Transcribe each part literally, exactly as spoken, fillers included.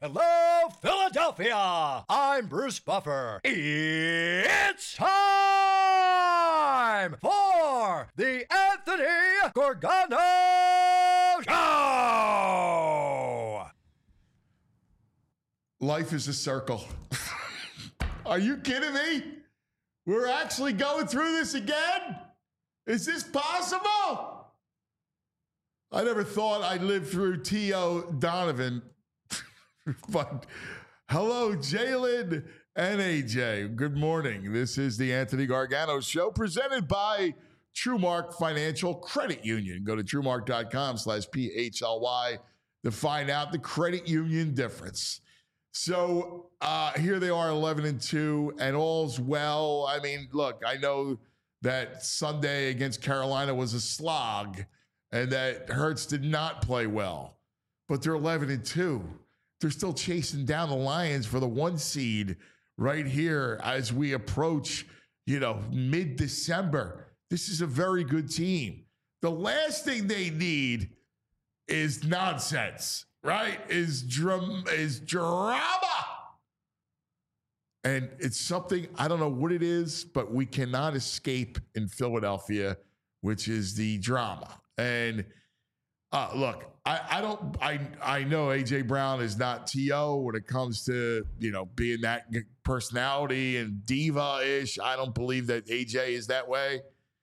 Hello, Philadelphia! I'm Bruce Buffer. It's time for the Anthony Gargano Show! Life is a circle. Are you kidding me? We're actually going through this again? Is this possible? I never thought I'd live through T O Donovan. But hello, Jalen and A J. Good morning. This is the Anthony Gargano Show presented by TrueMark Financial Credit Union. Go to TrueMark.com slash P H L Y to find out the credit union difference. So uh, here they are, eleven and two, and all's well. I mean, look, I know that Sunday against Carolina was a slog and that Hurts did not play well, but they're eleven and two. They're still chasing down the Lions for the one seed right here as we approach, you know, mid-December. This is a very good team. The last thing they need is nonsense, right? Is drum is drama. And it's something, I don't know what it is, but we cannot escape in Philadelphia, which is the drama. And Uh, look, I, I don't. I I know A J Brown is not T O when it comes to, you know, being that personality and diva-ish. I don't believe that A J is that way.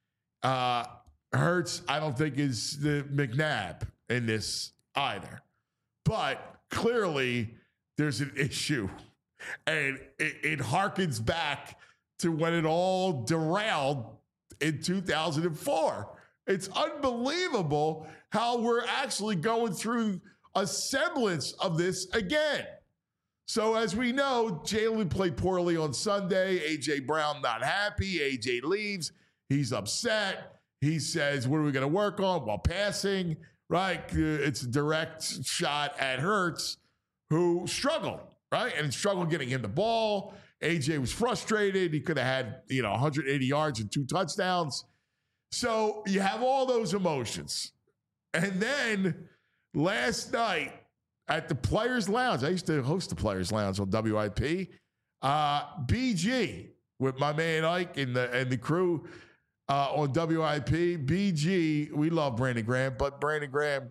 Uh, Hurts, I don't think is the McNabb in this either. But clearly, there's an issue, and it, it harkens back to when it all derailed in two thousand four. It's unbelievable how we're actually going through a semblance of this again. So as we know, Jalen played poorly on Sunday. A J Brown not happy. A J leaves. He's upset. He says, what are we going to work on? While passing, right? It's a direct shot at Hurts, who struggled, right? And struggled getting him the ball. A J was frustrated. He could have had, you know, one hundred eighty yards and two touchdowns. So you have all those emotions. And then last night at the Players Lounge, I used to host the Players Lounge on W I P, uh, B G with my man Ike and the, and the crew uh, on W I P. B G, we love Brandon Graham, but Brandon Graham,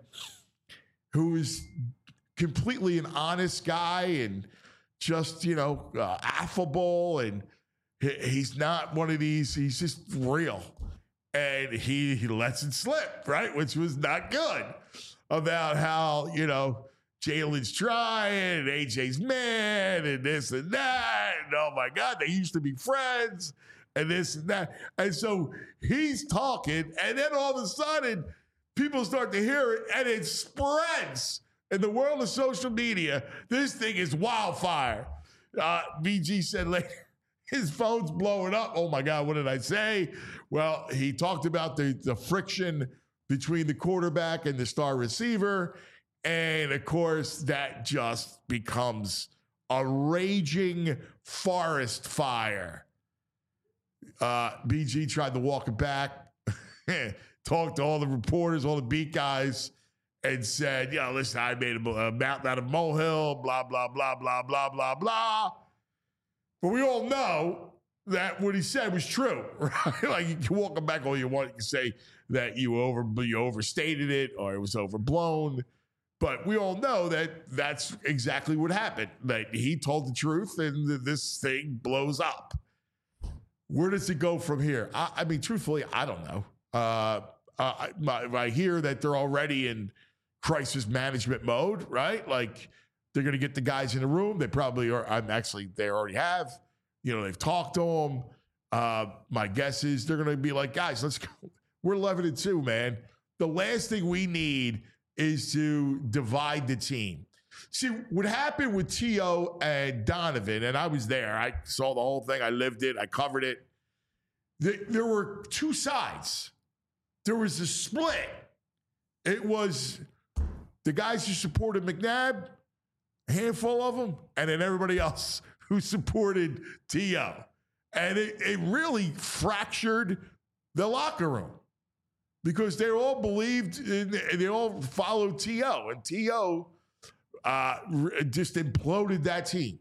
who is completely an honest guy and just, you know, uh, affable, and he, he's not one of these, he's just real. And he, he lets it slip, right? Which was not good, about how, you know, Jalen's trying and A J's mad and this and that. And oh my God, they used to be friends and this and that. And so he's talking, and then all of a sudden people start to hear it, and it spreads in the world of social media. This thing is wildfire. Uh, B G said later, his phone's blowing up. Oh my God, what did I say? Well, he talked about the, the friction between the quarterback and the star receiver. And of course, that just becomes a raging forest fire. Uh, B G tried to walk it back, talked to all the reporters, all the beat guys, and said, "Yeah, listen, I made a, a mountain out of molehill, blah, blah, blah, blah, blah, blah, blah." But we all know that what he said was true, right? Like, you can walk it back all you want. You can say that you over you overstated it or it was overblown. But we all know that that's exactly what happened. That he told the truth, and this thing blows up. Where does it go from here? I, I mean, truthfully, I don't know. Uh, uh, I, I hear that they're already in crisis management mode, right? Like, they're going to get the guys in the room. They probably are. I'm actually, they already have. You know, they've talked to them. Uh, my guess is they're going to be like, guys, let's go. We're eleven and two, man. The last thing we need is to divide the team. See, what happened with T O and Donovan, and I was there. I saw the whole thing. I lived it. I covered it. There were two sides. There was a split. It was the guys who supported McNabb, a handful of them, and then everybody else who supported T O. And it, it really fractured the locker room because they all believed, in, they all followed T O. And T O, uh, just imploded that team.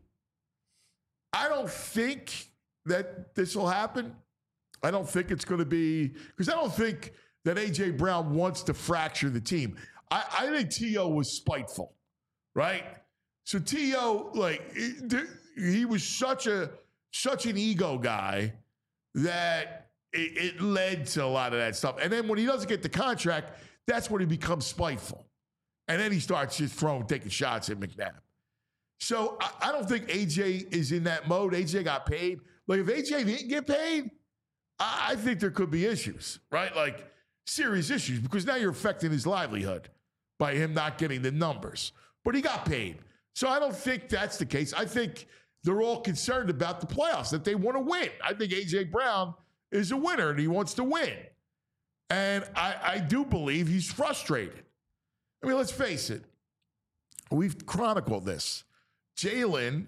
I don't think that this will happen. I don't think it's going to be, because I don't think that A J. Brown wants to fracture the team. I, I think T O was spiteful, right? So T O, like, he was such a such an ego guy that it, it led to a lot of that stuff. And then when he doesn't get the contract, that's when he becomes spiteful. And then he starts just throwing, taking shots at McNabb. So I, I don't think A J is in that mode. A J got paid. Like, if A J didn't get paid, I, I think there could be issues, right? Like, serious issues, because now you're affecting his livelihood by him not getting the numbers. But he got paid. So I don't think that's the case. I think they're all concerned about the playoffs, that they want to win. I think A J. Brown is a winner, and he wants to win. And I, I do believe he's frustrated. I mean, let's face it. We've chronicled this. Jalen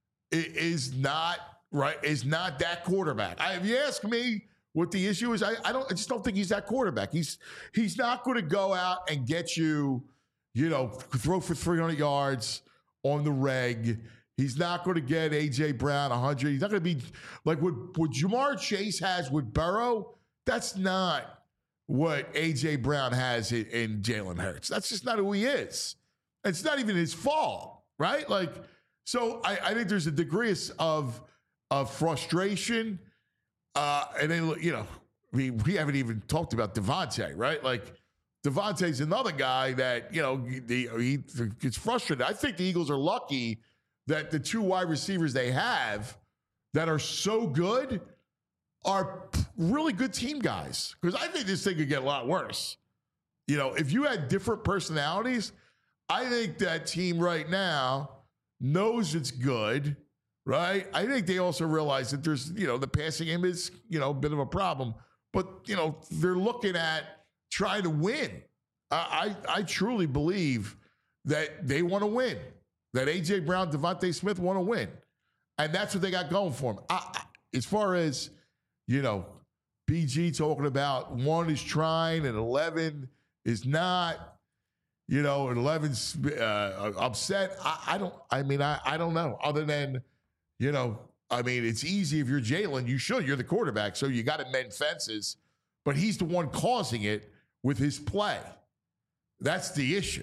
is not right. Is not that quarterback. I, if you ask me what the issue is, I, I don't. I just don't think he's that quarterback. He's he's not going to go out and get you, you know, throw for three hundred yards on the reg. He's not going to get A J. Brown one hundred. He's not going to be like what, what Jamar Chase has with Burrow. That's not what A J. Brown has in, in Jalen Hurts. That's just not who he is. It's not even his fault, right? Like, so I, I think there's a degree of, of frustration. Uh, and then, you know, we, we haven't even talked about Devontae, right? Like, Devontae's another guy that, you know, he, he gets frustrated. I think the Eagles are lucky that the two wide receivers they have that are so good are really good team guys. Because I think this thing could get a lot worse. You know, if you had different personalities, I think that team right now knows it's good, right? I think they also realize that there's, you know, the passing game is, you know, a bit of a problem. But, you know, they're looking at trying to win. I, I, I truly believe that they want to win. That A J. Brown, Devontae Smith want to win. And that's what they got going for them. I, I, as far as, you know, B G talking about one is trying and eleven is not, you know, and eleven's uh, upset. I, I don't, I mean, I, I don't know. Other than, you know, I mean, it's easy if you're Jalen. You should. You're the quarterback, so you got to mend fences. But he's the one causing it with his play. That's the issue.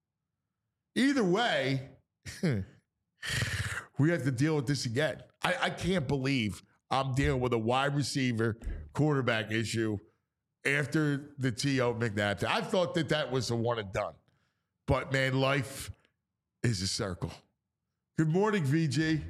Either way, we have to deal with this again. I, I can't believe I'm dealing with a wide receiver quarterback issue after the T O McNabb. I thought that that was a one and done. But, man, life is a circle. Good morning, V G.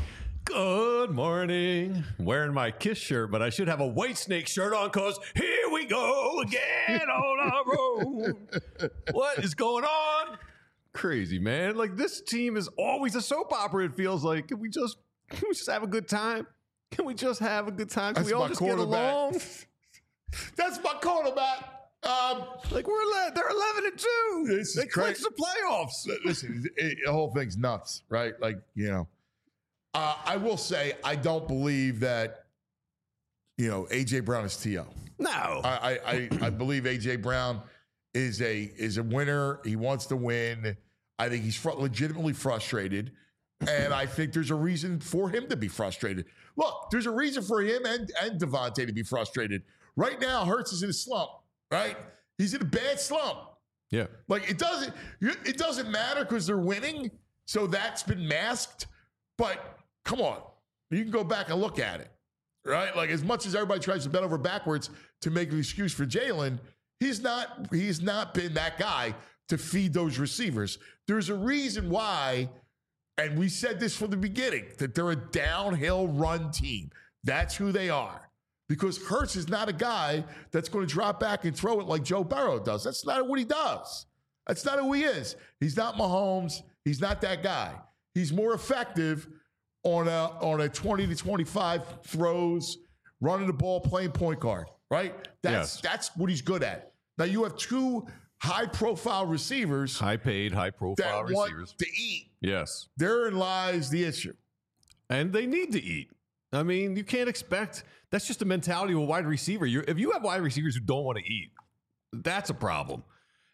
Good morning. Wearing my KISS shirt, but I should have a White Snake shirt on because here we go again on our road. What is going on? Crazy, man. Like, this team is always a soap opera, it feels like. Can we just can we just have a good time? Can we just have a good time? Can That's we all my just get along? That's my quarterback. Um, like, we're ele- they're eleven and two. This is they clinched crazy. the playoffs. Listen, it, the whole thing's nuts, right? Like, you know, uh, I will say I don't believe that, you know, A J. Brown is T O. No. I, I, I believe A J. Brown is a is a winner. He wants to win. I think he's fr- legitimately frustrated. And I think there's a reason for him to be frustrated. Look, there's a reason for him and, and Devontae to be frustrated. Right now, Hurts is in a slump, right? He's in a bad slump. Yeah. Like, it doesn't it doesn't matter because they're winning, so that's been masked. But come on, you can go back and look at it, right? Like, as much as everybody tries to bend over backwards to make an excuse for Jalen, he's not he's not been that guy to feed those receivers. There's a reason why, and we said this from the beginning, that they're a downhill run team. That's who they are. Because Hurts is not a guy that's going to drop back and throw it like Joe Burrow does. That's not what he does. That's not who he is. He's not Mahomes. He's not that guy. He's more effective on a on a twenty to twenty-five throws, running the ball, playing point guard, right? That's Yes. that's what he's good at. Now you have two high-profile receivers, High paid, high profile that want receivers. to eat. Yes. Therein lies the issue. And they need to eat. I mean, you can't expect, that's just the mentality of a wide receiver. You're, if you have wide receivers who don't want to eat, that's a problem.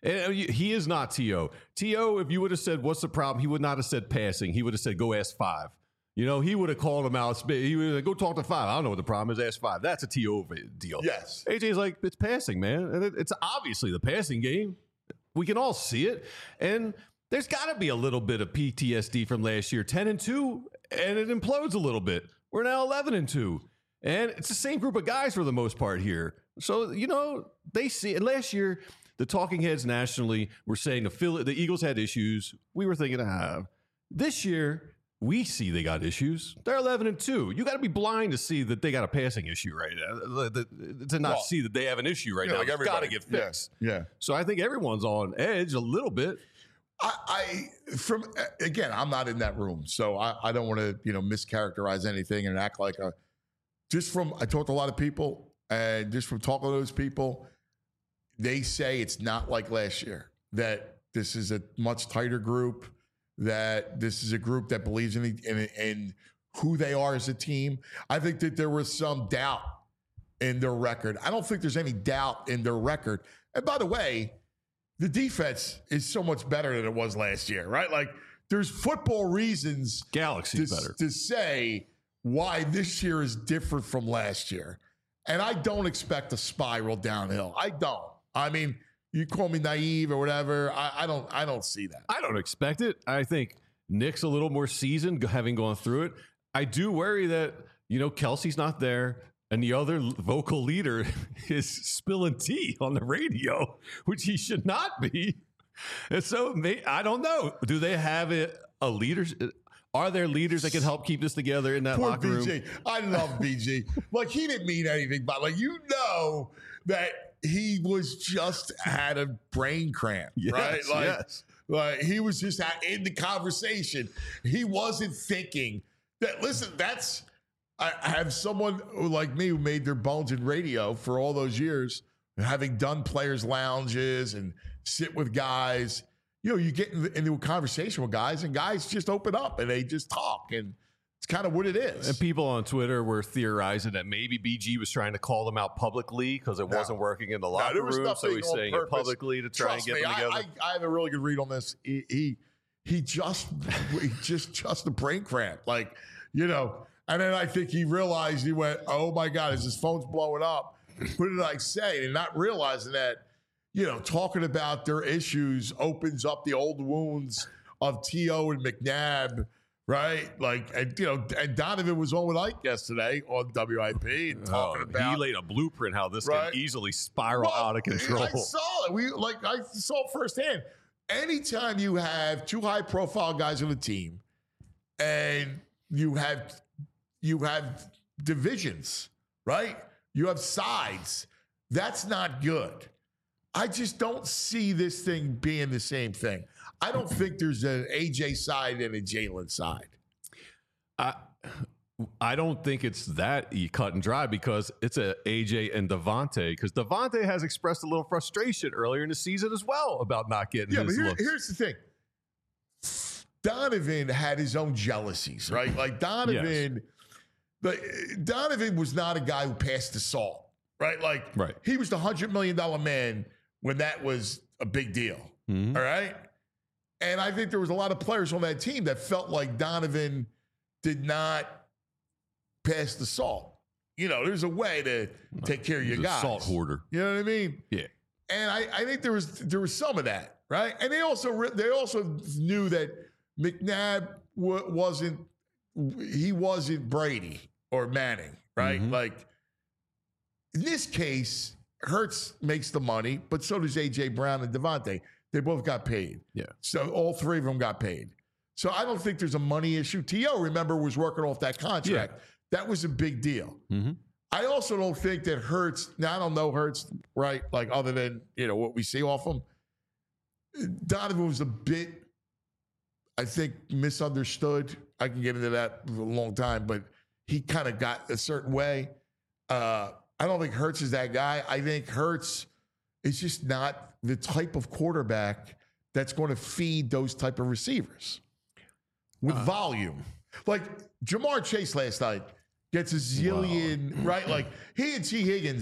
And he is not T O. T O, if you would have said, what's the problem? He would not have said passing. He would have said, go ask five. You know, he would have called him out. He would have said, go talk to five. I don't know what the problem is. Ask five. That's a T O deal. Yes. A J's like, it's passing, man. And it, it's obviously the passing game. We can all see it. And there's got to be a little bit of P T S D from last year. ten and two, and it implodes a little bit. We're now eleven and two. And it's the same group of guys for the most part here. So, you know, they see it. Last year, the talking heads nationally were saying the Philly, the Eagles had issues. We were thinking, ah. This year, we see they got issues. They're eleven and two. You got to be blind to see that they got a passing issue right now. To not well, see that they have an issue right yeah, now. like It's got to get fixed. Yeah, yeah. So I think everyone's on edge a little bit. I, I from again, I'm not in that room, so I, I don't want to you know mischaracterize anything and act like a. Just from I talked to a lot of people, and just from talking to those people, they say it's not like last year. That this is a much tighter group. That this is a group that believes in in, in who they are as a team. I think that there was some doubt in their record. I don't think there's any doubt in their record. And by the way, the defense is so much better than it was last year, right? Like there's football reasons Galaxy's to, better. to say why this year is different from last year. And I don't expect a spiral downhill. I don't. I mean, you call me naive or whatever. I, I don't I don't see that. I don't expect it. I think Nick's a little more seasoned, having gone through it. I do worry that, you know, Kelsey's not there. And the other vocal leader is spilling tea on the radio, which he should not be. And so I don't know. Do they have a, a leader? Are there leaders that can help keep this together in that Poor locker room? B G. I love B G. Like he didn't mean anything, but like you know that he was just had a brain cramp, yes, right? Like, yes. like he was just in the conversation. He wasn't thinking that. Listen, that's. I have someone like me who made their bones in radio for all those years, having done players' lounges and sit with guys. You know, you get into a conversation with guys, and guys just open up and they just talk, and it's kind of what it is. And people on Twitter were theorizing that maybe B G was trying to call them out publicly because it No. wasn't working in the locker no, room, so he's saying purpose. it publicly to try Trust and get me, them together. I, I, I have a really good read on this. He he, he just he just just a brain cramp, like you know. And then I think he realized, he went, oh, my God, as his phone's blowing up, what did I say? And not realizing that, you know, talking about their issues opens up the old wounds of T O and McNabb, right? Like, and, you know, and Donovan was on with Ike yesterday on W I P and talking Oh, about. he laid a blueprint how this Right. can easily spiral Well, out of control. I saw it. We, like, I saw it firsthand. Anytime you have two high-profile guys on the team and you have – you have divisions, right? You have sides. That's not good. I just don't see this thing being the same thing. I don't think there's an A J side and a Jalen side. I I don't think it's that cut and dry because it's a AJ and Devontae. Because Devontae has expressed a little frustration earlier in the season as well about not getting Yeah, his but here, looks. here's the thing. Donovan had his own jealousies, right? Like Donovan, yes. But Donovan was not a guy who passed the salt, right? Like right. he was the one hundred million dollars man when that was a big deal, mm-hmm. all right? And I think there was a lot of players on that team that felt like Donovan did not pass the salt. You know, there's a way to take care of your He's a guys. Salt hoarder. You know what I mean? Yeah. And I, I think there was there was some of that, right? And they also they also knew that McNabb w- wasn't he wasn't Brady or Manning, right? Mm-hmm. Like in this case, Hurts makes the money, but so does A J Brown and Devontae. They both got paid. Yeah. So all three of them got paid. So I don't think there's a money issue. T O, remember, was working off that contract. Yeah. That was a big deal. Mm-hmm. I also don't think that Hurts, now I don't know Hurts, right? Like other than, you know, what we see off him. Donovan was a bit, I think, misunderstood. I can get into that for a long time, but he kind of got a certain way. Uh, I don't think Hurts is that guy. I think Hurts is just not the type of quarterback that's going to feed those type of receivers with uh, volume. Like Jamar Chase last night gets a zillion, wow. right? Like he and T. Higgins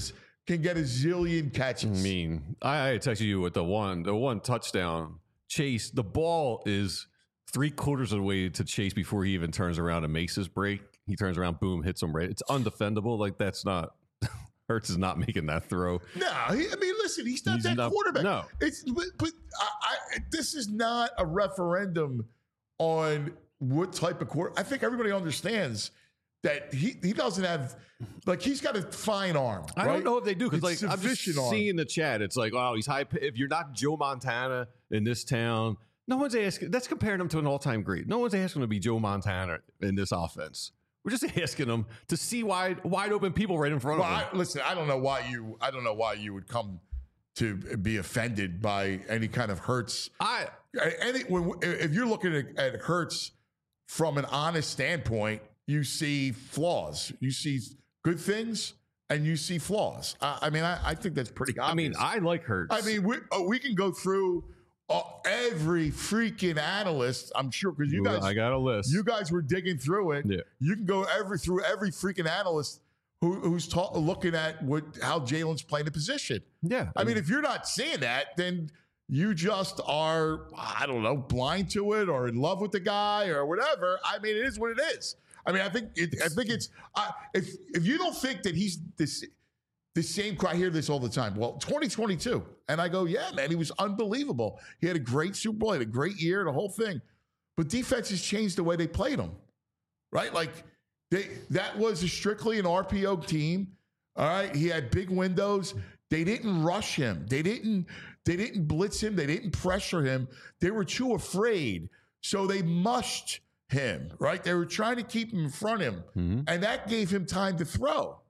can get a zillion catches. I mean, I, I texted you with the one, the one touchdown. Chase, the ball is three quarters of the way to Chase before he even turns around and makes his break. He turns around, boom, hits him right. It's undefendable. Like, that's not, Hurts is not making that throw. No, he, I mean, listen, he's not He's that not- quarterback. no. It's, but, but I, I, this is not a referendum on what type of quarter. I think everybody understands that he, he doesn't have, like, he's got a fine arm. I right? don't know if they do because, It's like, I'm just sufficient arm. seeing the chat. It's like, oh, he's high. If you're not Joe Montana in this town, no one's asking. That's comparing him to an all-time great. No one's asking him to be Joe Montana in this offense. We're just asking him to see wide, wide open people right in front Well, of him. I, listen, I don't know why you, I don't know why you would come to be offended by any kind of Hurts. I Any, when, if you're looking at, at Hurts from an honest standpoint, you see flaws. You see good things and you see flaws. I, I mean, I, I think that's pretty obvious. I mean, I like Hurts. I mean, we, oh, we can go through uh, every freaking analyst. I'm sure because you guys, I got a list. you guys were digging through it. Yeah. You can go every through every freaking analyst who, who's ta- looking at what how Jalen's playing the position. yeah. I mean, if you're not seeing that, then you just are, I don't know, blind to it or in love with the guy or whatever. I mean, it is what it is. I mean, I think it, I think it's uh, if if you don't think that he's this the same. I hear this all the time. Well, twenty twenty-two, and I go, yeah, man, he was unbelievable. He had a great Super Bowl, he had a great year, the whole thing. But defenses changed the way they played him, right? Like they that was a strictly an R P O team. All right, he had big windows. They didn't rush him. They didn't. They didn't blitz him. They didn't pressure him. They were too afraid, so they mushed him, right? They were trying to keep him in front of him, Mm-hmm. and that gave him time to throw.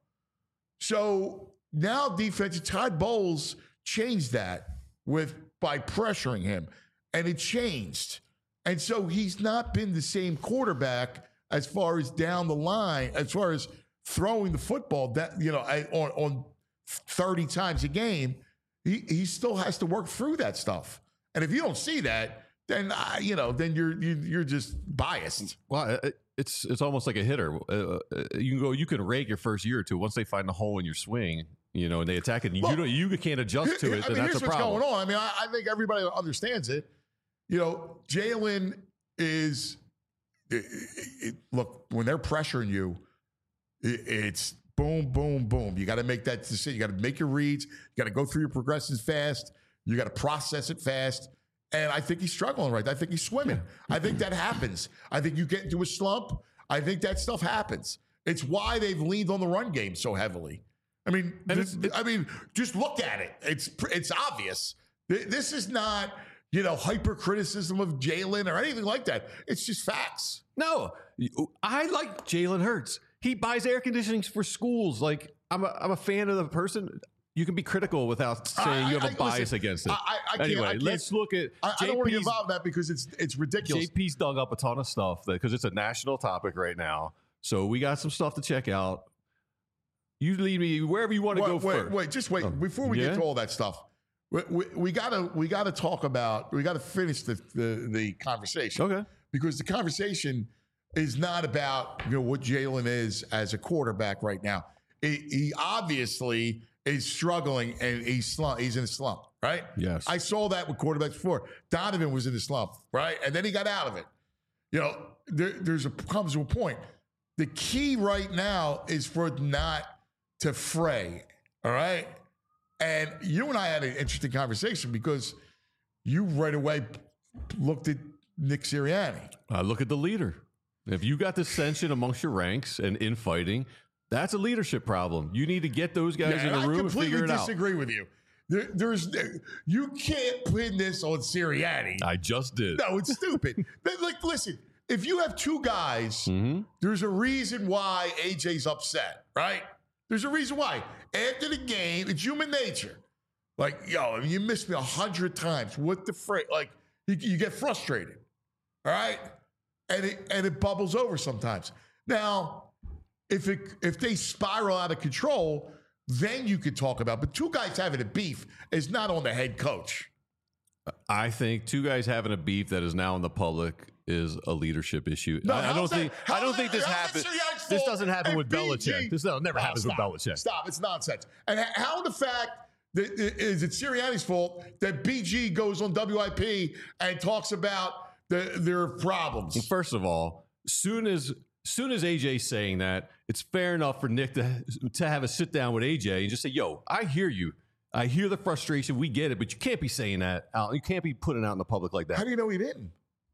So now defense, Todd Bowles changed that with by pressuring him, and it changed. And so he's not been the same quarterback as far as down the line, as far as throwing the football that, you know, on, on thirty times a game. He, he still has to work through that stuff. And if you don't see that, then uh, you know, then you're you, you're just biased. Well, it- it's it's almost like a hitter. Uh, uh, you can go, you can rake your first year or two. Once they find the hole in your swing, you know, and they attack it, and Well, you don't, you can't adjust to it. I Then mean, that's here's a what's problem. going on. I mean, I, I think everybody understands it. You know, Jalen is it, it, look when they're pressuring you, it, it's boom, boom, boom. You got to make that decision. You got to make your reads. You got to go through your progressions fast. You got to process it fast. And I think he's struggling right now. I think he's swimming. I think that happens. I think you get into a slump. I think that stuff happens. It's why they've leaned on the run game so heavily. I mean, And this, it's- I mean, just look at it. It's it's obvious. Th- This is not, you know, hyper criticism of Jalen or anything like that. It's just facts. No, I like Jalen Hurts. He buys air conditioning for schools. Like I'm a, I'm a fan of the person. You can be critical without saying I- you have I- a bias listen, against it. I- I- I can't- anyway, I can't- let's look at I, I don't want to get JP's involved in that because it's it's ridiculous. J P's dug up a ton of stuff because it's a national topic right now. So we got some stuff to check out. You lead me wherever you want to wait, go wait, first. wait, just wait. Oh, Before we yeah? get to all that stuff, we, we, we gotta we gotta talk about we gotta finish the the, the conversation. Okay. Because the conversation is not about, you know, what Jalen is as a quarterback right now. He, he obviously is struggling and he's slump, he's in a slump, right? Yes. I saw that with quarterbacks before. Donovan was in a slump, right? And then he got out of it. You know, there, there's a comes to a point. The key right now is for it not to fray, all right? And you and I had an interesting conversation because you right away looked at Nick Sirianni. Uh, look at the leader. If you got dissension amongst your ranks and infighting, that's a leadership problem. You need to get those guys Yeah, in and the room I and completely figure it out. disagree with you. There, there's you can't pin this on Sirianni. I just did. No, it's stupid. But, like, listen, if you have two guys, Mhm. there's a reason why A J's upset, right? There's a reason why. After the game, it's human nature. Like, yo, I mean, you missed me a hundred times. What the frick? Like, you, you get frustrated, all right? And it and it bubbles over sometimes. Now, if it if they spiral out of control, then you could talk about. But two guys having a beef is not on the head coach. I think two guys having a beef that is now in the public is a leadership issue. No, I, I don't how's that- think. I how's don't that- think this how's that happens. Sirianni's This fault doesn't happen and with B G Belichick. This no, never No, happens stop. with Belichick. Stop. It's nonsense. And h- how the fact that is it Sirianni's fault that B G goes on W I P and talks about the, their problems? First of all, soon as soon as A J's saying that, it's fair enough for Nick to to have a sit down with A J and just say, "Yo, I hear you. I hear the frustration. We get it, but you can't be saying that out. You can't be putting it out in the public like How that." do you know he didn't?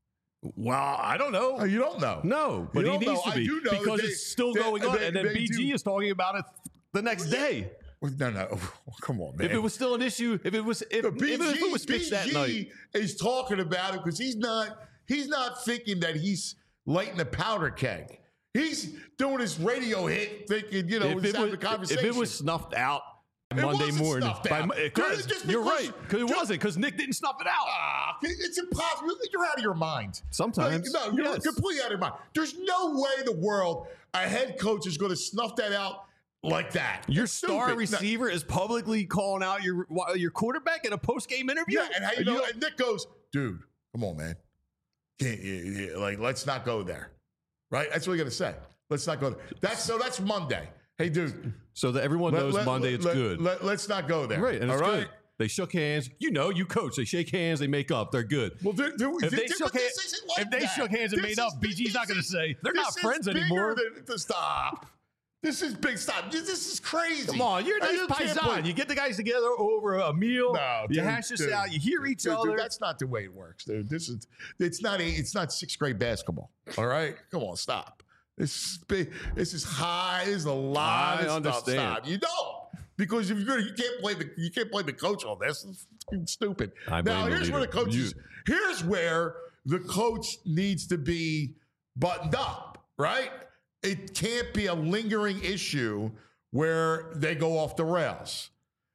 Well, I don't know. Oh, you don't know. No, but You he don't needs know. to I be do know that because they- it's still they- going on, they- and then they B G do. is talking about it the next day. No, no. Come on, man. If it was still an issue, if it was, if, But B G, even if it was pitched that B G night, is talking about it because he's not he's not thinking that he's lighting a powder keg. He's doing his radio hit, thinking, you know, if he's it, having was, a conversation. if it was snuffed out It Monday wasn't morning, snuffed by, out. Mo- Just- just you're because- right, because it just- wasn't, because Nick didn't snuff it out. Ah, it's impossible. You're out of your mind. Sometimes, Like, no, you're yes. completely out of your mind. There's no way in the world a head coach is going to snuff that out like that. Your It's star stupid. No, receiver is publicly calling out your your quarterback in a post game interview. yeah, and how you know? And Nick goes, dude, come on, man. Can't, you, you- like, let's not go there. Right? That's what you got to say. Let's not go there. That's so. That's Monday. Hey, dude. so that everyone let- knows let- Monday let- it's let- good. Let, let's not go there. Right, and it's all right? good. They shook hands. You know, you coach. They shake hands. They make up. They're good. Well, there, there, If they there- shook but hands- this isn't like if they that. shook hands and This made up, is- B G's not this gonna is- say, "They're this not is friends bigger anymore." than- to stop. This is big. Stop. This, this is crazy. Come on, you're And nice you can't paisan. play- You get the guys together over a meal. No, you dude, hash this dude, out. You hear each dude, other. Dude, that's not the way it works, dude. This is it's not a, it's not sixth grade basketball. All right, come on, stop. This is big. This is high. This is a lot I of understand. stuff. Stop. You don't because if you're gonna, you can't blame the you can't blame the coach on this. It's fucking stupid. I blame now the here's where the leader. coach is. Here's where the coach needs to be buttoned up. Right. It can't be a lingering issue where they go off the rails.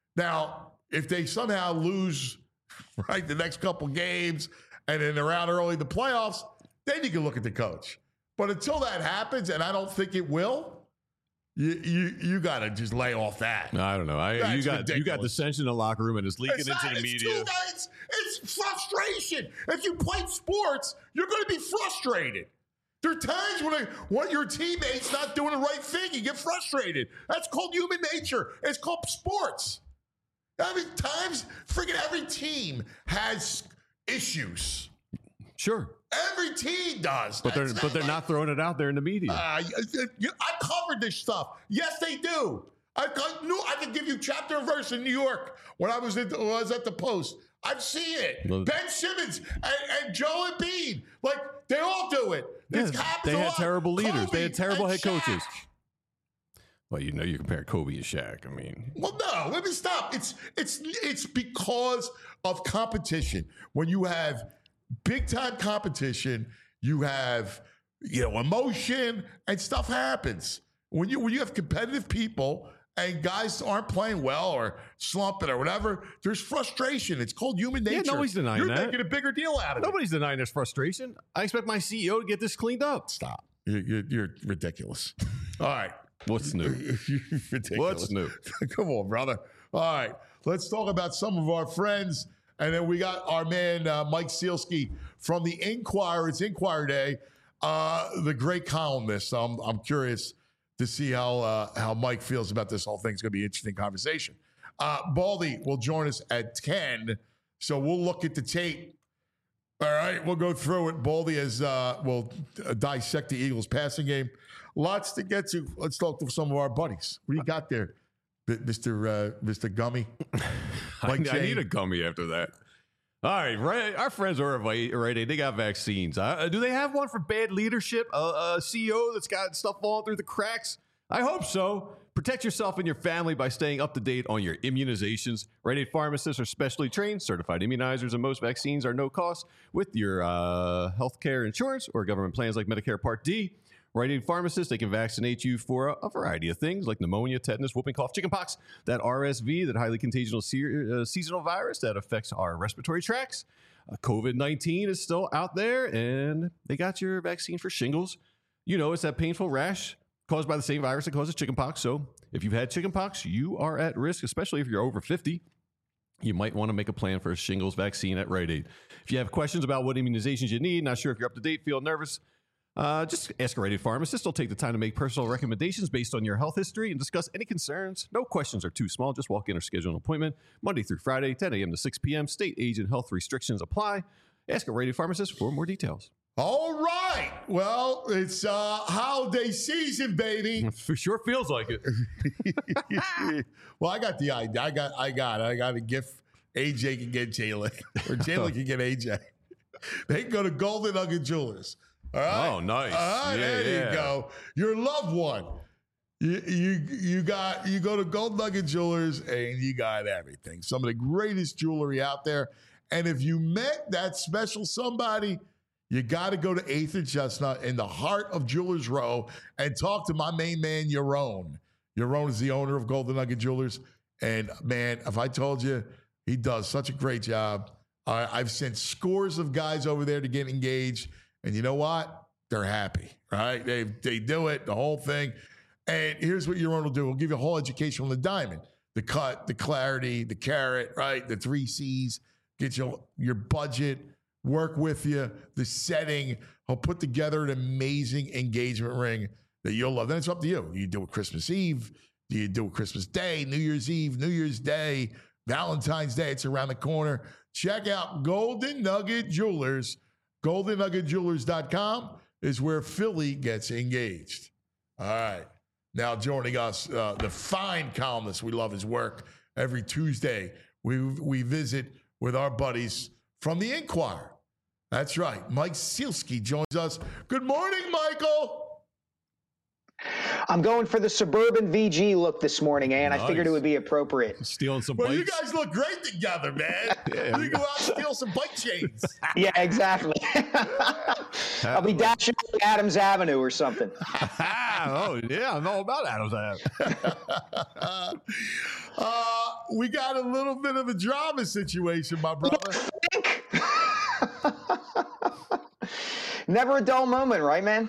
Now, if they somehow lose, right, the next couple games and then they're out early in the playoffs, then you can look at the coach. But until that happens, and I don't think it will, you you, you got to just lay off that. I don't know. I, you That's got you got ridiculous. dissension in the locker room and it's leaking It's into not- the it's media. too- it's, it's frustration. If you play sports, you're going to be frustrated. There are times when, I, when your teammate's not doing the right thing, you get frustrated. That's called human nature. It's called sports. I mean, times, freaking every team has issues. Sure, Every team does. but they're That's but they're like- not throwing it out there in the media. Uh, you- you- I covered this stuff. Yes, they do. I, I knew I could give you chapter and verse in New York when I was at the, when I was at the Post. I've seen it. Well- Ben Simmons and, and Joe Embiid, like they all do it. It Yeah, happens they a had lot. terrible leaders. Kobe They had terrible and head coaches. Shaq. Well, you know, you compare Kobe and Shaq. I mean, Well, no, let me stop. It's it's it's because of competition. When you have big time competition, you have you know emotion and stuff happens. When you when you have competitive people and guys aren't playing well or slumping or whatever, there's frustration. It's called human nature. Yeah, nobody's denying You're that. making a bigger deal out of it. nobody's denying there's frustration. I expect my C E O to get this cleaned up. Stop. You're, you're, you're ridiculous. All right. What's new? You're ridiculous. What's new? Come on, brother. All right. Let's talk about some of our friends. And then we got our man, uh, Mike Sealski from the Inquirer. It's Inquirer Day, uh, the great columnist. So I'm, I'm curious to see how uh, how Mike feels about this whole thing. It's going to be an interesting conversation. Uh, Baldy will join us at ten. So we'll look at the tape. All right, we'll go through it. Baldy has uh, will uh, dissect the Eagles' passing game. Lots to get to. Let's talk to some of our buddies. What do you got there, B- Mister Uh, Mister Gummy? I, Mike I need Jane. a gummy after that. All right, right. Our friends are right. right they got vaccines. Uh, do they have one for bad leadership? A, a C E O that's got stuff falling through the cracks? I hope so. Protect yourself and your family by staying up to date on your immunizations. Rite Aid pharmacists are specially trained, certified immunizers, and most vaccines are no cost with your uh, healthcare insurance or government plans like Medicare Part D. Rite Aid pharmacists, they can vaccinate you for a, a variety of things like pneumonia, tetanus, whooping cough, chickenpox, that R S V, that highly contagious se- uh, seasonal virus that affects our respiratory tracts. Uh, COVID nineteen is still out there, and they got your vaccine for shingles. You know, it's that painful rash caused by the same virus that causes chickenpox. So if you've had chickenpox, you are at risk, especially if you're over fifty. you might want to make a plan for a shingles vaccine at Rite Aid. If you have questions about what immunizations you need, not sure if you're up to date, feel nervous, uh, just ask a Rite Aid pharmacist. They'll take the time to make personal recommendations based on your health history and discuss any concerns. No questions are too small. Just walk in or schedule an appointment Monday through Friday, ten a.m. to six p.m. State, age, and health restrictions apply. Ask a Rite Aid pharmacist for more details. All right. Well, it's uh, holiday season, baby. For sure feels like it. Well, I got the idea. I got, I got, I got a gift. A J can get Jalen, or Jalen can get A J. They can go to Golden Nugget Jewelers. All right. Oh, nice. All right, Yeah, there yeah. you go. Your loved one. You, you you got you go to Golden Nugget Jewelers and you got everything. Some of the greatest jewelry out there. And if you met that special somebody, you got to go to eighth and Chestnut in the heart of Jewelers Row and talk to my main man, Yaron. Yaron is the owner of Golden Nugget Jewelers. And man, if I told you, he does such a great job. Uh, I've sent scores of guys over there to get engaged. And you know what? They're happy, right? They they do it, the whole thing. And here's what Yaron will do. We'll give you a whole education on the diamond, the cut, the clarity, the carat, right? The three C's, get your, your budget, work with you, the setting. He'll put together an amazing engagement ring that you'll love. Then it's up to you. You do it Christmas Eve. Do you do it Christmas Day, New Year's Eve, New Year's Day, Valentine's Day? It's around the corner. Check out Golden Nugget Jewelers. golden nugget jewelers dot com is where Philly gets engaged. All right. Now joining us, uh, the fine columnist. We love his work. Every Tuesday, we, we visit with our buddies from the Inquirer. That's right. Mike Sielski joins us. Good morning, Michael. I'm going for the suburban V G look this morning, and Nice. I figured it would be appropriate. Stealing some Well, bikes. you guys look great together, man. Yeah. You go out and steal some bike chains. Yeah, exactly. I'll be dashing up Adams Avenue or something. Oh, yeah. I know about Adams Ave. uh, we got a little bit of a drama situation, my brother. Never a dull moment, right, man?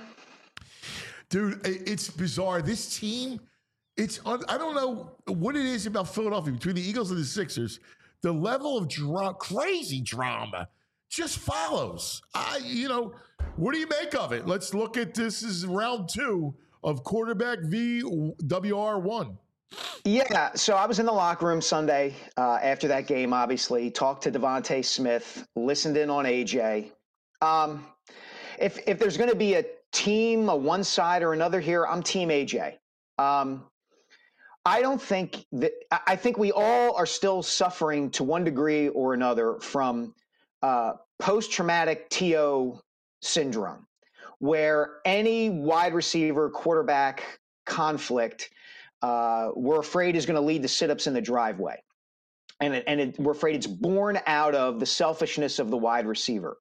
Dude, it- it's bizarre. This team, it's un- I don't know what it is about Philadelphia between the Eagles and the Sixers. The level of dra- crazy drama just follows. I, you know, what do you make of it? Let's look at this. This is round two of quarterback v W R one. Yeah, so I was in the locker room Sunday uh, after that game, obviously, talked to Devontae Smith, listened in on A J. Um, if if there's going to be a team, a one side or another here, I'm Team A J. Um, I don't think that – I think we all are still suffering to one degree or another from uh, post-traumatic T O syndrome, where any wide receiver quarterback conflict – Uh, we're afraid is going to lead to sit-ups in the driveway. And, it, and it, we're afraid it's born out of the selfishness of the wide receiver.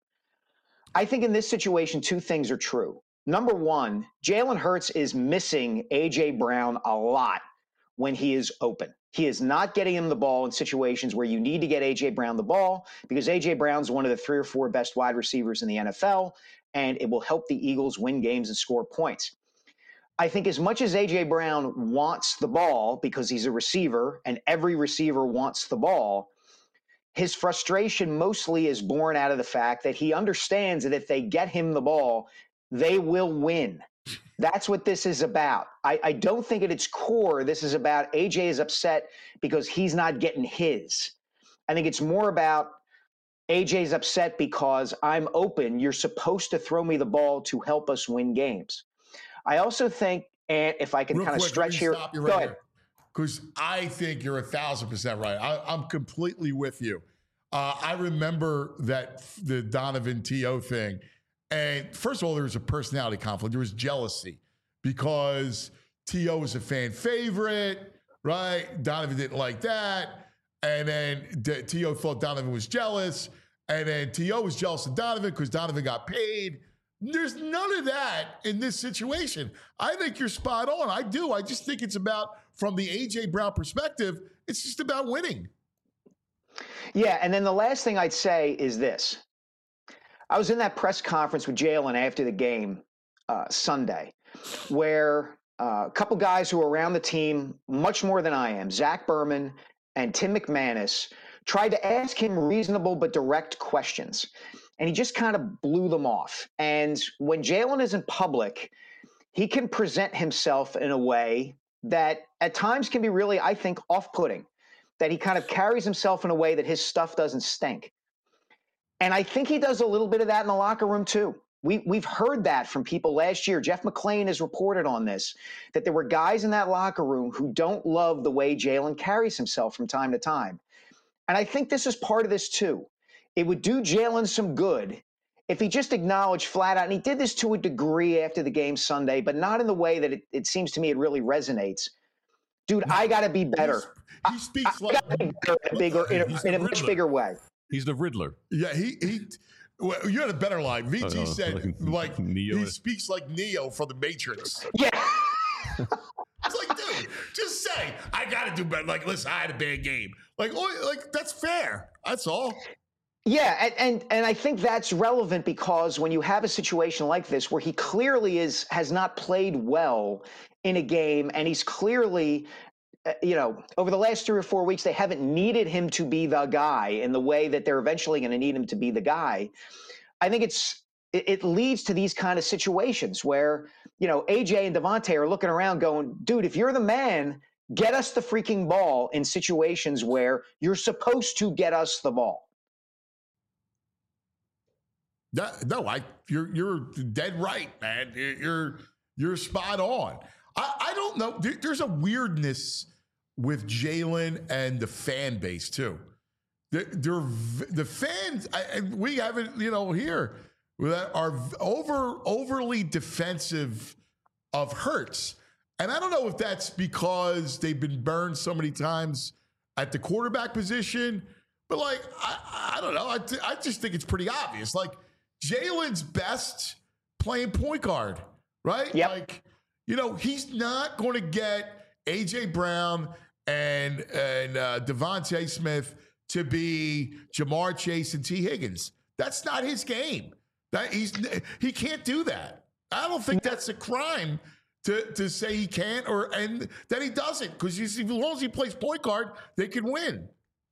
I think in this situation, two things are true. Number one, Jalen Hurts is missing A J. Brown a lot when he is open. He is not getting him the ball in situations where you need to get A J. Brown the ball, because A J. Brown's one of the three or four best wide receivers in the N F L, and it will help the Eagles win games and score points. I think as much as A J. Brown wants the ball because he's a receiver and every receiver wants the ball, his frustration mostly is born out of the fact that he understands that if they get him the ball, they will win. That's what this is about. I, I don't think at its core this is about A J is upset because he's not getting his. I think it's more about A J's upset because I'm open. You're supposed to throw me the ball to help us win games. I also think, and if I can Real kind of quick, stretch here, stop you go right ahead. here. Because I think you're a thousand percent right. I, I'm completely with you. Uh, I remember that the Donovan T O thing. And first of all, there was a personality conflict. There was jealousy because T O was a fan favorite, right? Donovan didn't like that. And then D- T O thought Donovan was jealous. And then T O was jealous of Donovan because Donovan got paid. There's none of that in this situation. I think you're spot on. I do. I just think it's about, from the A J. Brown perspective, it's just about winning. Yeah, and then the last thing I'd say is this. I was in that press conference with Jalen after the game uh, Sunday, where uh, a couple guys who are around the team much more than I am, Zach Berman and Tim McManus, tried to ask him reasonable but direct questions, and he just kind of blew them off. And when Jalen is in public, he can present himself in a way that at times can be really, I think, off-putting, that he kind of carries himself in a way that his stuff doesn't stink. And I think he does a little bit of that in the locker room too. We, we've heard that from people last year. Jeff McClain has reported on this, that there were guys in that locker room who don't love the way Jalen carries himself from time to time. And I think this is part of this too. It would do Jalen some good if he just acknowledged flat out, and he did this to a degree after the game Sunday, but not in the way that it, it seems to me it really resonates. Dude, no, I got to be better. He speaks I, like I be better in a, bigger, in a, in a much bigger way. He's the Riddler. Yeah, he he. Well, you had a better line. V G uh, said like, like Neo he is. speaks like Neo from the Matrix. Yeah. It's like, dude, just say I got to do better. Like, listen, I had a bad game. Like, oh, like that's fair. That's all. Yeah, and, and and I think that's relevant because when you have a situation like this where he clearly is has not played well in a game, and he's clearly, uh, you know, over the last three or four weeks, they haven't needed him to be the guy in the way that they're eventually going to need him to be the guy. I think it's it, it leads to these kind of situations where, you know, A J and Devontae are looking around going, dude, if you're the man, get us the freaking ball in situations where you're supposed to get us the ball. That, no, I you're you're dead right, man. You're you're spot on. I, I don't know. There, there's a weirdness with Jalen and the fan base too. They're, they're the fans. I, we have it, you know, here that are over overly defensive of Hurts, and I don't know if that's because they've been burned so many times at the quarterback position. But like, I, I don't know. I th- I just think it's pretty obvious. Like, Jalen's best playing point guard, right? Yep. Like, you know, he's not going to get A J Brown and and uh, Devontae Smith to be Jamar Chase and T. Higgins. That's not his game. That he's he can't do that. I don't think that's a crime to to say he can't or and that he doesn't, because as long as he plays point guard, they can win.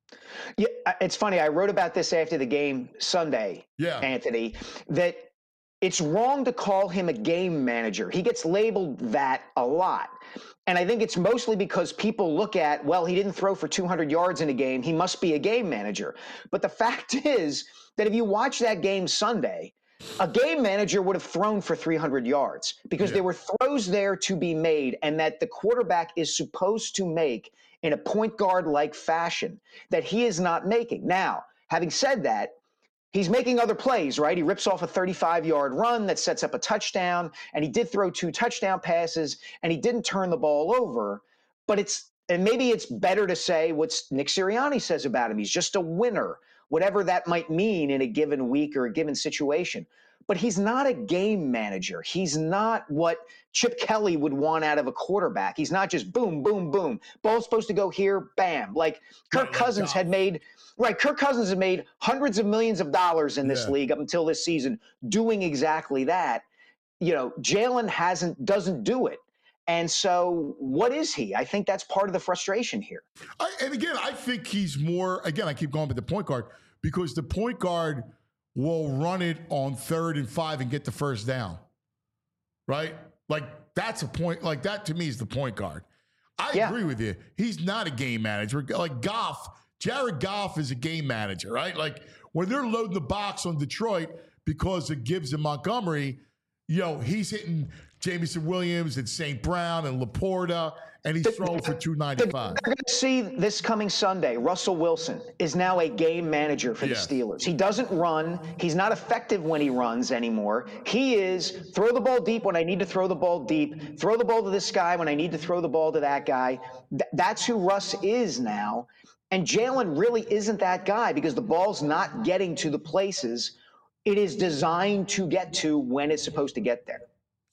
Yeah, it's funny. I wrote about this after the game Sunday, yeah. Anthony, that it's wrong to call him a game manager. He gets labeled that a lot. And I think it's mostly because people look at, well, he didn't throw for two hundred yards in a game. He must be a game manager. But the fact is that if you watch that game Sunday, a game manager would have thrown for three hundred yards because yeah. there were throws there to be made, and that the quarterback is supposed to make in a point guard-like fashion that he is not making. Now, having said that, he's making other plays, right? He rips off a thirty-five-yard run that sets up a touchdown, and he did throw two touchdown passes, and he didn't turn the ball over. But it's, and maybe it's better to say what Nick Sirianni says about him. He's just a winner, whatever that might mean in a given week or a given situation. But he's not a game manager. He's not what Chip Kelly would want out of a quarterback. He's not just boom, boom, boom. Ball's supposed to go here, bam. Like Kirk right, Cousins had made, right, Kirk Cousins had made hundreds of millions of dollars in this yeah. league up until this season doing exactly that. You know, Jalen hasn't, doesn't do it. And so what is he? I think that's part of the frustration here. I, and again, I think he's more, again, I keep going with the point guard, because the point guard will run it on third and five and get the first down, right? Like, that's a point, like that to me is the point guard. I yeah. agree with you. He's not a game manager. Like Goff, Jared Goff is a game manager, right? Like when they're loading the box on Detroit because of Gibbs and Montgomery, you know, he's hitting Jameson Williams and Saint Brown and Laporta, and he's throwing for two ninety-five. We're going to see this coming Sunday. Russell Wilson is now a game manager for yes. the Steelers. He doesn't run. He's not effective when he runs anymore. He is throw the ball deep when I need to throw the ball deep, throw the ball to this guy when I need to throw the ball to that guy. Th- that's who Russ is now. And Jalen really isn't that guy because the ball's not getting to the places it is designed to get to when it's supposed to get there.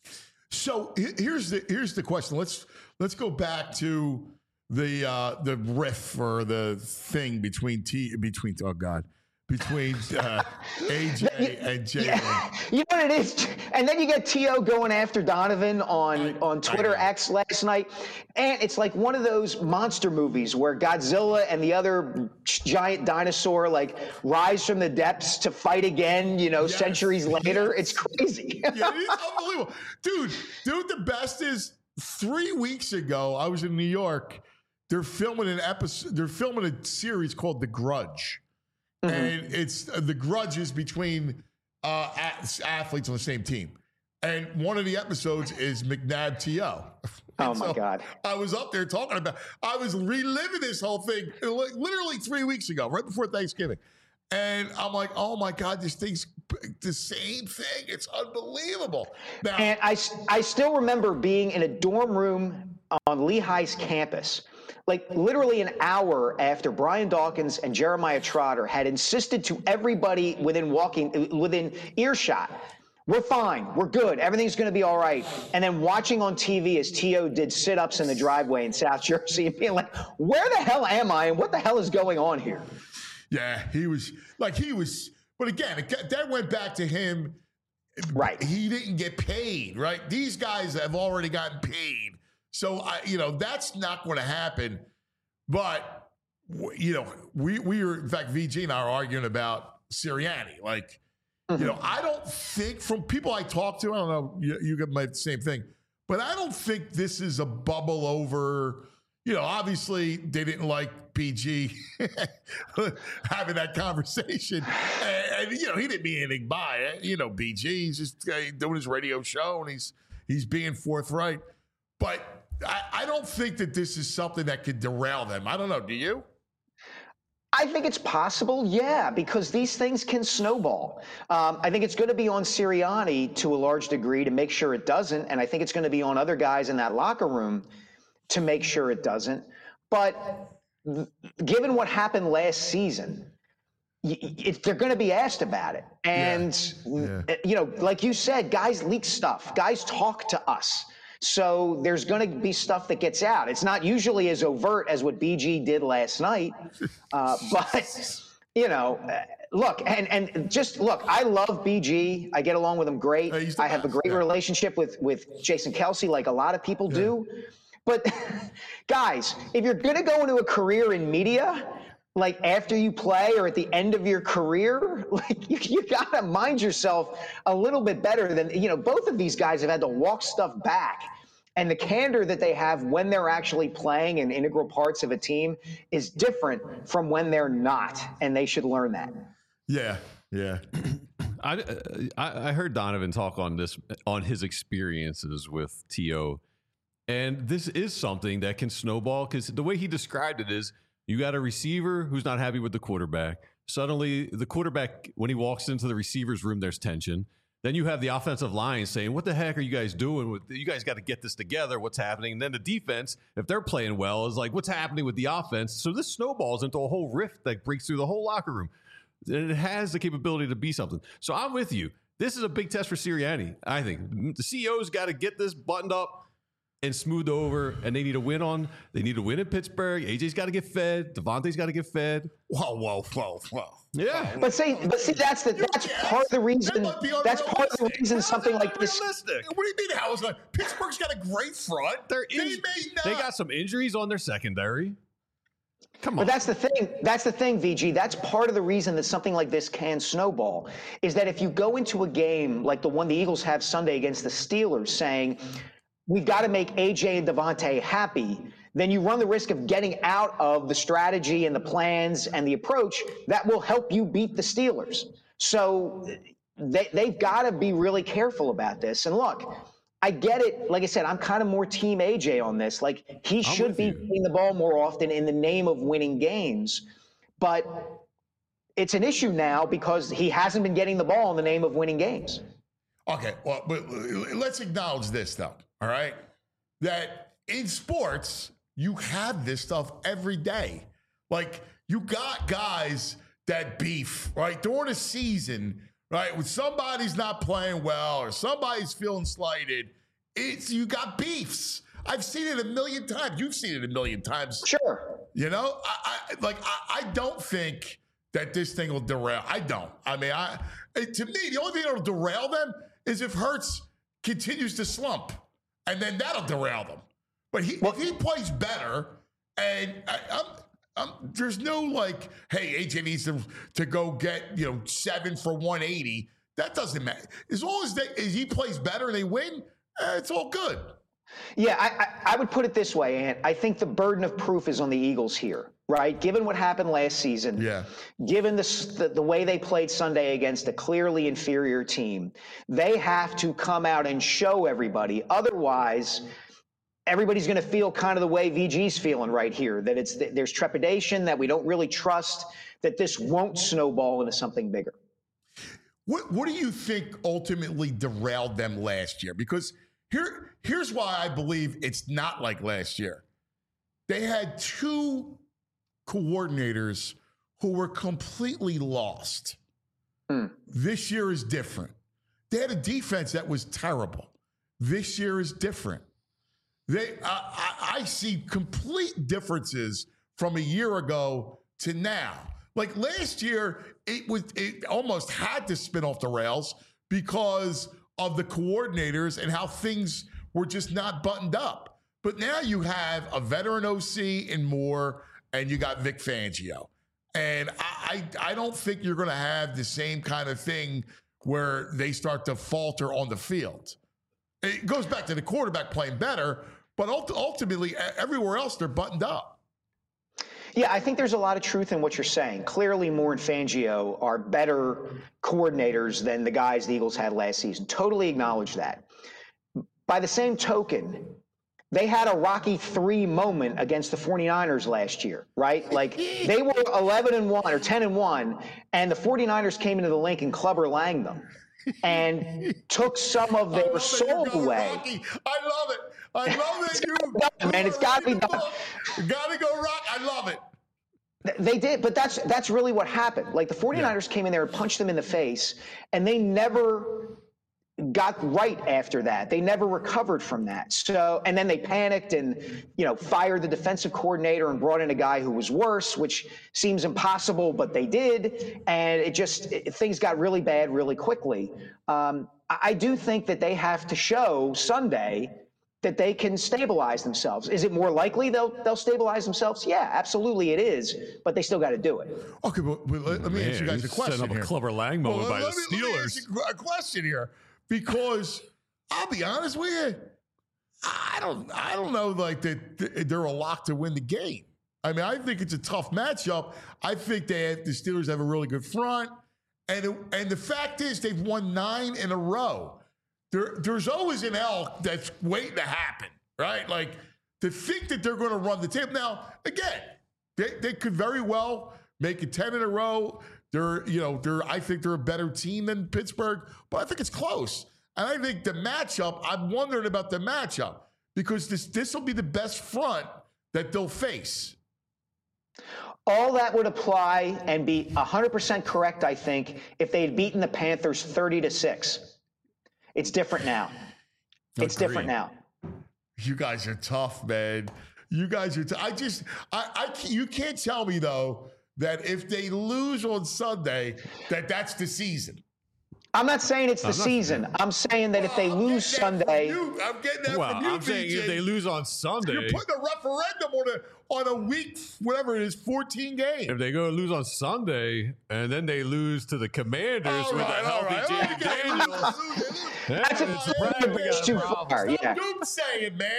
So here's the here's the question. Let's let's go back to the uh, the riff or the thing between T between oh God between uh, A J and Jalen. Yeah. You know what it is? And then you get T O going after Donovan on, I, on Twitter X last night. And it's like one of those monster movies where Godzilla and the other giant dinosaur like rise from the depths to fight again, you know, yes, centuries later. Yes. It's crazy. Yeah, it is unbelievable. Dude, dude, the best is three weeks ago, I was in New York. They're filming an episode, they're filming a series called The Grudge. Mm-hmm. And it's uh, the grudges between uh, athletes on the same team. And one of the episodes is McNabb T O. Oh, my so God. I was up there talking about, I was reliving this whole thing literally three weeks ago, right before Thanksgiving. And I'm like, oh, my God, this thing's the same thing. It's unbelievable. Now, and I, I still remember being in a dorm room on Lehigh's campus, like literally an hour after Brian Dawkins and Jeremiah Trotter had insisted to everybody within walking, within earshot, we're fine, we're good, everything's going to be all right. And then watching on T V as T O did sit-ups in the driveway in South Jersey and being like, where the hell am I and what the hell is going on here? Yeah, he was like he was, but again, it, that went back to him. Right. He didn't get paid, right? These guys have already gotten paid. So, I, you know, that's not going to happen. But, you know, we, we were, in fact, V G and I are arguing about Sirianni. Like, mm-hmm. you know, I don't think from people I talk to, I don't know, you, you might have the same thing, but I don't think this is a bubble over. You know, obviously they didn't like P G having that conversation. And, and, you know, he didn't mean anything by it. You know, B G, he's just uh, doing his radio show and he's he's being forthright. But I, I don't think that this is something that could derail them. I don't know. Do you? I think it's possible, yeah, because these things can snowball. Um, I think it's going to be on Sirianni to a large degree to make sure it doesn't, and I think it's going to be on other guys in that locker room to make sure it doesn't. But given what happened last season, it, they're going to be asked about it. And, yeah. Yeah. you know, like you said, guys leak stuff. Guys talk to us. So there's going to be stuff that gets out. It's not usually as overt as what B G did last night. Uh, but, you know, look, and, and just look, I love B G. I get along with him great. Uh, I have a great yeah. relationship with, with Jason Kelce, like a lot of people yeah. do. But guys, if you're going to go into a career in media, like after you play or at the end of your career, like you, you got to mind yourself a little bit better than, you know, both of these guys have had to walk stuff back. And the candor that they have when they're actually playing in integral parts of a team is different from when they're not. And they should learn that. Yeah. Yeah. I, I heard Donovan talk on this, on his experiences with T O. And this is something that can snowball because the way he described it is you got a receiver who's not happy with the quarterback. Suddenly, the quarterback, when he walks into the receiver's room, there's tension. Then you have the offensive line saying, what the heck are you guys doing? With You guys got to get this together. What's happening? And then the defense, if they're playing well, is like, what's happening with the offense? So this snowballs into a whole rift that breaks through the whole locker room. And it has the capability to be something. So I'm with you. This is a big test for Sirianni, I think. The C E O's got to get this buttoned up and smoothed over, and they need to win on. They need to win in Pittsburgh. A J's got to get fed. Devontae's got to get fed. Whoa, whoa, whoa, whoa. Yeah, but see, but see, that's the that's yes. part of the reason. That that's part of the reason something like this. What do you mean? How is that? Pittsburgh's got a great front. They're in, they may not. They got some injuries on their secondary. Come on. But that's the thing. That's the thing, V G. That's part of the reason that something like this can snowball. Is that if you go into a game like the one the Eagles have Sunday against the Steelers, saying, we've got to make A J and Devontae happy, then you run the risk of getting out of the strategy and the plans and the approach that will help you beat the Steelers. So they, they've got to be really careful about this. And look, I get it. Like I said, I'm kind of more team A J on this. Like he I'm should be getting the ball more often in the name of winning games. But it's an issue now because he hasn't been getting the ball in the name of winning games. Okay, well, but let's acknowledge this, though, all right? That in sports, you have this stuff every day. Like, you got guys that beef, right? During a season, right? When somebody's not playing well or somebody's feeling slighted, it's you got beefs. I've seen it a million times. You've seen it a million times. Sure. You know? I, I like, I, I don't think that this thing will derail. I don't. I mean, I to me, the only thing that'll derail them is if Hurts continues to slump, and then that'll derail them. But he, well, if he plays better, and I, I'm, I'm, there's no like, hey, A J needs to, to go get, you know, seven for one eighty. That doesn't matter. As long as, they, as he plays better and they win, eh, it's all good. Yeah, I, I, I would put it this way, Ant. I think the burden of proof is on the Eagles here, right? Given what happened last season, yeah. given the, the the way they played Sunday against a clearly inferior team, they have to come out and show everybody. Otherwise, everybody's going to feel kind of the way V G's feeling right here, that it's that there's trepidation, that we don't really trust that this won't snowball into something bigger. What What do you think ultimately derailed them last year? Because here here's why I believe it's not like last year. They had two coordinators who were completely lost. Mm. This year is different. They had a defense that was terrible. This year is different. They, uh, I, I see complete differences from a year ago to now. Like last year, it was it almost had to spin off the rails because of the coordinators and how things were just not buttoned up. But now you have a veteran O C in Moore, and you got Vic Fangio. And I, I, I don't think you're going to have the same kind of thing where they start to falter on the field. It goes back to the quarterback playing better, but ultimately everywhere else they're buttoned up. Yeah, I think there's a lot of truth in what you're saying. Clearly, Moore and Fangio are better coordinators than the guys the Eagles had last season. Totally acknowledge that. By the same token, they had a Rocky three moment against the 49ers last year, right? Like they were eleven and one or ten and one, and the 49ers came into the link and Clubber Lang them and took some of their soul away. Rocky. I love it. I love it. You, done, man, it's got to be done. Got to go rock. I love it. They did, but that's that's really what happened. Like the 49ers yeah. came in there and punched them in the face, and they never got right after that. They never recovered from that. So, and then they panicked and, you know, fired the defensive coordinator and brought in a guy who was worse, which seems impossible, but they did. And it just, it, things got really bad really quickly. Um, I, I do think that they have to show Sunday that they can stabilize themselves. Is it more likely they'll they'll stabilize themselves? Yeah, absolutely it is, but they still got to do it. Okay, but, but let, let me Man, ask you guys a question setting up here. a Clubber Lang moment well, by let the me, Steelers. Let me ask you a question here. Because I'll be honest with you, I don't, I don't know like that they're a lock to win the game. I mean, I think it's a tough matchup. I think they have, the Steelers have a really good front, and it, and the fact is they've won nine in a row. There, there's always an elk that's waiting to happen, right? Like to think that they're going to run the table. Now, again, they they could very well make it ten in a row. They're, you know, they're. I think they're a better team than Pittsburgh, but I think it's close. And I think the matchup, I'm wondering about the matchup because this this will be the best front that they'll face. All that would apply and be one hundred percent correct, I think, if they had beaten the Panthers thirty to six. It's different now. It's Agreed. different now. You guys are tough, man. You guys are. T- I just, I, I, you can't tell me though that if they lose on Sunday, that that's the season. I'm not saying it's the I'm not, season. I'm saying that well, if they I'm lose Sunday, you. I'm getting that well, from you. I'm saying B J. if they lose on Sunday, you're putting a referendum on a on a week, whatever it is, fourteen games. If they go lose on Sunday and then they lose to the Commanders all with right, a healthy right. James Daniels, that's a it's a too far. Stop Yeah. saying, man.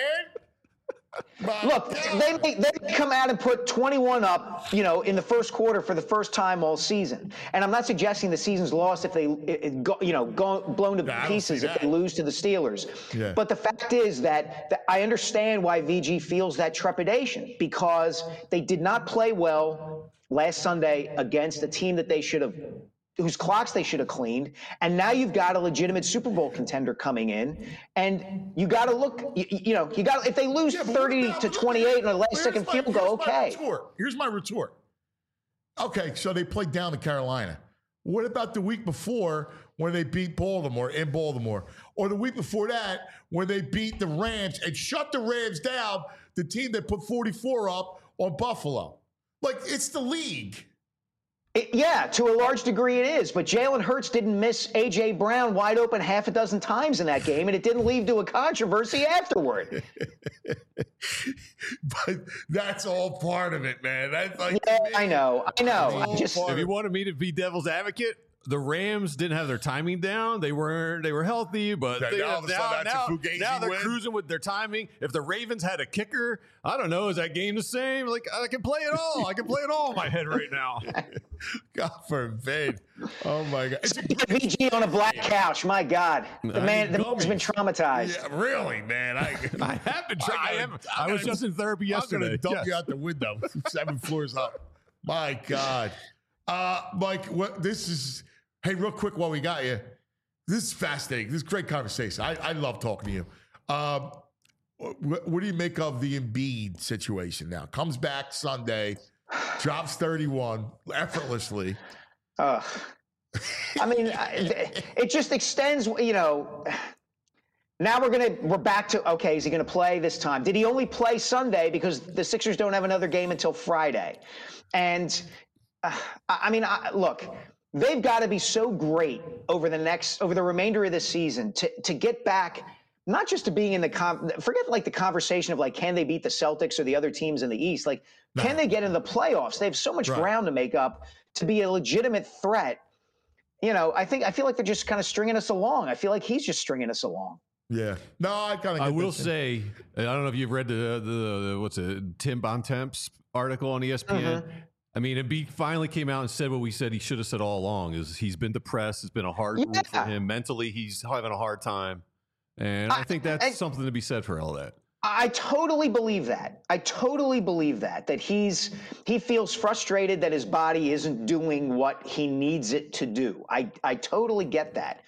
My Look, God. they may, they may come out and put twenty-one up, you know, in the first quarter for the first time all season. And I'm not suggesting the season's lost if they, it, it go, you know, go, blown to Yeah, pieces if they lose to the Steelers. Yeah. But the fact is that, that I understand why V G feels that trepidation because they did not play well last Sunday against a team that they should have, whose clocks they should have cleaned. And now you've got a legitimate Super Bowl contender coming in. And you got to look, you, you know, you got if they lose Yeah, thirty about, to twenty-eight in a last here's second my, field goal, here's my okay. retort. Here's my retort. Okay, so they played down to Carolina. What about the week before when they beat Baltimore in Baltimore? Or the week before that when they beat the Rams and shut the Rams down, the team that put forty-four up on Buffalo? Like, it's the league. It, yeah, to a large degree it is. But Jalen Hurts didn't miss A J. Brown wide open half a dozen times in that game, and it didn't lead to a controversy afterward. But that's all part of it, man. That's like, yeah, man, I know. I know. I just, If you wanted me to be devil's advocate, the Rams didn't have their timing down. They weren't. They were healthy, but Now, they, now all of a sudden that's a now, Fugazi now they're win. cruising with their timing. If the Ravens had a kicker, I don't know. Is that game the same? Like I can play it all. I can play it all in my head right now. God forbid. Oh my God. It's a great- V G on a black couch. My God, the I man, need the man's been traumatized. yeah, really, man. I, I have been trying. I, gotta- am. I I was gotta- just in therapy I'm gonna yesterday. dump Yes. you out the window, seven floors up. My God, uh, Mike. What this is? Hey, real quick while we got you, this is fascinating. This is great conversation. I, I love talking to you. Um, what, what do you make of the Embiid situation now? Comes back Sunday, drops thirty-one effortlessly. Ugh. I mean, I- it just extends. You know, now we're gonna we're back to okay. Is he gonna play this time? Did he only play Sunday because the Sixers don't have another game until Friday? And uh, I I mean, I, look, they've got to be so great over the next over the remainder of this season to to get back. Not just to being in the com- forget like the conversation of like can they beat the Celtics or the other teams in the East? Like No. can they get into the playoffs? They have so much Right. ground to make up to be a legitimate threat. You know, I think I feel like they're just kind of stringing us along. I feel like he's just stringing us along. Yeah. No, I kind of. I will say, I don't know if you've read the the, the what's it, Tim Bontemps article on E S P N. Mhm. I mean, Embiid finally came out and said what we said he should have said all along: is he's been depressed. It's been a hard Yeah. road for him mentally. He's having a hard time, and I, I- think that's I- something to be said for all that. I totally believe that. I totally believe that that he's he feels frustrated that his body isn't doing what he needs it to do. I I totally get that.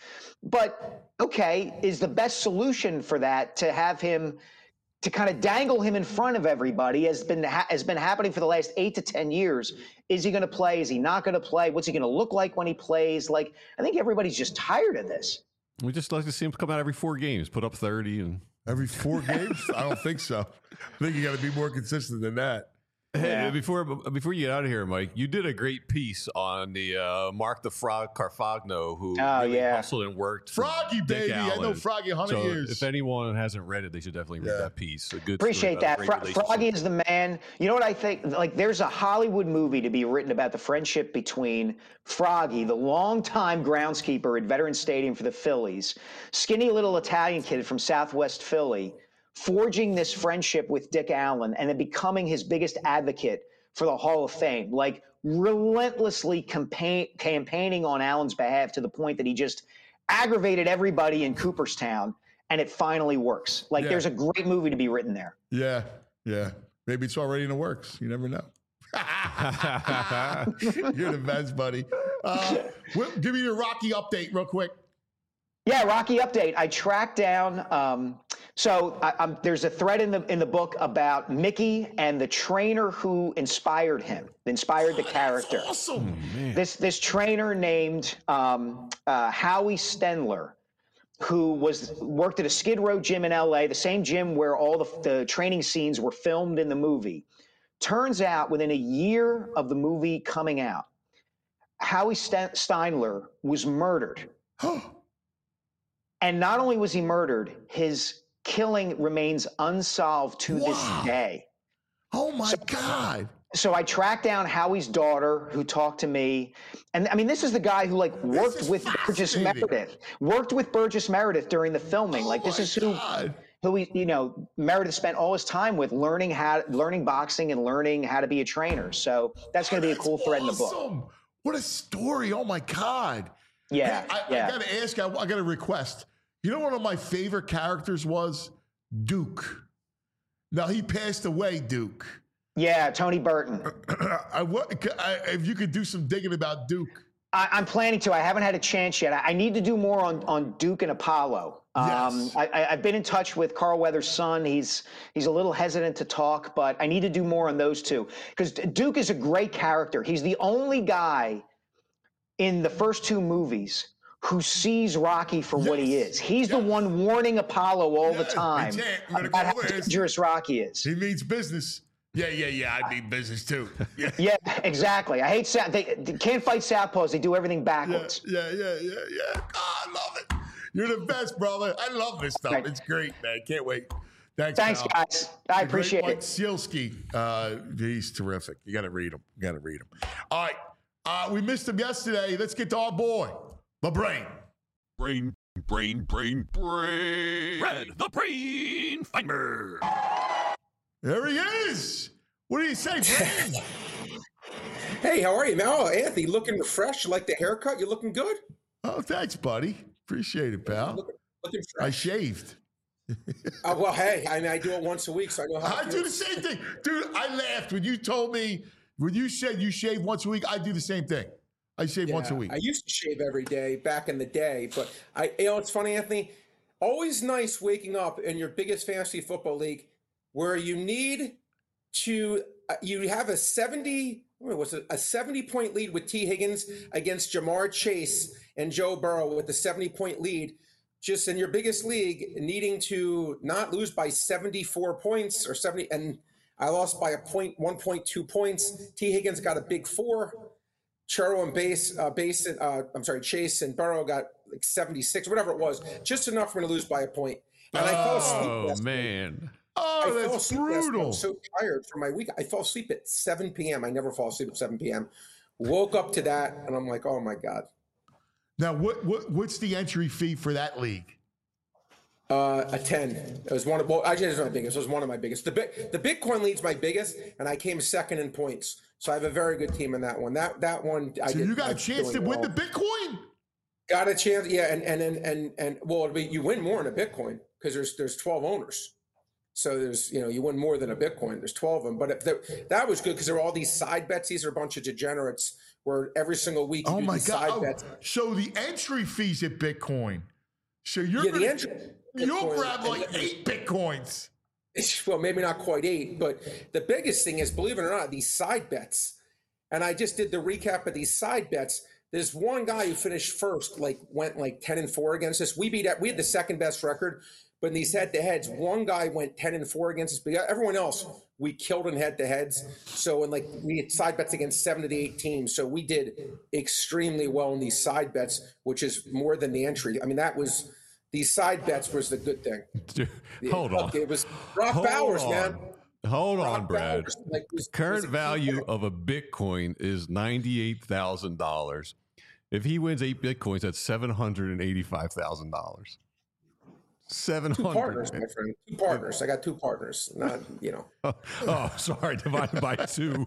But okay, is the best solution for that to have him to kind of dangle him in front of everybody has been ha- has been happening for the last eight to ten years. Is he going to play? Is he not going to play? What's he going to look like when he plays? Like I think everybody's just tired of this. We just like to see him come out every four games, put up thirty, and Every four games? I don't think so. I think you got to be more consistent than that. Hey, Yeah. before before you get out of here, Mike, you did a great piece on the uh, Mark the Frog Carfagno, who Oh, really yeah. hustled and worked. for Froggy, Dick baby. I know Allen. Froggy one hundred So years. if anyone hasn't read it, they should definitely read Yeah. that piece. A good story Appreciate about a that. great Fro- relationship. Froggy is the man. You know what I think? Like, there's a Hollywood movie to be written about the friendship between Froggy, the longtime groundskeeper at Veterans Stadium for the Phillies, skinny little Italian kid from Southwest Philly, forging this friendship with Dick Allen and then becoming his biggest advocate for the Hall of Fame, like relentlessly campaign, campaigning on Allen's behalf to the point that he just aggravated everybody in Cooperstown, and it finally works. Like, Yeah. there's a great movie to be written there. Yeah, yeah. Maybe it's already in the works. You never know. You're the best, buddy. Uh, well, give me your Rocky update real quick. Yeah, Rocky update. I tracked down. Um, so I, I'm, there's a thread in the in the book about Mickey and the trainer who inspired him, inspired the character. Awesome. This this trainer named um, uh, Howie Stenler, who was worked at a Skid Row gym in L A, the same gym where all the, the training scenes were filmed in the movie. Turns out, within a year of the movie coming out, Howie Sten- Steinler was murdered. And not only was he murdered, his killing remains unsolved to Wow. this day. Oh my God. So I tracked down Howie's daughter, who talked to me, and I mean, this is the guy who like worked is with Burgess fascinating. Meredith, worked with Burgess Meredith during the filming. Oh like this my is who, God. who he, you know, Meredith spent all his time with, learning how, learning boxing and learning how to be a trainer. So that's going to be a That's cool thread in the book. awesome. What a story. Oh my God. Yeah, Hey, I, yeah. I got to ask, I, I got a request. You know, one of my favorite characters was Duke. Now, he passed away, Duke. Yeah, Tony Burton. I, what, I, if you could do some digging about Duke. I, I'm planning to. I haven't had a chance yet. I, I need to do more on, on Duke and Apollo. Um, Yes. I, I, I've been in touch with Carl Weathers' son. He's he's a little hesitant to talk, but I need to do more on those two because Duke is a great character. He's the only guy in the first two movies who sees Rocky for what he Yes. is. He's the Yes. one warning Apollo all the Yes. time Hey, Ted, I'm gonna about how call this. dangerous Rocky is. He means business. Yeah, yeah, yeah. I mean business too. Yeah, Yeah, exactly. I hate South. They, they can't fight Southpaws. They do everything yeah, backwards. yeah, yeah, yeah, yeah. Oh, I love it. You're the best, brother. I love this stuff. Right. It's great, man. Can't wait. Thanks, Thanks, pal. guys. I The great appreciate Mike it. Sealski. Uh, he's terrific. You got to read him. You got to read him. All right. Uh, we missed him yesterday. Let's get to our boy, the brain. Brain, brain, brain, brain. Red, the brain finder. There he is. What do you say, brain? Hey, how are you, man? Oh, Anthony, looking fresh. You like the haircut? You looking good? Oh, thanks, buddy. Appreciate it, pal. Looking, looking I fresh. shaved. Uh, well, hey, I mean, I do it once a week, so I know how. I to do the same thing. Dude, I laughed when you told me, when you said you shave once a week, I do the same thing. I shave Yeah, once a week. I used to shave every day back in the day, but I, you know, it's funny, Anthony. Always nice waking up in your biggest fantasy football league, where you need to, uh, you have a seventy, what was it, a seventy point lead with T. Higgins against Jamar Chase and Joe Burrow with the seventy point lead. Just in your biggest league, needing to not lose by seventy-four points or seventy, and I lost by a point, one point two points. T. Higgins got a big four. Churro and Base, uh, Base, uh, I'm sorry, Chase and Burrow got like seventy-six, whatever it was, just enough for me to lose by a point. And I fell asleep. Oh, last night. man. Oh, I fell that's asleep last night. brutal. I'm so tired from my week. I fell asleep at seven p.m. I never fall asleep at seven p.m. Woke up to that, and I'm like, oh my god. Now, what, what what's the entry fee for that league? Uh, a ten. It was one of, well, actually, it was my biggest. It was one of my biggest. The big, the Bitcoin lead's my biggest, and I came second in points. So I have a very good team in that one. That that one, I So did, you got a I'm chance to doing win well. the Bitcoin? Got a chance, yeah, and and and and, and well, it'll be, you win more in a Bitcoin because there's there's twelve owners. So there's, you know, you win more than a Bitcoin. There's twelve of them. But if the, that was good because there were all these side bets. These are a bunch of degenerates where every single week you Oh do my these God. side Oh, bets. so the entry fees at Bitcoin. So you're Yeah, gonna, the entry. you'll Bitcoin, grab and like then- eight Bitcoins. Well, maybe not quite eight, but the biggest thing is, believe it or not, these side bets. And I just did the recap of these side bets. There's one guy who finished first, like went like ten and four against us. We beat we had the second best record, but in these head to heads, one guy went ten and four against us. But everyone else we killed in head to heads. So in like we had side bets against seven to the eight teams. So we did extremely well in these side bets, which is more than the entry. I mean, that was these side bets was the good thing. Dude, hold on. Look, it was Brock Hold Bowers, on. man. Hold on, Brock Brad. Bowers, like, was- Current was a key value player. of a Bitcoin is ninety-eight thousand dollars. If he wins eight Bitcoins, that's seven hundred eighty-five thousand dollars. seven Two hundred. partners, my friend. Two partners. I got two partners. Not, you know. Oh, oh, sorry, divided by two.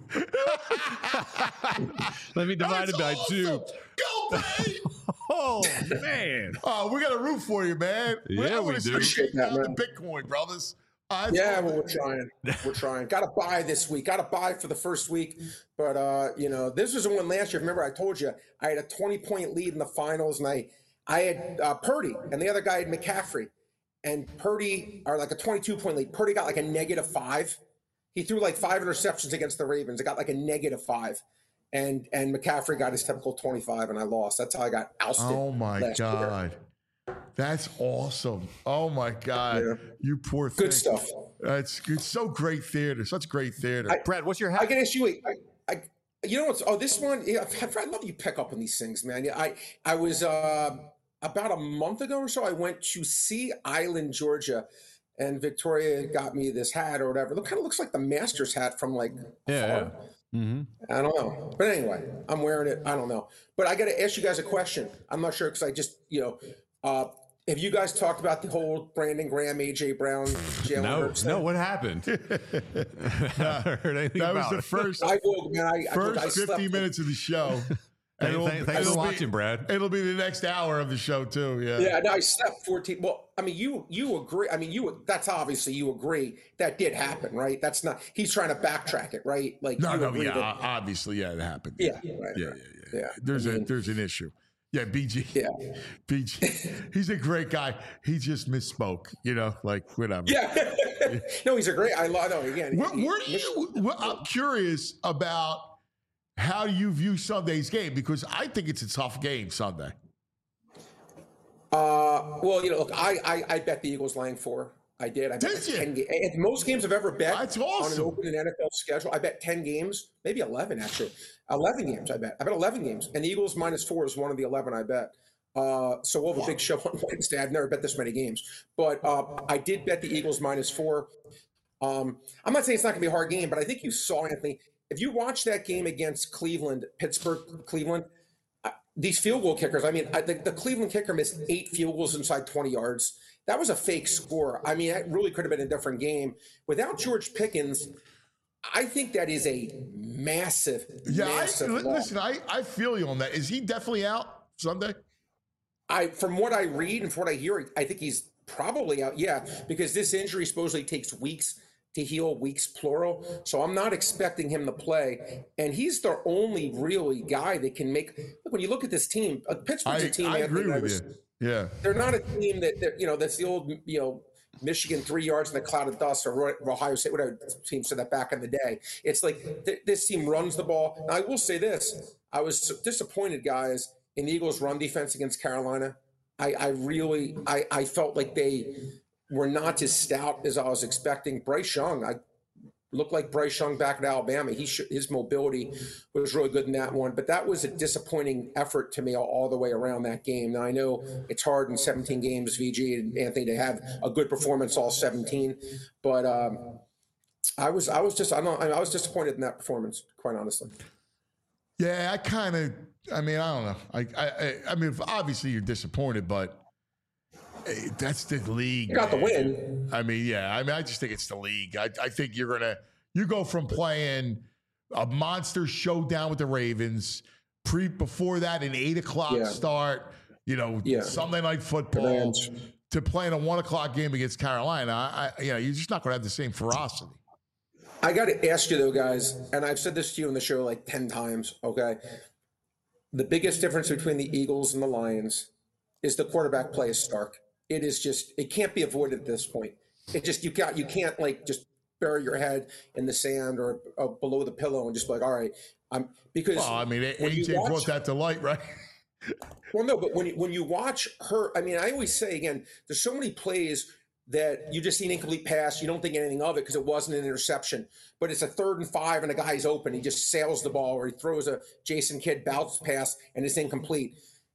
Let me divide it by That's two. awesome. Go, Brady! Oh, man. Oh, we got a root for you, man. Yeah, I we wanna do. see you Appreciate take that, down the man. Bitcoin, brothers. Uh, that's Yeah, awesome. well, we're trying. We're trying. Got to buy this week. Got to buy for the first week. But, uh, you know, this was the one last year. Remember, I told you I had a twenty point lead in the finals, and I, I had uh, Purdy, and the other guy had McCaffrey. And Purdy, or like a twenty-two point lead. Purdy got like a negative five. He threw like five interceptions against the Ravens. It got like a negative five. And and McCaffrey got his typical twenty-five, and I lost. That's how I got ousted. Oh my last year. God. That's awesome. Oh my God. Yeah. You poor thing. Good stuff. That's it's so great theater. Such great theater. I- Brad, what's your I hat? can ask you. I, I, you know what's? Oh, this one. Yeah, I love you pick up on these things, man. Yeah, I, I was uh, about a month ago or so. I went to Sea Island, Georgia, and Victoria got me this hat or whatever. It kind of looks like the Masters hat from like. Yeah, afar. Mm-hmm. I don't know, but anyway, I'm wearing it. I don't know, but I got to ask you guys a question. I'm not sure because I just, you know, uh, have you guys talked about the whole Brandon Graham, A J Brown, Jalen No, Hurts no, thing? what happened? I haven't heard anything That was about the it. first I will, man. I, I, first I slept fifty minutes of the show. And Thank- it'll- thank- thanks it'll for be- watching, Brad. It'll be the next hour of the show too. Yeah. Yeah, no, I slept fourteen. Well, I mean, you you agree. I mean, you that's obviously you agree that did happen, right? That's not. He's trying to backtrack it, right? Like No, you no, agree yeah, that- obviously, yeah, it happened. yeah, yeah, right, yeah, right. yeah, Yeah, There's I a mean- there's an issue. Yeah, B G. Yeah. B G. He's a great guy. He just misspoke. You know, like whatever. Yeah. No, he's a great. I love. No, again. Where, he- where do you? Well, I'm curious about how you view Sunday's game because I think it's a tough game Sunday. Uh, well, you know, look, I, I I bet the Eagles laying four. I did. I Did bet you? ten games. Most games I've ever bet That's on an awesome. open and N F L schedule. I bet ten games, maybe eleven actually. eleven games, I bet. I bet eleven games. And the Eagles minus four is one of the eleven I bet. Uh, so we'll have a big show on Wednesday. I've never bet this many games. But uh, I did bet the Eagles minus four. Um, I'm not saying it's not going to be a hard game, but I think you saw, Anthony, if you watch that game against Cleveland, Pittsburgh, Cleveland, uh, these field goal kickers, I mean, I, the, the Cleveland kicker missed eight field goals inside twenty yards. That was a fake score. I mean, that really could have been a different game. Without George Pickens, I think that is a massive, Yeah, massive I, loss. listen, I, I feel you on that. Is he definitely out Sunday? I, from what I read and from what I hear, I think he's probably out. Yeah, because this injury supposedly takes weeks to heal, weeks plural. So I'm not expecting him to play. And he's the only really guy that can make. Look, when you look at this team, uh, Pittsburgh's I, a team. I Anthony, agree that with was- you. Yeah. They're not a team that, that you know. That's the old you know Michigan three yards in a cloud of dust, or Roy- Ohio State, whatever team said that back in the day. It's like th- this team runs the ball. Now, I will say this: I was disappointed, guys, in the Eagles' run defense against Carolina. I, I really, I, I felt like they were not as stout as I was expecting. Bryce Young, I looked like Bryce Young back at Alabama. He sh- his mobility was really good in that one, but that was a disappointing effort to me all, all the way around that game. Now I know it's hard in seventeen games, V G and Anthony, to have a good performance all seventeen, but um, I was, I was just, I don't, I was disappointed in that performance, quite honestly. Yeah, I kind of. I mean, I don't know. I, I, I mean, obviously you're disappointed, but eh, that's the league. You got the man. win. I mean, yeah. I mean, I just think it's the league. I, I think you're gonna. You go from playing a monster showdown with the Ravens, pre before that an eight o'clock Yeah. start. You know, Yeah. Sunday night football, Rams. to playing a one o'clock game against Carolina. I, I, you know, you're just not gonna have the same ferocity. I got to ask you though, guys, and I've said this to you on the show like ten times. Okay, the biggest difference between the Eagles and the Lions is the quarterback play is stark. It is just, it can't be avoided at this point. It just, you got, you can't like just bury your head in the sand or, or below the pillow and just be like, all right, I'm because. Well, I mean, when you A J watch- brought that to light, right? Well, no, but when you, when you watch her, I mean, I always say again, there's so many plays that you just see an incomplete pass, you don't think anything of it because it wasn't an interception, but it's a third and five and a guy's open, he just sails the ball, or he throws a Jason Kidd bounce pass and it's incomplete.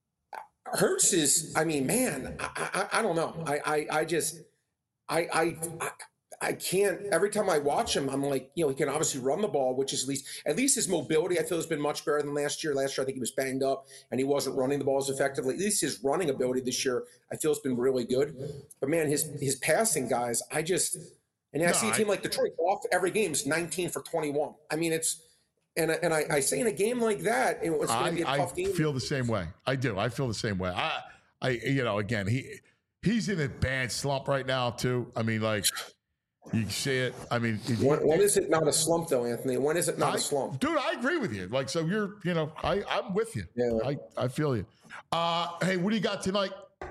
Hurts is, I mean, man, I, I, I don't know. I, I, I just, I, I, I, I can't. Every time I watch him, I'm like, you know, he can obviously run the ball, which is at least, at least his mobility, I feel, has been much better than last year. Last year, I think he was banged up and he wasn't running the balls effectively. At least his running ability this year, I feel, has been really good. But man, his his passing, guys, I just, and I No, see a I- team like Detroit off every game is nineteen for twenty-one. I mean, it's, and I- and I, I say in a game like that, it was going to I, be a I tough game. feel the same way. I do. I feel the same way. I, I, you know, again, he, he's in a bad slump right now too. I mean, like, you can see it. I mean, if you- When, when is it not a slump, though, Anthony? When is it not I- a slump? dude, I agree with you. Like, so you're, you know, I, I'm with you. Yeah. I, I feel you. Uh, hey, what do you got tonight?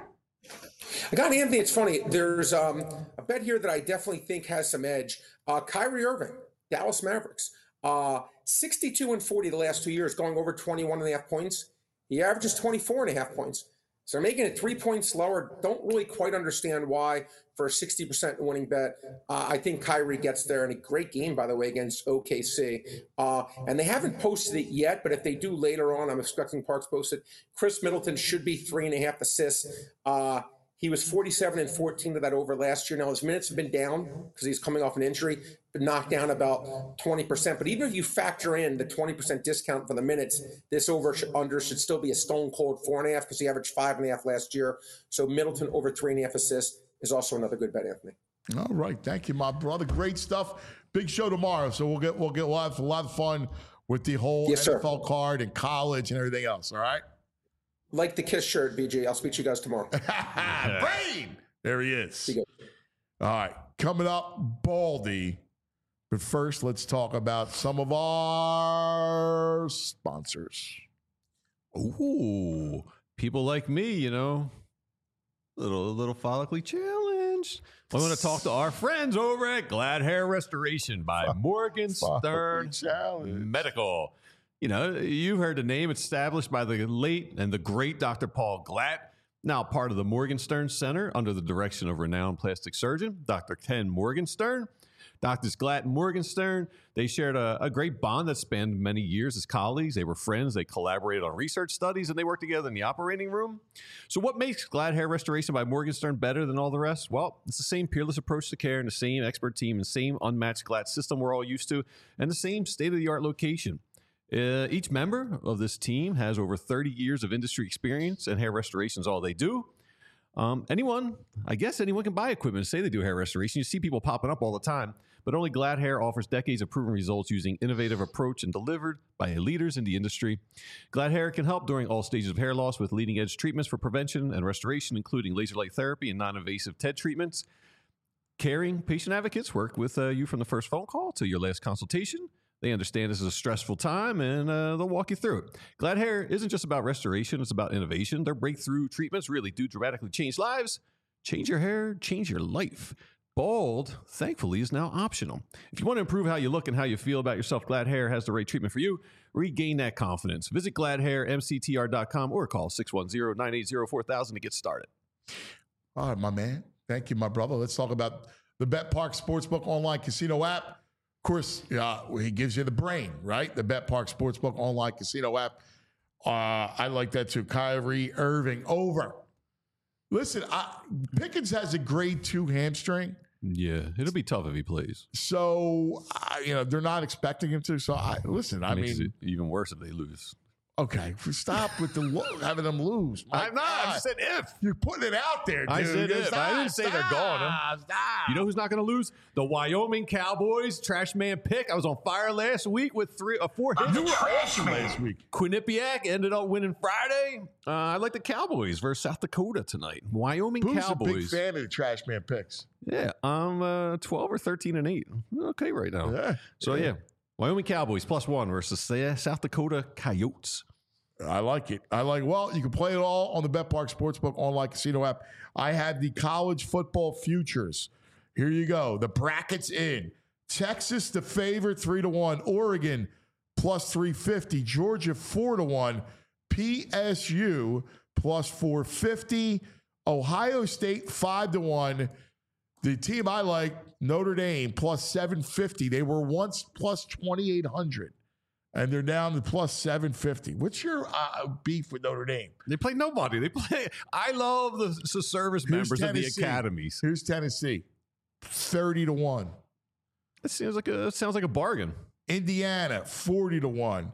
I got Anthony. It's funny. There's um, a bet here that I definitely think has some edge. Uh, Kyrie Irving, Dallas Mavericks, uh, sixty-two and forty the last two years, going over twenty-one and a half points. He averages twenty-four and a half points. So they're making it three points lower. Don't really quite understand why for a sixty percent winning bet. Uh, I think Kyrie gets there, and a great game, by the way, against O K C. Uh, and they haven't posted it yet, but if they do later on, I'm expecting Parks post it. Chris Middleton should be three and a half assists. Uh, He was forty-seven and fourteen to that over last year. Now his minutes have been down because he's coming off an injury, but knocked down about twenty percent. But even if you factor in the twenty percent discount for the minutes, this over under should still be a stone cold four and a half because he averaged five and a half last year. So Middleton over three and a half assists is also another good bet, Anthony. All right, thank you, my brother. Great stuff. Big show tomorrow, so we'll get we'll get we'll have a lot of fun with the whole Yes, N F sir. L card and college and everything else. All right. Like the Kiss shirt, B J. I'll speak to you guys tomorrow. Brain. There he is. Be good. All right, coming up, Baldy. But first, let's talk about some of our sponsors. Ooh, people like me, you know, little little follically challenge. I want to talk to our friends over at Glad Hair Restoration by Morgan Stern Challenge. Medical. You know, you've heard the name established by the late and the great Doctor Paul Glatt. Now part of the Morgenstern Center under the direction of renowned plastic surgeon, Doctor Ken Morgenstern. Doctors Glatt and Morgenstern, they shared a, a great bond that spanned many years as colleagues. They were friends. They collaborated on research studies, and they worked together in the operating room. So what makes Glatt Hair Restoration by Morgenstern better than all the rest? Well, it's the same peerless approach to care and the same expert team and the same unmatched Glatt system we're all used to and the same state-of-the-art location. Uh, each member of this team has over thirty years of industry experience, and hair restoration is all they do. Um, anyone, I guess anyone can buy equipment and say they do hair restoration. You see people popping up all the time, but only Glatt Hair offers decades of proven results using innovative approach and delivered by leaders in the industry. Glatt Hair can help during all stages of hair loss with leading-edge treatments for prevention and restoration, including laser light therapy and non-invasive T E D treatments. Caring patient advocates work with uh, you from the first phone call to your last consultation. They understand this is a stressful time, and uh, they'll walk you through it. Glatt Hair isn't just about restoration. It's about innovation. Their breakthrough treatments really do dramatically change lives. Change your hair, change your life. Bald, thankfully, is now optional. If you want to improve how you look and how you feel about yourself, Glatt Hair has the right treatment for you. Regain that confidence. Visit glatt hair m c t r dot com or call six one zero, nine eight zero, four thousand to get started. All right, my man. Thank you, my brother. Let's talk about the Bet Park Sportsbook online casino app. Of course, uh, he gives you the brain, right? The Bet Park Sportsbook online casino app. Uh, I like that too. Kyrie Irving over. Listen, I, Pickens has a grade two hamstring. Yeah, it'll be tough if he plays. So, uh, you know, they're not expecting him to. So, I listen, I Makes mean. it even worse if they lose. Okay, stop with the lo- having them lose. My I'm not. God. I just said if. You're putting it out there, dude. I said if. Stop, I didn't say they're gone. stop, stop. You know who's not going to lose? The Wyoming Cowboys. Trash man pick. I was on fire last week with three or four hits. You were awesome last week. Quinnipiac ended up winning Friday. Uh, I like the Cowboys versus South Dakota tonight. Wyoming Who's Cowboys. a big fan of the Trash Man picks? Yeah, I'm uh, twelve or thirteen and eight. Okay, right now. Yeah. So yeah. Wyoming Cowboys plus one versus uh, South Dakota Coyotes. I like it. I like. Well, you can play it all on the Bet Park Sportsbook online casino app. I have the college football futures. Here you go. The brackets in. Texas the favorite three to one. Oregon plus three fifty. Georgia four to one. P S U plus four fifty. Ohio State five to one. The team I like, Notre Dame plus seven fifty. They were once plus twenty-eight hundred. And they're down to plus seven fifty. What's your uh, beef with Notre Dame? They play nobody. They play. I love the, the service Here's members Tennessee. of the academies. Here's Tennessee, thirty to one. That seems like a that sounds like a bargain. Indiana, forty to one.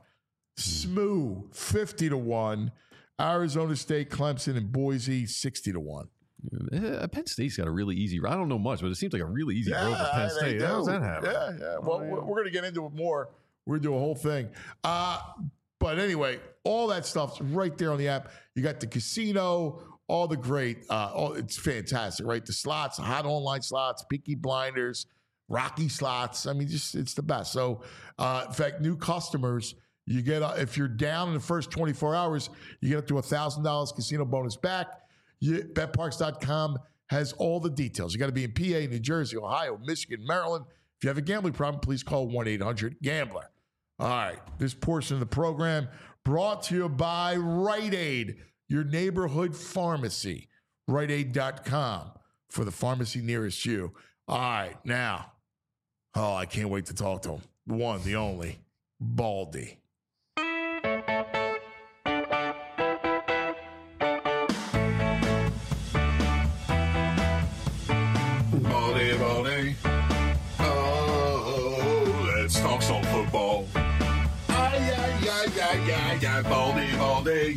S M U, fifty to one. Arizona State, Clemson, and Boise, sixty to one. Uh, Penn State's got a really easy. I don't know much, but it seems like a really easy road for Penn they State. do. How does that happen? Yeah, yeah. Well, Oh, yeah. we're, we're going to get into it more. We're going to do a whole thing. Uh, but anyway, all that stuff's right there on the app. You got the casino, all the great, uh, all, it's fantastic, right? The slots, hot online slots, Peaky Blinders, Rocky slots. I mean, just it's the best. So, uh, in fact, new customers, you get, uh, if you're down in the first twenty-four hours, you get up to one thousand dollars casino bonus back. You, bet parks dot com has all the details. You got to be in P A, New Jersey, Ohio, Michigan, Maryland. If you have a gambling problem, please call one eight hundred gambler. All right, this portion of the program brought to you by Rite Aid, your neighborhood pharmacy, rite aid dot com for the pharmacy nearest you. All right, now, oh, I can't wait to talk to him. The one, the only, Baldy. Baldy, Baldy. Oh, let's talk some football. Ay, ay, ay, ay, ay, ay, Baldy, Baldy.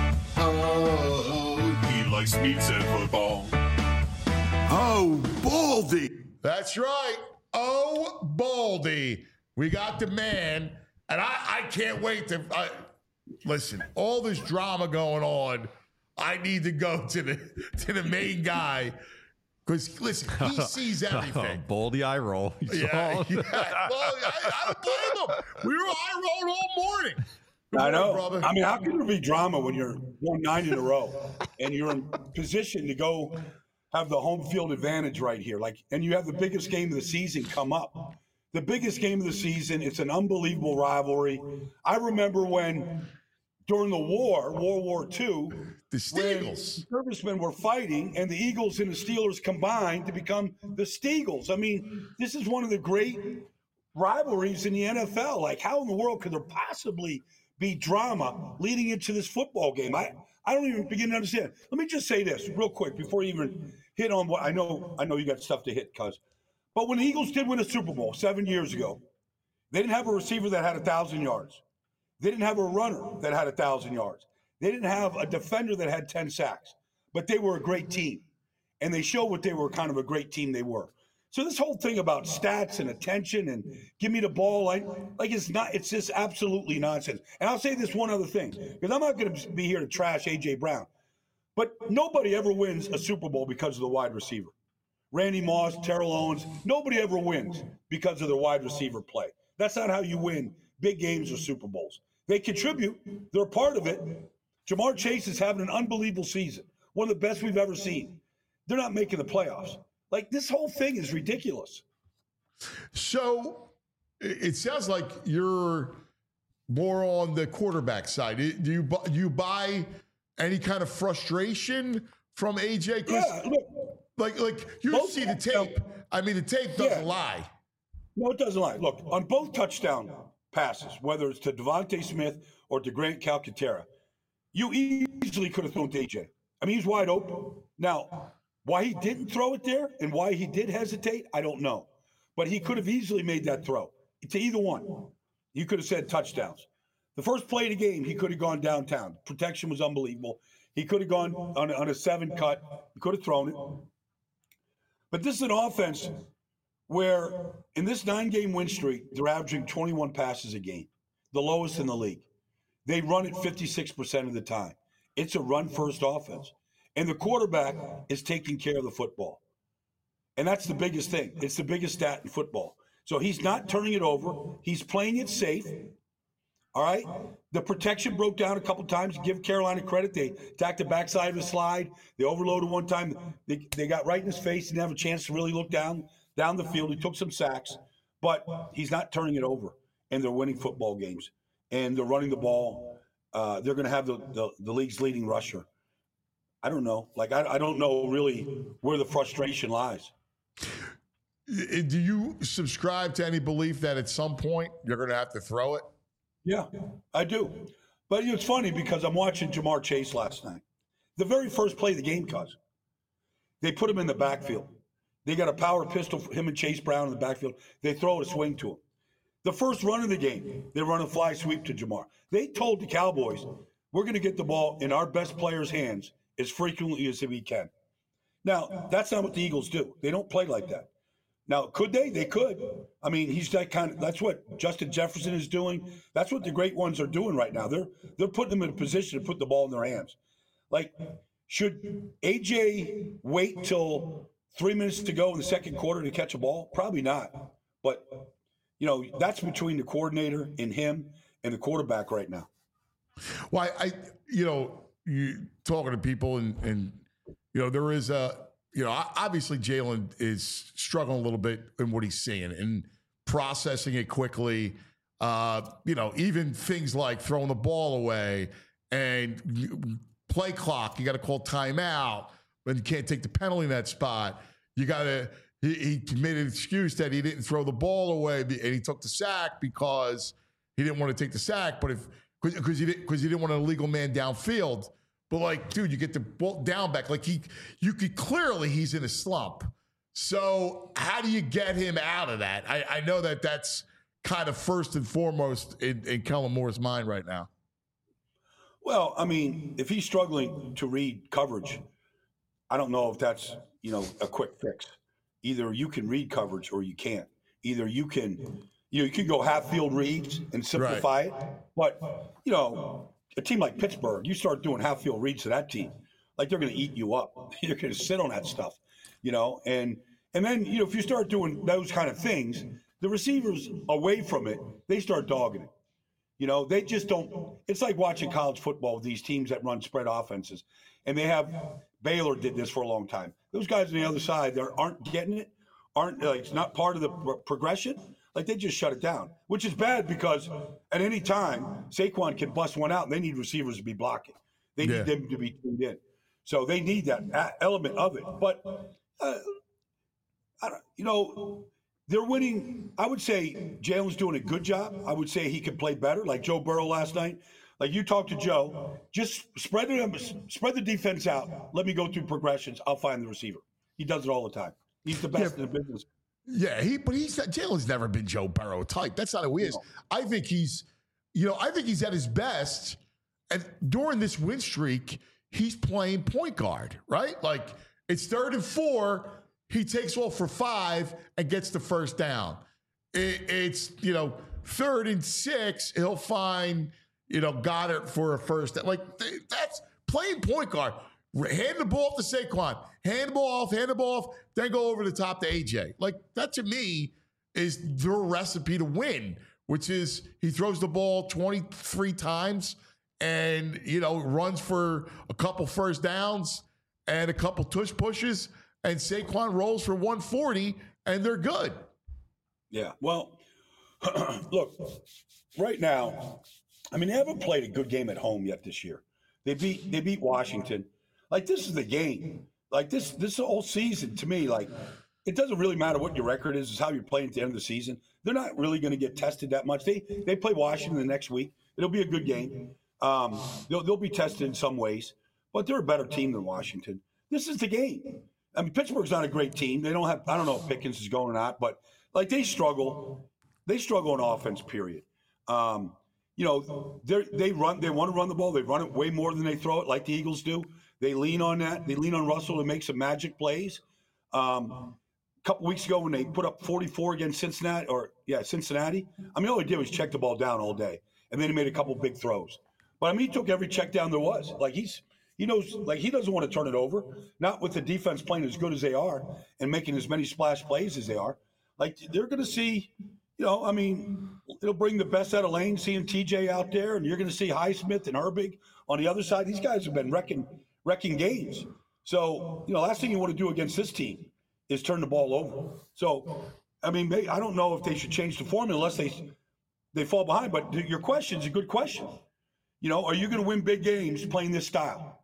Oh, he likes meats and football. Oh, Baldy. That's right. Oh, Baldy. We got the man, and I, I can't wait to I, listen. All this drama going on. I need to go to the to the main guy because listen, he sees everything. Baldy eye roll. You Yeah, saw? yeah. Well, I, I don't blame him. We were eye rolled all morning. Good I morning, know. brother. I mean, how can there be drama when you're won nine in a row and you're in position to go have the home field advantage right here? Like, and you have the biggest game of the season come up. The biggest game of the season. It's an unbelievable rivalry. I remember when during the war, World War Two, The Steagles. servicemen were fighting, and the Eagles and the Steelers combined to become the Steagles. I mean, this is one of the great rivalries in the N F L. Like, how in the world could there possibly be drama leading into this football game? I, I don't even begin to understand. Let me just say this real quick before you even hit on what I know. I know you got stuff to hit, cuz. But when the Eagles did win a Super Bowl seven years ago, they didn't have a receiver that had a thousand yards. They didn't have a runner that had a thousand yards. They didn't have a defender that had ten sacks. But they were a great team, and they showed what they were kind of a great team they were. So this whole thing about stats and attention and give me the ball, like, like it's not, it's just absolutely nonsense. And I'll say this one other thing, because I'm not going to be here to trash A J Brown, but nobody ever wins a Super Bowl because of the wide receiver. Randy Moss, Terrell Owens, nobody ever wins because of their wide receiver play. That's not how you win big games or Super Bowls. They contribute. They're a part of it. Jamar Chase is having an unbelievable season, one of the best we've ever seen. They're not making the playoffs. Like, this whole thing is ridiculous. So it sounds like you're more on the quarterback side. Do you buy, do you buy any kind of frustration from A J? Yeah, look, like, like you both, see the tape. I mean, the tape doesn't yeah. lie. No, it doesn't lie. Look, on both touchdown passes, whether it's to Devontae Smith or to Grant Calcaterra, you easily could have thrown to A J. I mean, he's wide open. Now, why he didn't throw it there and why he did hesitate, I don't know. But he could have easily made that throw to either one. You could have said touchdowns. The first play of the game, he could have gone downtown. Protection was unbelievable. He could have gone on, on a seven cut. He could have thrown it. But this is an offense where in this nine-game win streak, they're averaging twenty-one passes a game, the lowest in the league. They run it fifty-six percent of the time. It's a run-first offense. And the quarterback is taking care of the football. And that's the biggest thing. It's the biggest stat in football. So he's not turning it over. He's playing it safe. All right? The protection broke down a couple times. Give Carolina credit. They attacked the backside of the slide. They overloaded one time. They, they got right in his face. Didn't have a chance to really look down, down the field. He took some sacks. But he's not turning it over. And they're winning football games. And they're running the ball. Uh, they're going to have the, the, the league's leading rusher. I don't know. Like, I, I don't know really where the frustration lies. Do you subscribe to any belief that at some point you're going to have to throw it? Yeah, I do. But it's funny because I'm watching Jamar Chase last night. The very first play of the game, cuz they put him in the backfield. They got a power pistol for him and Chase Brown in the backfield. They throw a swing to him. The first run of the game, they run a fly sweep to Jamar. They told the Cowboys, we're going to get the ball in our best player's hands as frequently as we can. Now, that's not what the Eagles do. They don't play like that. Now, could they? They could. I mean, he's that kind of, that's what Justin Jefferson is doing. That's what the great ones are doing right now. They're they're putting them in a position to put the ball in their hands. Like, should A J wait till three minutes to go in the second quarter to catch a ball? Probably not. But, you know, that's between the coordinator and him and the quarterback right now. Well, I, I you know, you talking to people and, and, you know, there is a, you know, obviously Jalen is struggling a little bit in what he's seeing and processing it quickly. Uh, you know, even things like throwing the ball away and play clock, you got to call timeout, but you can't take the penalty in that spot. You got to, he, he made an excuse that he didn't throw the ball away and he took the sack because he didn't want to take the sack, but if, because he didn't, because he didn't want an illegal man downfield. But like, dude, you get the ball down back. Like he, you could clearly he's in a slump. So how do you get him out of that? I, I know that that's kind of first and foremost in, in Kellen Moore's mind right now. Well, I mean, if he's struggling to read coverage, I don't know if that's, you know, a quick fix. Either you can read coverage or you can't. Either you can, you know, you can go half field reads and simplify right. it. But, you know, a team like Pittsburgh, you start doing half field reads to that team, like they're going to eat you up. You're going to sit on that stuff, you know, and and then, you know, if you start doing those kind of things, the receivers away from it, they start dogging it. You know, they just don't. It's like watching college football with these teams that run spread offenses, and they have Baylor did this for a long time. Those guys on the other side, they aren't getting it, aren't like it's not part of the pro- progression. Like they just shut it down, which is bad because at any time Saquon can bust one out and they need receivers to be blocking. They Yeah. need them to be tuned in. So they need that a- element of it. But, uh, I don't, you know, they're winning. I would say Jalen's doing a good job. I would say he could play better, like Joe Burrow last night. Like you talked to Joe, just spread the spread the defense out. Let me go through progressions. I'll find the receiver. He does it all the time. He's the best Yeah. in the business. Yeah, he but he's Jalen's never been Joe Burrow type. That's not who he is. I think he's, you know, I think he's at his best. And during this win streak, he's playing point guard, right? Like it's third and four, he takes off for five and gets the first down. It, it's you know third and six, he'll find you know Goddard for a first down. Like that's playing point guard. Hand the ball to Saquon, hand the ball off, hand the ball off, then go over the top to A J. Like that to me is the recipe to win, which is he throws the ball twenty-three times and, you know, runs for a couple first downs and a couple tush pushes, and Saquon rolls for one forty and they're good. Yeah. Well, look, right now, I mean, they haven't played a good game at home yet this year. They beat they beat Washington. Like this is the game. Like this this whole season to me, like it doesn't really matter what your record is, it's how you're playing at the end of the season. They're not really going to get tested that much. They they play Washington the next week. It'll be a good game. Um, they'll they'll be tested in some ways, but they're a better team than Washington. This is the game. I mean, Pittsburgh's not a great team. They don't have I don't know if Pickens is going or not, but like they struggle. They struggle on offense, period. Um, you know, they they run they want to run the ball. They run it way more than they throw it, like the Eagles do. They lean on that. They lean on Russell to make some magic plays. Um, a couple weeks ago when they put up forty-four against Cincinnati, or yeah, Cincinnati. I mean, all he did was check the ball down all day, and then he made a couple big throws. But I mean, he took every check down there was. Like he's he knows, like he doesn't want to turn it over. Not with the defense playing as good as they are and making as many splash plays as they are. Like they're going to see. You know, I mean, it'll bring the best out of Lane, seeing T J out there, and you're going to see Highsmith and Herbig on the other side. These guys have been wrecking wrecking games. So, you know, last thing you want to do against this team is turn the ball over. So, I mean, maybe, I don't know if they should change the formula unless they they fall behind. But your question is a good question. You know, are you going to win big games playing this style?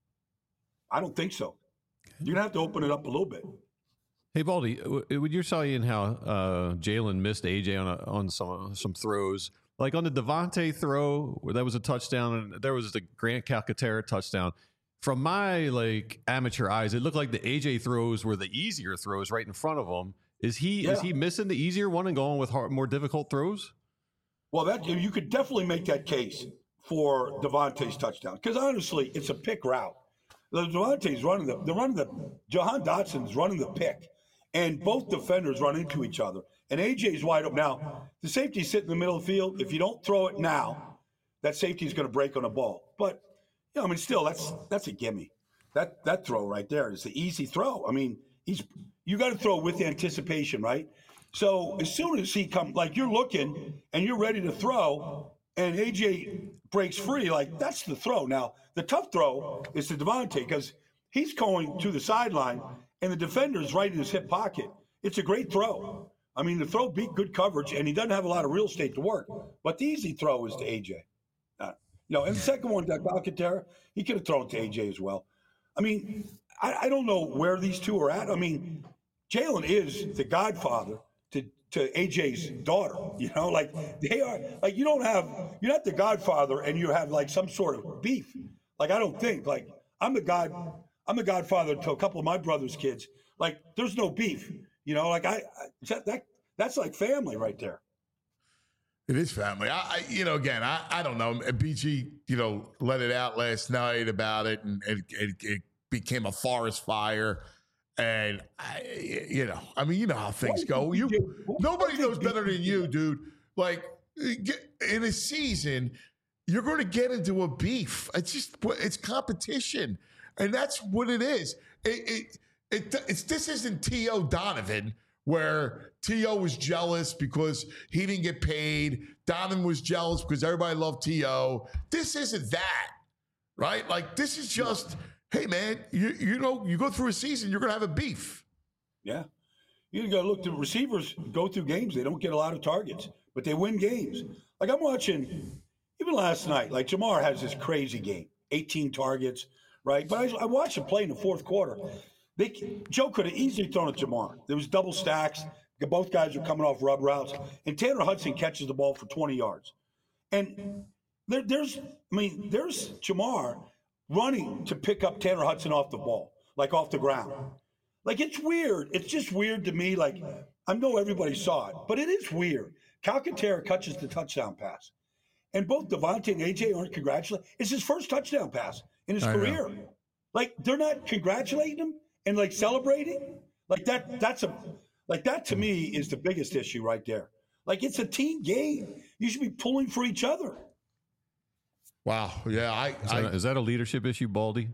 I don't think so. You're going to have to open it up a little bit. Hey, Baldy, when you're saying how uh, Jalen missed A J on a, on some some throws, like on the Devontae throw, where that was a touchdown, and there was the Grant Calcaterra touchdown. From my like amateur eyes, it looked like the A J throws were the easier throws right in front of him. Is he Yeah. is he missing the easier one and going with hard, more difficult throws? Well, that you could definitely make that case for Devontae's touchdown because honestly, it's a pick route. The Devontae's running the they're running the Jahan Dotson's running the pick. And both defenders run into each other. And A J's wide open. Now, the safety's sitting in the middle of the field. If you don't throw it now, that safety's going to break on the ball. But, you know, I mean, still, that's that's a gimme. That that throw right there is the easy throw. I mean, he's you got to throw with anticipation, right? So as soon as he comes, like you're looking and you're ready to throw, and A J breaks free, like that's the throw. Now, the tough throw is to Devontae because he's going to the sideline. And the defender's right in his hip pocket. It's a great throw. I mean, the throw beat good coverage, and he doesn't have a lot of real estate to work. But the easy throw is to A J. Uh, you know, and the second one, Calcaterra, he could have thrown to A J as well. I mean, I, I don't know where these two are at. I mean, Jalen is the godfather to, to A J's daughter. You know, like they are. Like you don't have. You're not the godfather, and you have like some sort of beef. Like I don't think. Like I'm the god. I'm the godfather to a couple of my brother's kids. Like, there's no beef, you know. Like I, I that that's like family right there. It is family. I, I you know, again, I, I don't know. B G, you know, let it out last night about it, and it, it, it became a forest fire. And I, you know, I mean, you know how things go. You nobody knows better than you, dude. Like in a season, you're going to get into a beef. It's just it's competition. And that's what it is. It, it, it, it's this isn't T O Donovan, where T O was jealous because he didn't get paid. Donovan was jealous because everybody loved T O. This isn't that, right? Like this is just, hey man, you you know, you go through a season, you're gonna have a beef. Yeah, You got to look. The receivers go through games; they don't get a lot of targets, but they win games. Like I'm watching, even last night. Like Jamar has this crazy game, eighteen targets, right? But I, I watched him play in the fourth quarter. They, Joe could have easily thrown at Jamar. There was double stacks. Both guys were coming off rub routes, and Tanner Hudson catches the ball for twenty yards. And there, there's, I mean, there's Jamar running to pick up Tanner Hudson off the ball, like off the ground. Like, it's weird. It's just weird to me. Like, I know everybody saw it, but it is weird. Calcaterra catches the touchdown pass. And both Davante and A J aren't congratulating. It's his first touchdown pass in his I career. know. Like, they're not congratulating him and, like, celebrating. Like, that. that's a, like, that to me is the biggest issue right there. Like, it's a team game. You should be pulling for each other. Wow. Yeah. I, Is that, I a, is that a leadership issue, Baldy?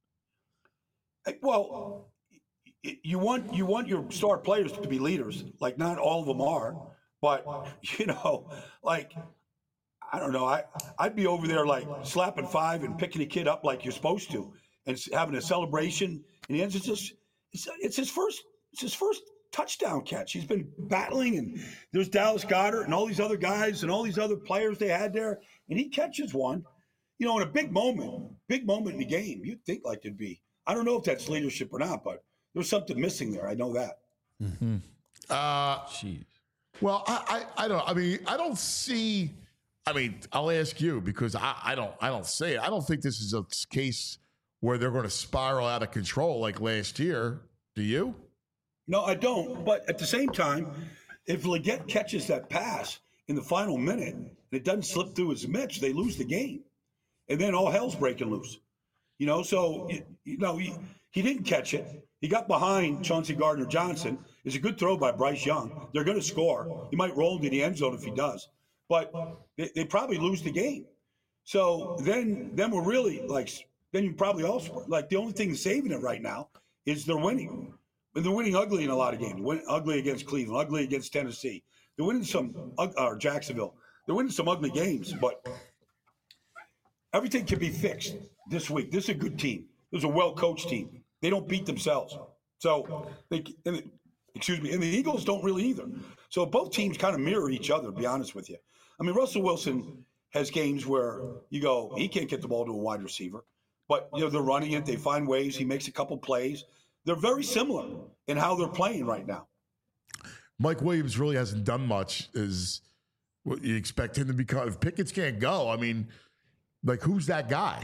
Well, you want you want your star players to be leaders. Like, not all of them are, but you know, like, I don't know. I I'd be over there like slapping five and picking a kid up like you're supposed to, and having a celebration. And the end, it's just it's, it's his first it's his first touchdown catch. He's been battling, and there's Dallas Goedert and all these other guys and all these other players they had there, and he catches one. You know, in a big moment, big moment in the game, you'd think like there'd be. I don't know if that's leadership or not, but there's something missing there. I know that. Mm-hmm. Uh, Jeez. well, I, I, I don't. I mean, I don't see. I mean, I'll ask you because I, I don't. I don't say it. I don't think this is a case where they're going to spiral out of control like last year. Do you? No, I don't. But at the same time, if Leggett catches that pass in the final minute and it doesn't slip through his mitts, they lose the game, and then all hell's breaking loose. You know, so you, you know he, he didn't catch it. He got behind Chauncey Gardner-Johnson. It's a good throw by Bryce Young. They're going to score. He might roll into the end zone if he does, but they, they probably lose the game. So then, then we're really like, then you probably also like the only thing saving it right now is they're winning, and they're winning ugly in a lot of games. Win, ugly against Cleveland, ugly against Tennessee. They're winning some or Jacksonville. They're winning some ugly games, but everything can be fixed this week. This is a good team. This is a well-coached team. They don't beat themselves. So, they, and, excuse me, and the Eagles don't really either. So both teams kind of mirror each other, to be honest with you. I mean, Russell Wilson has games where you go, he can't get the ball to a wide receiver. But, you know, they're running it. They find ways. He makes a couple plays. They're very similar in how they're playing right now. Mike Williams really hasn't done much. Is what you expect him to become? If Pickens can't go, I mean, like, who's that guy?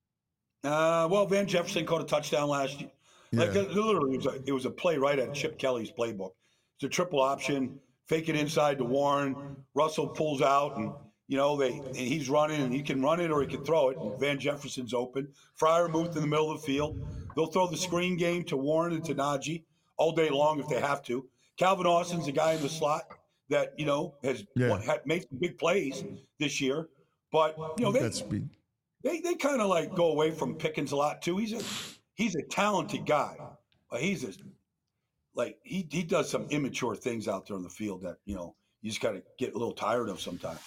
Uh, well, Van Jefferson caught a touchdown last year. Like, Yeah. uh, literally, it was, a, it was a play right at Chip Kelly's playbook. It's a triple option, fake it inside to Warren. Russell pulls out, and, you know, they and he's running, and he can run it or he can throw it. And Van Jefferson's open. Freiermuth in the middle of the field. They'll throw the screen game to Warren and to Najee all day long if they have to. Calvin Austin's a guy in the slot that, you know, has Yeah. won, had, made some big plays this year. But, you know, they, That's speed. they they kind of like go away from Pickens a lot too. He's a he's a talented guy, but he's a like he he does some immature things out there on the field that, you know, you just got to get a little tired of sometimes.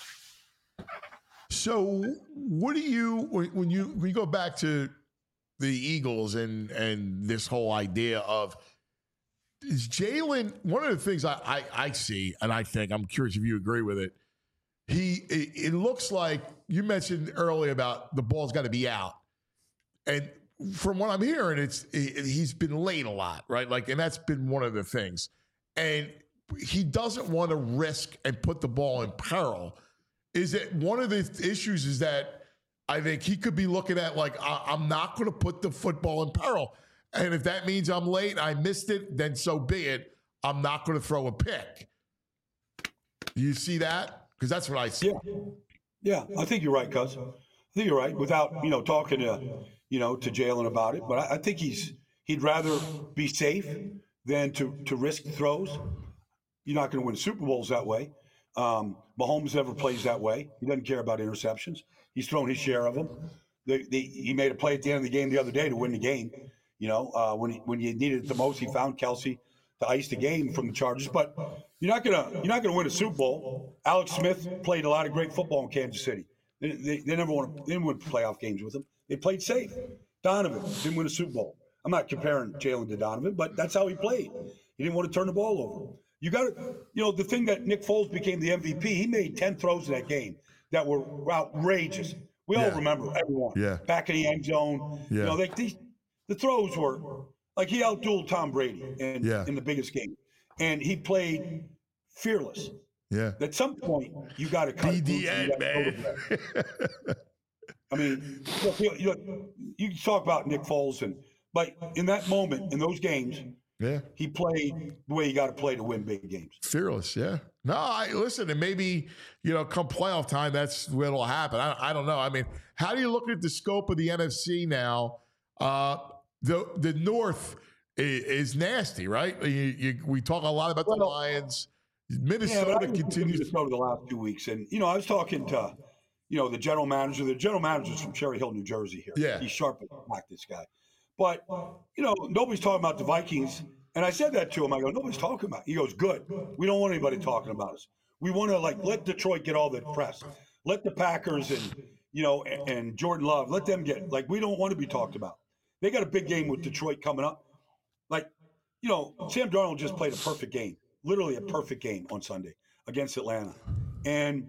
So, what do you when when you when you go back to the Eagles and and this whole idea of is Jalen? One of the things I, I I see, and I think I'm curious if you agree with it. He it, it looks like you mentioned earlier about the ball's got to be out, and from what I'm hearing, it's it, he's been late a lot, right? Like, and that's been one of the things, and he doesn't want to risk and put the ball in peril. Is it one of the issues is that I think he could be looking at like, I, I'm not going to put the football in peril. And if that means I'm late, I missed it, then so be it. I'm not going to throw a pick. Do you see that? Because that's what I see. Yeah, yeah, I think you're right, cuz. I think you're right. Without, you know, talking to, you know, to Jalen about it, but I, I think he's he'd rather be safe than to to risk throws. You're not going to win Super Bowls that way. Um, Mahomes never plays that way. He doesn't care about interceptions. He's thrown his share of them. They, they, he made a play at the end of the game the other day to win the game. You know, uh, when he, when you needed it the most, he found Kelsey to ice the game from the Chargers. But you're not gonna you're not gonna win a Super Bowl. Alex Smith played a lot of great football in Kansas City. They, they, they never won. They didn't win playoff games with him. They played safe. Donovan didn't win a Super Bowl. I'm not comparing Jalen to Donovan, but that's how he played. He didn't want to turn the ball over. You got to, you know, the thing that Nick Foles became the M V P, he made ten throws in that game that were outrageous. We all Yeah. remember, everyone. Yeah. Back in the end zone. Yeah. You know, they, these, the throws were like he outdueled Tom Brady in, Yeah. in the biggest game. And he played fearless. Yeah. At some point, you got to cut Be it the loose and end, you gotta go to man. bed. I mean, look, you, you, you can talk about Nick Foles, and but in that moment, in those games, Yeah. he played the way you got to play to win big games. Fearless, yeah. No, I listen, and maybe, you know, come playoff time, that's what'll happen. I, I don't know. I mean, how do you look at the scope of the N F C now? Uh, the the North is, is nasty, right? You, you, we talk a lot about the Well, Lions. Yeah, Minnesota but I was continues. Minnesota the last two weeks, and you know, I was talking to, you know, the general manager. The general manager's from Cherry Hill, New Jersey. Here, Yeah. he's sharp as black. This guy, but you know, nobody's talking about the Vikings. And I said that to him. I go, nobody's talking about it. He goes, good. We don't want anybody talking about us. We want to like let Detroit get all the press. Let the Packers and you know and, and Jordan Love, let them get like we don't want to be talked about. They got a big game with Detroit coming up. Like, you know, Sam Darnold just played a perfect game, literally a perfect game on Sunday against Atlanta. And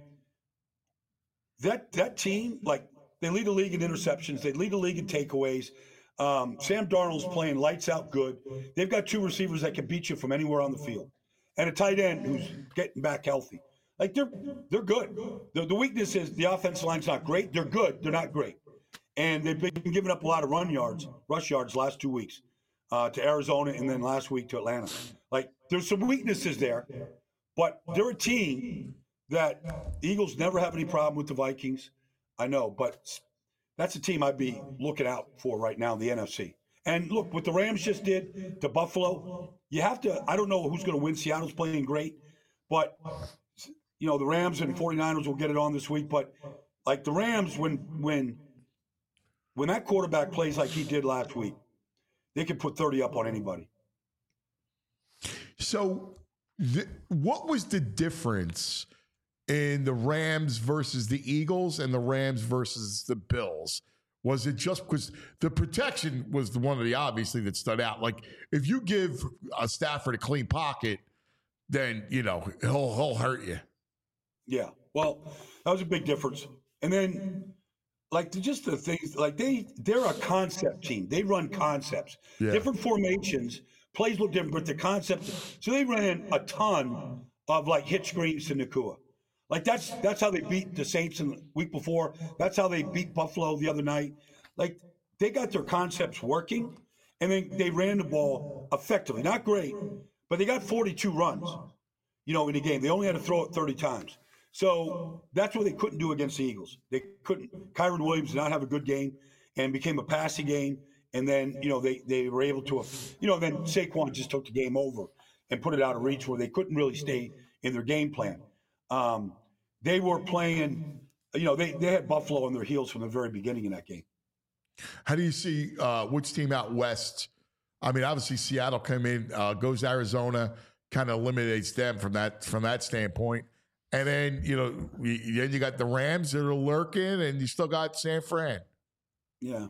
that that team, like they lead the league in interceptions, they lead the league in takeaways. Um, Sam Darnold's playing lights out good. They've got two receivers that can beat you from anywhere on the field, and a tight end who's getting back healthy. Like they're they're good. The, the weakness is the offensive line's not great. They're good. They're not great, and they've been giving up a lot of run yards, rush yards last two weeks uh, to Arizona, and then last week to Atlanta. Like there's some weaknesses there, but they're a team that the Eagles never have any problem with the Vikings. I know, but that's a team I'd be looking out for right now in the N F C. And look, what the Rams just did to Buffalo, you have to, I don't know who's going to win. Seattle's playing great, but, you know, the Rams and 49ers will get it on this week. But, like, the Rams, when when when that quarterback plays like he did last week, they can put thirty up on anybody. So, th- what was the difference in the Rams versus the Eagles and the Rams versus the Bills? Was it just because the protection was the one of the obviously that stood out? Like if you give a Stafford a clean pocket, then you know he'll he'll hurt you. Yeah, well, that was a big difference. And then, like the, just the things, like they they're a concept team. They run concepts, Yeah. different formations, plays look different, but the concept. So they ran a ton of like hit screens to Nakua. Like that's that's how they beat the Saints in the week before. That's how they beat Buffalo the other night. Like they got their concepts working, and then they ran the ball effectively. Not great, but they got forty-two runs, you know, in the game. They only had to throw it thirty times. So that's what they couldn't do against the Eagles. They couldn't. Kyron Williams did not have a good game and became a passing game. And then, you know, they, they were able to, you know, then Saquon just took the game over and put it out of reach where they couldn't really stay in their game plan. Um, They were playing, you know, they, they had Buffalo on their heels from the very beginning in that game. How do you see uh, which team out west? I mean, obviously Seattle came in, uh, goes to Arizona, kind of eliminates them from that from that standpoint. And then, you know, you, then you got the Rams that are lurking, and you still got San Fran. Yeah.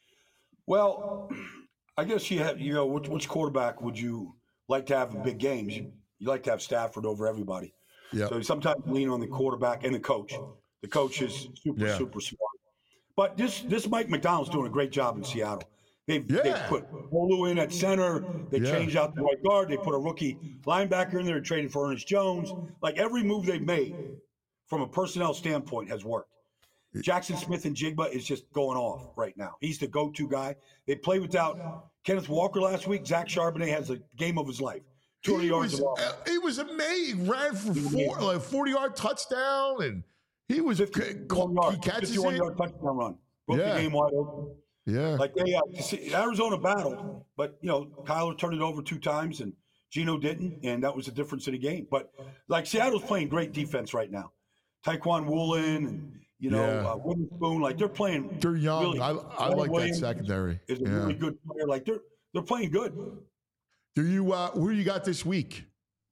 Well, I guess you have, you know, which, which quarterback would you like to have in big games? You, you like to have Stafford over everybody. Yeah. So sometimes lean on the quarterback and the coach. The coach is super, Yeah. super smart. But this this Mike McDonald's doing a great job in Seattle. They've, Yeah. they've put Bolu in at center. They Yeah. changed out the right guard. They put a rookie linebacker in there and traded for Ernest Jones. Like every move they've made from a personnel standpoint has worked. Jackson Smith and Jigba is just going off right now. He's the go-to guy. They played without Kenneth Walker last week. Zach Charbonnet has the game of his life. two hundred He yards was, of offense. uh, he was amazing. Ran for was four, amazing. like forty-yard touchdown, and he was he fifty-one yard, catches fifty-one it. yard touchdown run. Broke Yeah. the game wide open. Yeah, Like they, uh, see, Arizona battled, but you know Kyler turned it over two times and Geno didn't, and that was the difference in the game. But like Seattle's playing great defense right now. Taekwon Woolen and you know Yeah. uh, Witherspoon, like they're playing. they're young. Really, I, I Leonard like that Williams secondary. Is a Yeah. really good player. Like they're they're playing good. Do you? Uh, who you got this week?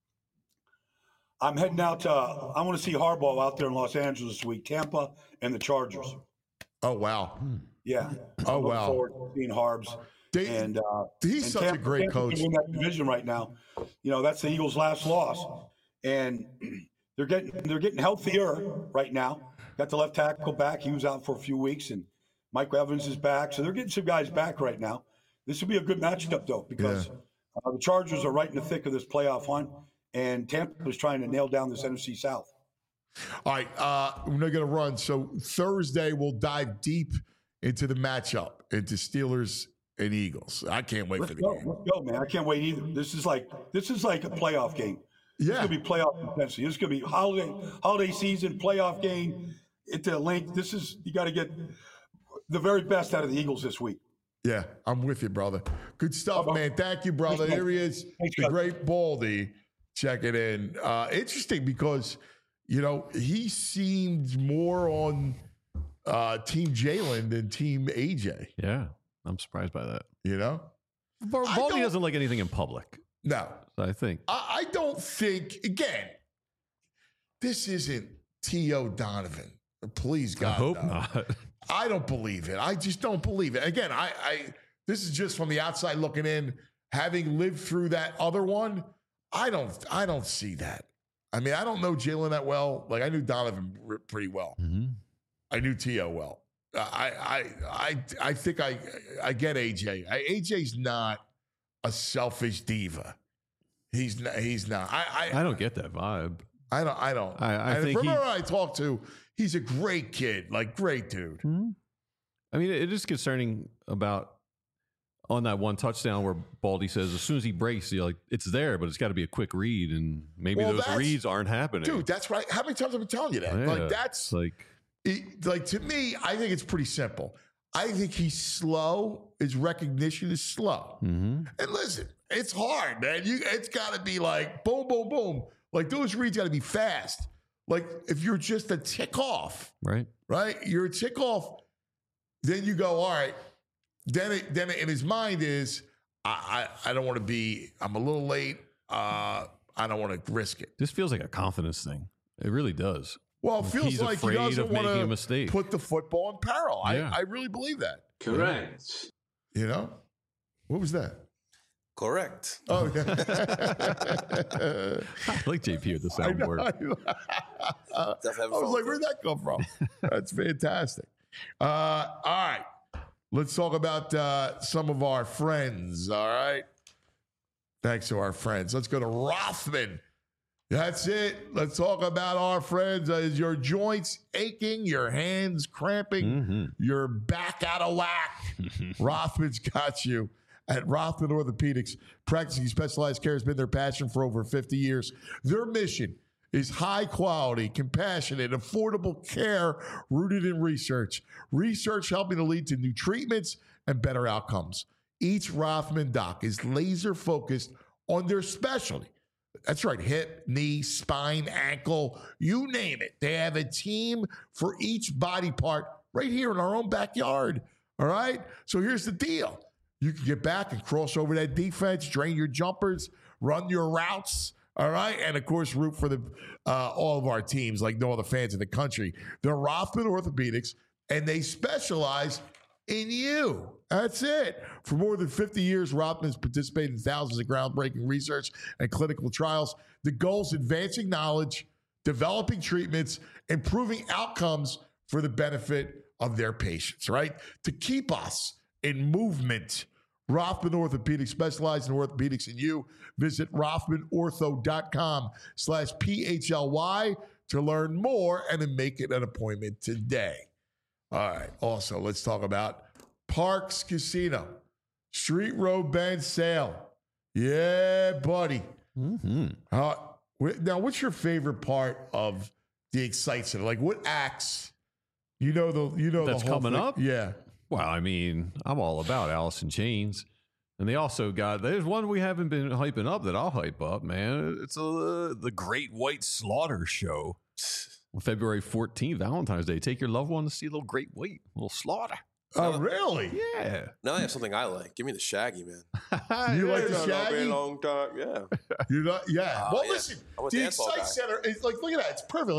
I'm heading out to. Uh, I want to see Harbaugh out there in Los Angeles this week. Tampa and the Chargers. Oh wow. Yeah. Oh, I'm looking wow. forward to seeing Harbs. They, and uh, he's and such Tampa, a great Tampa coach. can win that division right now. You know, that's the Eagles' last loss, and they're getting they're getting healthier right now. Got the left tackle back; he was out for a few weeks, and Mike Evans is back, so they're getting some guys back right now. This will be a good matchup though, because Yeah. uh, the Chargers are right in the thick of this playoff hunt, and Tampa is trying to nail down this N F C South. All right, uh, we're not going to run. So Thursday we'll dive deep into the matchup, into Steelers and Eagles. I can't wait Let's for the go, game. let's go, man! I can't wait either. This is like this is like a playoff game. It's Yeah, gonna be playoff intensity. It's gonna be holiday holiday season playoff game. Into length. This is you got to get the very best out of the Eagles this week. yeah, I'm with you, brother. Good stuff, Bye-bye. man. Thank you, brother. Thanks, Here he is, Thanks, the guys. great Baldy, checking in. Uh, interesting because, you know, he seemed more on uh, Team Jalen than Team A J, Yeah, I'm surprised by that. you know? Bar- I Baldy don't- doesn't like anything in public, No, so I think. I, I don't think, again, this isn't T O Donovan. Please, God. I hope no. not. I don't believe it. I just don't believe it. Again, I, I this is just from the outside looking in, having lived through that other one. I don't I don't see that. I mean, I don't know Jalen that well. Like I knew Donovan r- pretty well. Mhm. I knew T O well. I I I I think I I get A J. I, A J's not a selfish diva. He's not. He's not. I I, I don't get that vibe. I don't. I don't. I- I and think from he- everyone I talk to, he's a great kid. Like great dude. I mean, it is concerning about on that one touchdown where Baldy says as soon as he breaks, you're like, it's there, but it's got to be a quick read, and maybe Well, those that's- reads aren't happening. Dude, that's right. How many times have I been telling you that? Yeah, Like that's it's like it, like to me, I think it's pretty simple. I think he's slow. His recognition is slow. mhm. And listen, it's hard, man. You it's got to be like boom, boom, boom. Like those reads got to be fast. Like if you're just a tick off, right. right? You're a tick off. Then you go, all right. Then it, then in his mind is, I I, I don't want to be. I'm a little late. Uh, I don't want to risk it. This feels like a confidence thing. It really does. Well, it feels He's like he afraid doesn't of want making a to mistake. put the football in peril. Yeah. I, I really believe that. Correct. You know, what was that? Correct. Oh, yeah. I like J P with the I know, soundboard. I know. I Definitely was like, where'd that come from? That's fantastic. Uh, all right, let's talk about uh, some of our friends. All right, thanks to our friends. Let's go to Rothman. That's it. Let's talk about our friends. Uh, is your joints aching? Your hands cramping? Mhm. Your back out of whack? Rothman's got you. At Rothman Orthopedics, practicing specialized care has been their passion for over fifty years. Their mission is high quality, compassionate, affordable care rooted in research. Research helping to lead to new treatments and better outcomes. Each Rothman doc is laser focused on their specialty. That's right, hip, knee, spine, ankle, you name it. They have a team for each body part right here in our own backyard. All right? So here's the deal. You can get back and cross over that defense, drain your jumpers, run your routes, all right? And, of course, root for the uh, all of our teams like no other fans in the country. They're Rothman Orthopedics, and they specialize in you. That's it. For more than fifty years, Rothman's participated in thousands of groundbreaking research and clinical trials. The goal is advancing knowledge, developing treatments, improving outcomes for the benefit of their patients, right? To keep us in movement. Rothman Orthopedics, specialized in orthopedics and you. Visit rothmanortho.com slash P-H-L-Y to learn more and to make it an appointment today. All right. Also, let's talk about Parks Casino. Street Road Band Sale. Yeah, buddy. Mm-hmm. Uh, wh- now, what's your favorite part of the Excite Center? Like, what acts? You know the you know That's the whole coming thing. up? Yeah. Well, I mean, I'm all about Alice in Chains. And they also got, there's one we haven't been hyping up that I'll hype up, man. It's a, the Great White Slaughter Show on February fourteenth, Valentine's Day. Take your loved one to see a little Great White, a little slaughter. Oh, really? Yeah. Now I have something I like. Give me the Shaggy, man. You like Yeah, the no, no, been Shaggy? a long time. Yeah. You're not, yeah. Oh, well, yeah. listen, I'm a the dance hall Excite guy. Center is like, look at that. It's perfect. Like,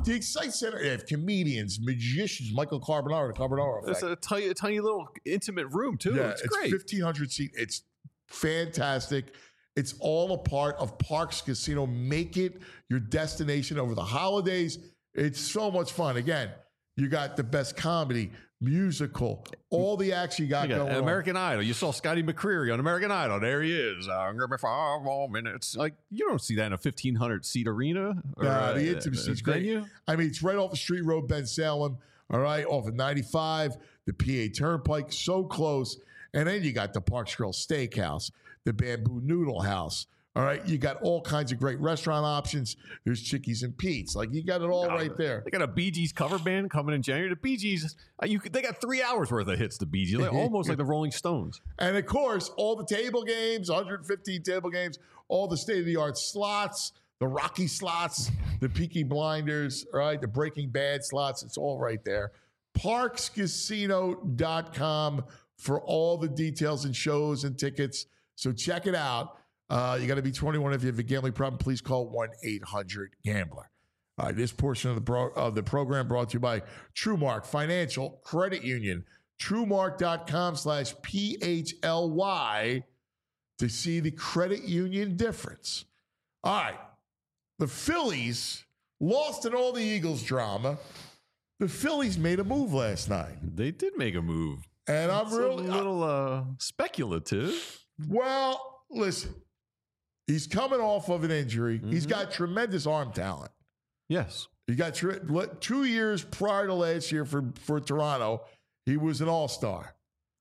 The Excite Center, they have comedians, magicians, Michael Carbonaro, the Carbonaro effect. It's a tiny, tiny little intimate room too. Yeah, it's, it's great. fifteen hundred seat. It's fantastic. It's all a part of Parx Casino. Make it your destination over the holidays. It's so much fun. Again, you got the best comedy, musical, all the action you got, You got going American Idol. You saw Scotty McCreery on American Idol. There he is. I'm gonna be five more minutes. Like, you don't see that in a fifteen hundred seat arena. Or, Nah, the uh, intimacy is uh, great. venue. I mean, it's right off the street road, Ben Salem. All right, off of ninety-five, the P A Turnpike, so close. And then you got the Parks Grill Steakhouse, the Bamboo Noodle House. All right, you got all kinds of great restaurant options. There's Chickies and Pete's. Like, you got it all right there. They got a Bee Gees cover band coming in January. The Bee Gees, uh, you could, they got three hours worth of hits. The Bee Gees, like, almost like the Rolling Stones. And of course, all the table games, one hundred fifteen table games, all the state-of-the-art slots, the Rocky slots, the Peaky Blinders, right? The Breaking Bad slots. It's all right there. Parx Casino dot com for all the details and shows and tickets. So check it out. Uh, you got to be twenty-one. If you have a gambling problem, please call one eight hundred gambler. All right, this portion of the pro, of the program brought to you by TrueMark Financial Credit Union. TrueMark.com slash P H L Y to see the credit union difference. All right, the Phillies lost in all the Eagles drama. The Phillies made a move last night. They did make a move. And I'm It's really a little uh, speculative. Well, listen, he's coming off of an injury. Mm-hmm. He's got tremendous arm talent. Yes. He got tre- two years prior to last year for, for Toronto. He was an all-star.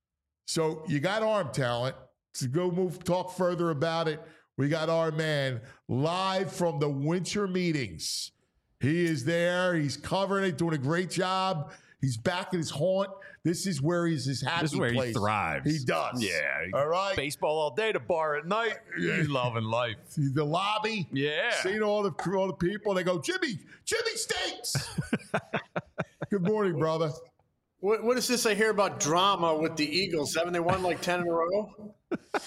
So you got arm talent. To go move, talk further about it, we got our man live from the winter meetings. He is there. He's covering it, doing a great job. He's back in his haunt. This is where he's his happy This is where place. he thrives. He does. Yeah. All right. Baseball all day, the bar at night. He's loving life. The lobby. Yeah. Seeing all the all the people. They go, Jimmy, Jimmy stinks. Good morning, brother. What, what is this I hear about drama with the Eagles? Haven't they won like ten in a row?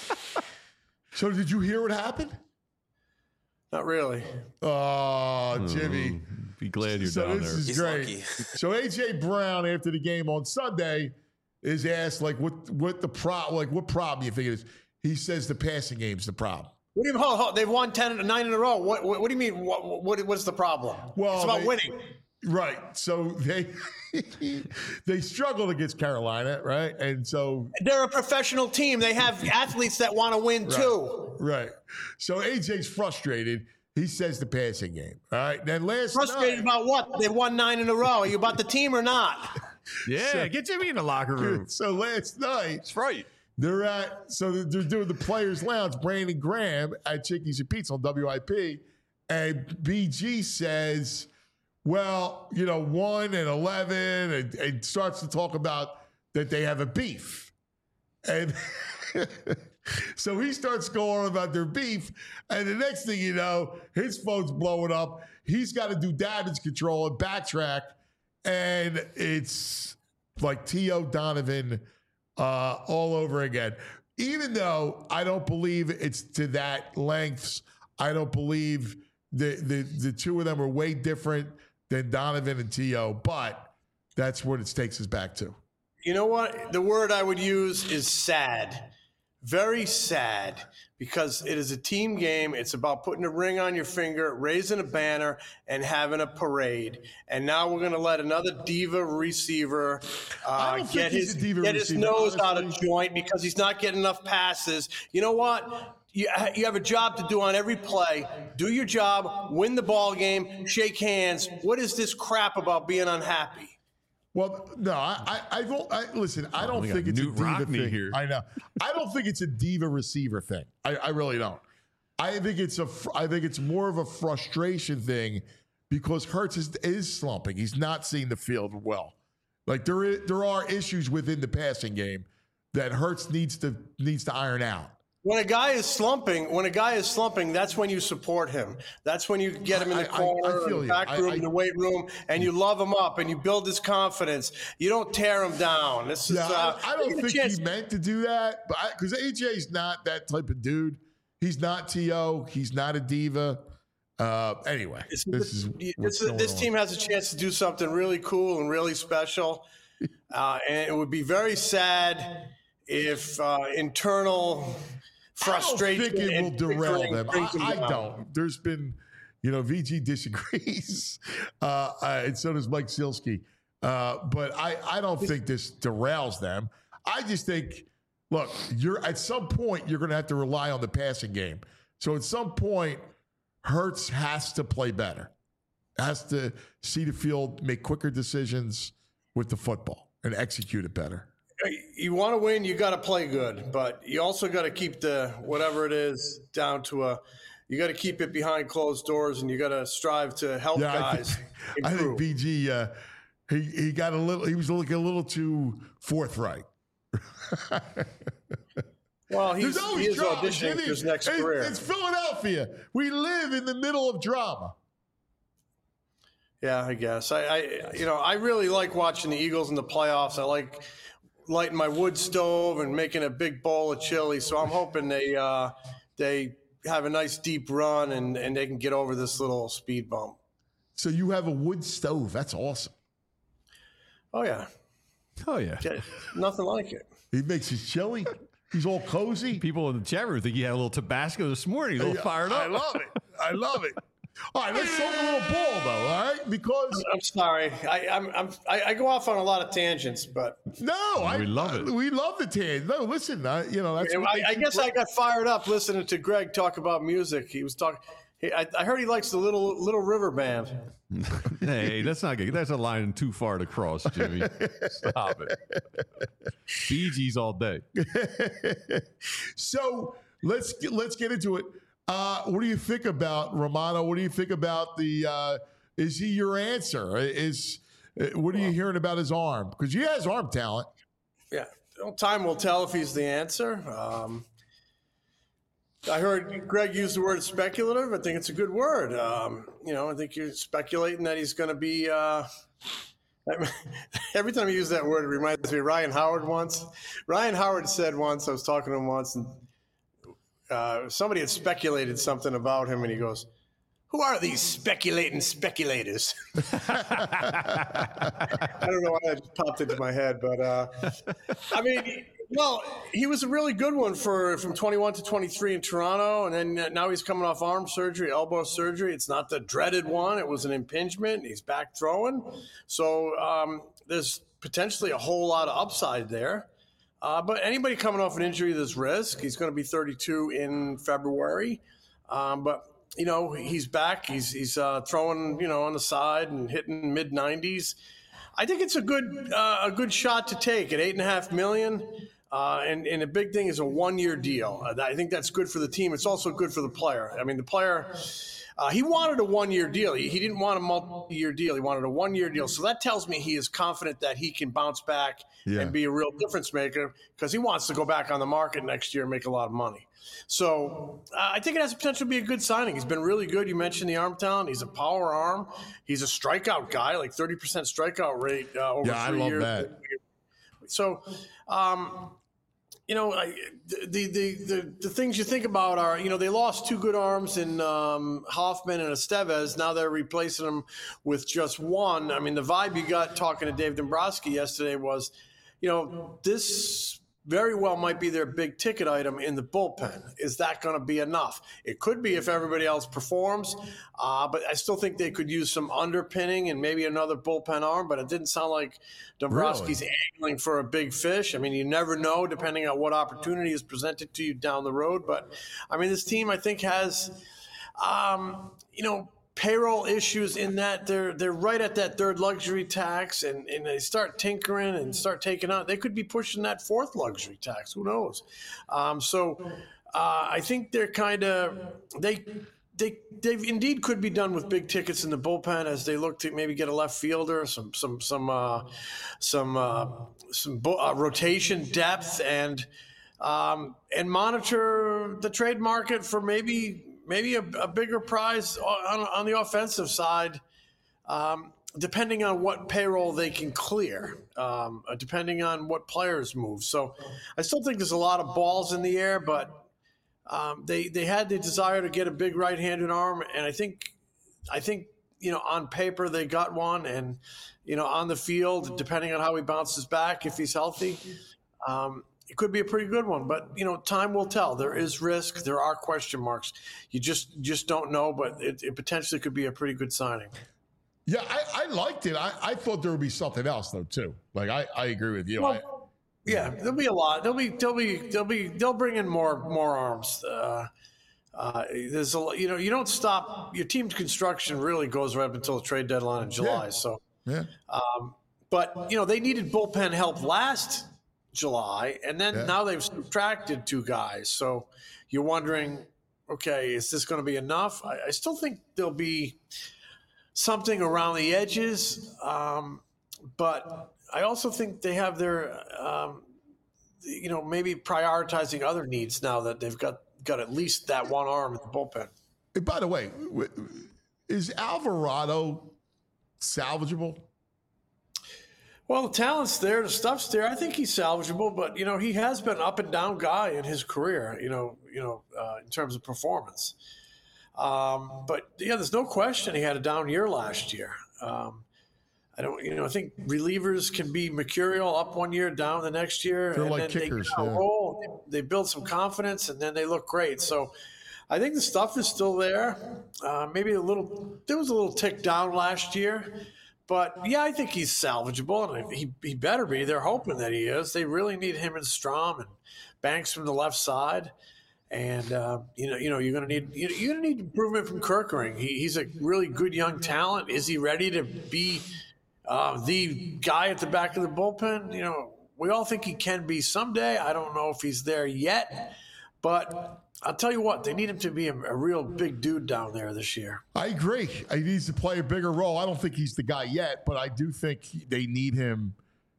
So did you hear what happened? Not really. Oh, Jimmy. Be glad you're So down this there. is He's great. lucky. So A J Brown, after the game on Sunday, is asked like, what what the pro like what problem you think it is? He says the passing game's the problem. What do you mean? Hold, hold, they've won ten, nine in a row. What, what, what do you mean? What, what, what's the problem? Well, it's about they- winning. Right. So they they struggled against Carolina, right? And so They're a professional team. They have athletes that want to win too. right. So A J's frustrated. He says the passing game. All right. Then last Frustrated night, about what? They won nine in a row. Are you about the team or not? Yeah, get Jimmy in the locker room. so last night That's right. they're at so they're doing the Players Lounge. Brandon Graham at Chickies and Pete's on W I P, and B G says, "Well, you know, one and eleven," and, and starts to talk about that they have a beef, and so he starts going on about their beef, and the next thing you know, his phone's blowing up. He's got to do damage control and backtrack, and it's like T O Donovan uh, all over again. Even though I don't believe it's to that lengths, I don't believe the the the two of them are way different than Donovan and T O, but that's what it takes us back to. You know what? The word I would use is sad. Very sad, because it is a team game. It's about putting a ring on your finger, raising a banner, and having a parade. And now we're going to let another diva receiver I uh, don't get think he's his a diva get his receiver, nose out of honestly. joint because he's not getting enough passes. You know what? You, you have a job to do on every play. Do your job, win the ball game, shake hands. What is this crap about being unhappy? Well, no, I, I, I don't. I, listen, I don't we got think it's Newt a diva Rockney thing. here. I know. I don't think it's a diva receiver thing. I, I really don't. I think it's a. fr- I think it's more of a frustration thing because Hurts is, is slumping. He's not seeing the field well. Like there is, there are issues within the passing game that Hurts needs to needs to iron out. When a guy is slumping, when a guy is slumping, that's when you support him. That's when you get him in the I- I- I corner, feel in the you. back I- room, I- in the weight room, and you love him up and you build his confidence. You don't tear him down. This is. Yeah, uh, I, I don't give him a think chance. he meant to do that, but because A J's not that type of dude. He's not T O. He's not a diva. Uh, anyway, It's- this is what's This, going this on. team has a chance to do something really cool and really special. Uh, and it would be very sad if uh, internal frustration I don't think it will and derail bickering them. brings them I, I down. don't. There's been, you know, V G disagrees, uh, uh, and so does Mike Silsky. Uh, but I, I don't think this derails them. I just think, look, you're at some point you're going to have to rely on the passing game. So at some point, Hurts has to play better, has to see the field, make quicker decisions with the football, and execute it better. You want to win, you got to play good, but you also got to keep the whatever it is down to a. You got to keep it behind closed doors, and you got to strive to help Yeah, I guys think, I think improve. B G uh, he he got a little. He was looking a little too forthright. Well, There's he's, always he is drama, auditioning Jimmy. for his next It's- career. It's Philadelphia. We live in the middle of drama. Yeah, I guess. I, I, you know, I really like watching the Eagles in the playoffs. I like lighting my wood stove and making a big bowl of chili. So I'm hoping they uh, they have a nice deep run and, and they can get over this little speed bump. So you have a wood stove. That's awesome. Oh yeah, Oh, yeah. Get- nothing like it. He makes his chili. He's all cozy. People in the chat room think he had a little Tabasco this morning. He's a little fired up. I love it. I love it. All right, let's talk a little ball, though. All right, because I'm sorry. I, I'm, I'm I, I go off on a lot of tangents, but no, I We love it. We love the tan. No, listen, I, you know that's. what I, makes I you guess I great. got fired up listening to Greg talk about music. He was talking. He, I, I heard he likes the Little Little River Band. Hey, that's not good. That's a line too far to cross, Jimmy. Stop it. Bee Gees all day. So let's get, let's get into it. Uh, what do you think about Romano? What do you think about the? Uh, is he your answer? Is uh, what are you hearing about his arm? Because he has arm talent. Yeah, well, time will tell if he's the answer. Um, I heard Greg use the word speculative. I think it's a good word. Um, you know, I think you're speculating that he's going to be. Uh, every time you use that word, it reminds me of Ryan Howard once. Ryan Howard said once, I was talking to him once, and uh, somebody had speculated something about him, and he goes, "Who are these speculating speculators?" I don't know why that popped into my head, but uh, I mean, well, he was a really good one for from twenty-one to twenty-three in Toronto, and then now he's coming off arm surgery, elbow surgery. It's not the dreaded one; it was an impingement. He's back throwing, so um, there's potentially a whole lot of upside there. Uh, but anybody coming off an injury, there's risk. He's going to be thirty-two in February, um, but you know he's back. He's he's uh, throwing you know on the side and hitting mid nineties. I think it's a good uh, a good shot to take at eight and a half million. Uh, and and the big thing is a one year deal. Uh, I think that's good for the team. It's also good for the player. I mean, the player. Uh, he wanted a one-year deal. He, he didn't want a multi-year deal. He wanted a one-year deal. So that tells me he is confident that he can bounce back Yeah. and be a real difference maker because he wants to go back on the market next year and make a lot of money. So uh, I think it has the potential to be a good signing. He's been really good. You mentioned the arm talent. He's a power arm. He's a strikeout guy, like thirty percent strikeout rate uh, over Yeah, I three love years. that. So, um, you know, I, the, the the the things you think about are, you know, they lost two good arms in um, Hoffman and Estevez. Now they're replacing them with just one. I mean, the vibe you got talking to Dave Dombrowski yesterday was, you know, this very well might be their big ticket item in the bullpen. Is that going to be enough? It could be if everybody else performs, uh, but I still think they could use some underpinning and maybe another bullpen arm, but it didn't sound like Dombrowski's Really? angling for a big fish. I mean, you never know depending on what opportunity is presented to you down the road. But, I mean, this team, I think, has, um, you know, payroll issues in that they're they're right at that third luxury tax, and, and they start tinkering and start taking out. They could be pushing that fourth luxury tax. Who knows? Um, so uh, I think they're kind of they. They they indeed could be done with big tickets in the bullpen as they look to maybe get a left fielder, some some some uh, some uh, some bo- uh, rotation depth, and um, and monitor the trade market for maybe maybe a, a bigger prize on, on the offensive side, um, depending on what payroll they can clear, um, depending on what players move. So I still think there's a lot of balls in the air, but Um, they they had the desire to get a big right-handed arm, and I think I think you know on paper they got one, and you know on the field, depending on how he bounces back, if he's healthy, um, it could be a pretty good one. But you know, time will tell. There is risk. There are question marks. You just just don't know, but it, it potentially could be a pretty good signing. Yeah, I, I liked it. I, I thought there would be something else though too. Like I, I agree with you. Well, I, yeah, there'll be a lot. There'll be there'll be there'll be they'll bring in more more arms. Uh, uh, there's a you know you don't stop your team's construction really goes right up until the trade deadline in July. Yeah. So, yeah. um, but you know they needed bullpen help last July, and then Yeah. now they've subtracted two guys. So you're wondering, okay, is this going to be enough? I, I still think there'll be something around the edges, um, but I also think they have their, um, you know, maybe prioritizing other needs now that they've got, got at least that one arm in the bullpen. And by the way, w- is Alvarado salvageable? Well, the talent's there, the stuff's there. I think he's salvageable, but you know, he has been up and down guy in his career. You know, you know, uh, in terms of performance. Um, but yeah, there's no question he had a down year last year. Um, I don't, you know, I think relievers can be mercurial, up one year, down the next year, They're and like then kickers, they get a yeah. roll. They, they build some confidence, and then they look great. So, I think the stuff is still there. Uh, maybe a little. There was a little tick down last year, but yeah, I think he's salvageable, and he he better be. They're hoping that he is. They really need him and Strom and Banks from the left side. And uh, you know, you know, you're going to need you- you're going to need improvement from Kerkering. He, he's a really good young talent. Is he ready to be uh, the guy at the back of the bullpen? You know, we all think he can be someday. I don't know if he's there yet, but I'll tell you what, they need him to be a, a real big dude down there this year. I agree. He needs to play a bigger role. I don't think he's the guy yet, but I do think he- they need him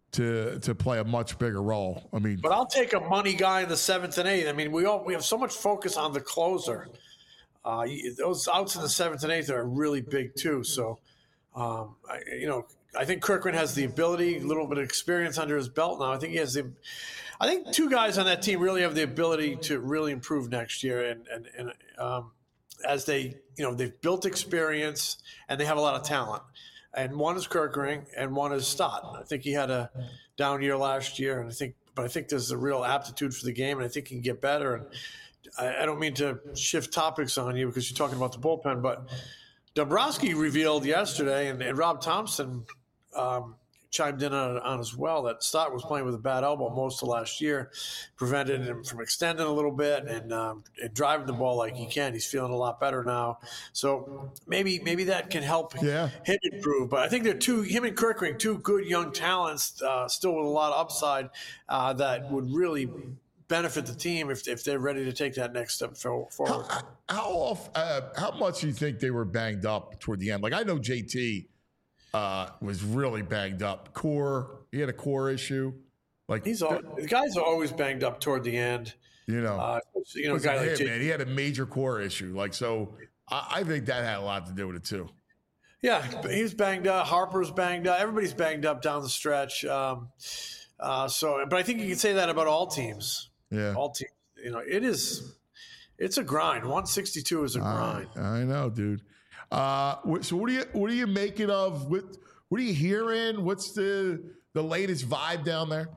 to to play a much bigger role. I mean, But I'll take a money guy in the seventh and eighth. I mean, we all we have so much focus on the closer. Uh, those outs in the seventh and eighth are really big too. So, um, I, you know, I think Kirkland has the ability, a little bit of experience under his belt now. I think he has the. I think two guys on that team really have the ability to really improve next year, and and and um, as they, you know, they've built experience and they have a lot of talent. And one is Kerkering, and one is Stott. I think he had a down year last year, and I think, but I think there's a real aptitude for the game, and I think he can get better. And I, I don't mean to shift topics on you because you're talking about the bullpen, but Dombrowski revealed yesterday, and, and Rob Thompson um, chimed in on, on as well, that Stott was playing with a bad elbow most of last year, prevented him from extending a little bit and, um, and driving the ball like he can. He's feeling a lot better now, so maybe maybe that can help Yeah. him improve. But I think they're two, him and Kerkering, two good young talents, uh, still with a lot of upside uh, that would really benefit the team if, if they're ready to take that next step for- forward. how, how off? Uh, how much do you think they were banged up toward the end? Like I know J T uh, was really banged up. Core, he had a core issue. Like He's all, the guys are always banged up toward the end. you know, Uh, you know, a listen guy to like him, J- man, he had a major core issue. Like so, I, I think that had a lot to do with it too. Yeah, he's banged up. Harper's banged up. Everybody's banged up down the stretch. Um, uh, so, but I think you can say that about all teams. Yeah. All teams. You know, it is. It's a grind. one sixty-two is a grind. I, I know, dude. Uh, wh- so what do you what are you making of? What what are you hearing? What's the the latest vibe down there?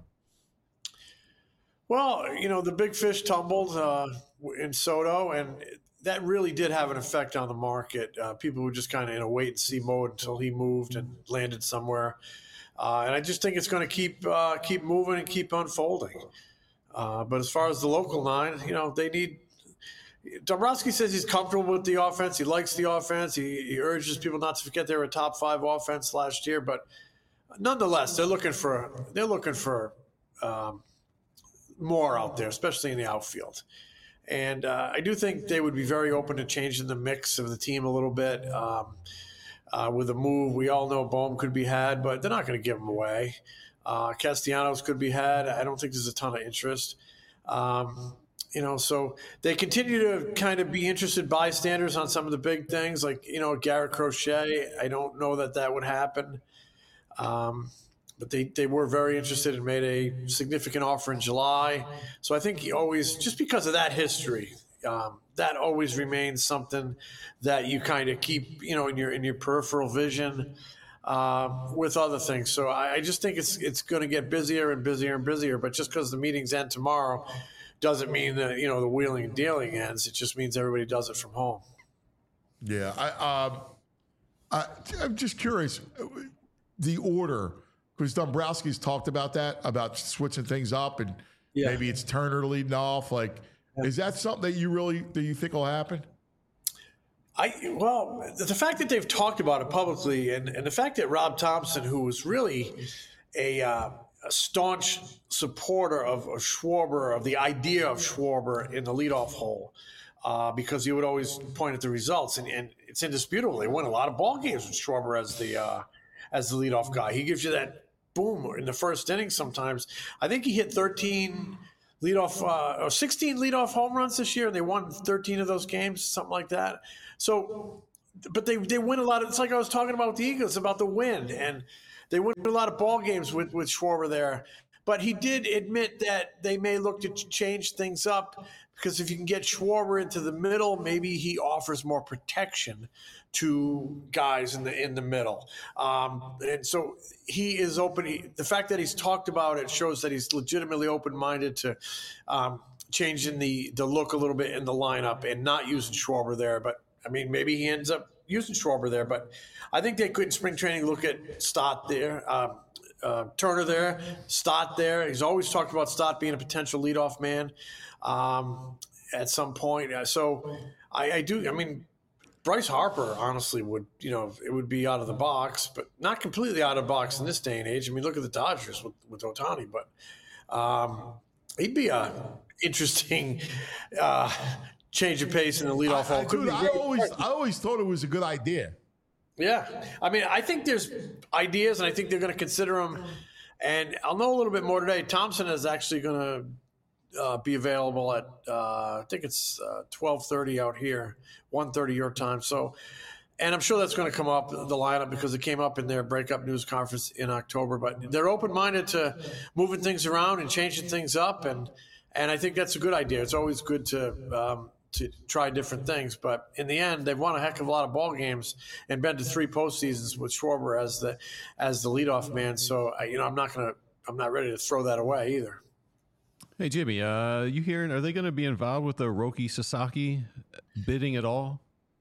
Well, you know, the big fish tumbled uh, in Soto, and that really did have an effect on the market. Uh, people were just kind of in a wait and see mode until he moved and landed somewhere. Uh, and I just think it's going to keep uh, keep moving and keep unfolding. Uh, but as far as the local nine, you know, they need. Dombrowski says he's comfortable with the offense. He likes the offense. He, he urges people not to forget they were a top five offense last year. But nonetheless, they're looking for they're looking for um, more out there, especially in the outfield. And uh, I do think they would be very open to changing the mix of the team a little bit. Um, uh, with a move, we all know Bohm could be had, but they're not going to give him away. Uh, Castellanos could be had. I don't think there's a ton of interest. Um, you know, so they continue to kind of be interested bystanders on some of the big things, like, you know, Garrett Crochet. I don't know that that would happen. Um, but they, they were very interested and made a significant offer in July. So I think he always, just because of that history, um, that always remains something that you kind of keep, you know, in your in your peripheral vision uh, with other things. So I, I just think it's it's going to get busier and busier and busier. But just because the meetings end tomorrow doesn't mean that, you know, the wheeling and dealing ends. It just means everybody does it from home. Yeah, I, um, I I'm just curious, the order, because Dombrowski's talked about that, about switching things up, and Yeah. maybe it's Turner leading off. Like, is that something that you really do you think will happen? I well, the fact that they've talked about it publicly, and, and the fact that Rob Thompson, who was really a, uh, a staunch supporter of, of Schwarber, of the idea of Schwarber in the leadoff hole, uh, because he would always point at the results, and, and it's indisputable. They won a lot of ball games with Schwarber as the uh, as the leadoff guy. He gives you that boom in the first inning sometimes. I think he hit thirteen leadoff uh, or sixteen leadoff home runs this year, and they won thirteen of those games, something like that. So, but they they win a lot of. It's like I was talking about with the Eagles about the win, and they win a lot of ball games with with Schwarber there. But he did admit that they may look to change things up, because if you can get Schwarber into the middle, maybe he offers more protection to guys in the in the middle. Um, and so he is open. He, the fact that he's talked about it shows that he's legitimately open-minded to um, changing the, the look a little bit in the lineup and not using Schwarber there. But, I mean, maybe he ends up using Schwarber there. But I think they could in spring training look at Stott there, um, uh, Turner there, Stott there. He's always talked about Stott being a potential leadoff man um, at some point. So I, I do – I mean – Bryce Harper, honestly, would, you know, it would be out of the box, but not completely out of the box in this day and age. I mean, look at the Dodgers with, with Ohtani, but um, he'd be a interesting uh, change of pace in the leadoff hole. I, I, dude, I always, I always thought it was a good idea. Yeah. I mean, I think there's ideas, and I think they're going to consider them. And I'll know a little bit more today. Thompson is actually going to Uh, be available at uh, I think it's uh, twelve thirty out here, one thirty your time. So, and I'm sure that's going to come up the lineup because it came up in their breakup news conference in October. But they're open-minded to moving things around and changing things up, and and I think that's a good idea. It's always good to um, to try different things. But in the end, they've won a heck of a lot of ball games and been to three postseasons with Schwarber as the as the leadoff man. So you know, I'm not gonna I'm not ready to throw that away either. Hey, Jimmy, uh, you hearing, are they going to be involved with the Roki Sasaki bidding at all?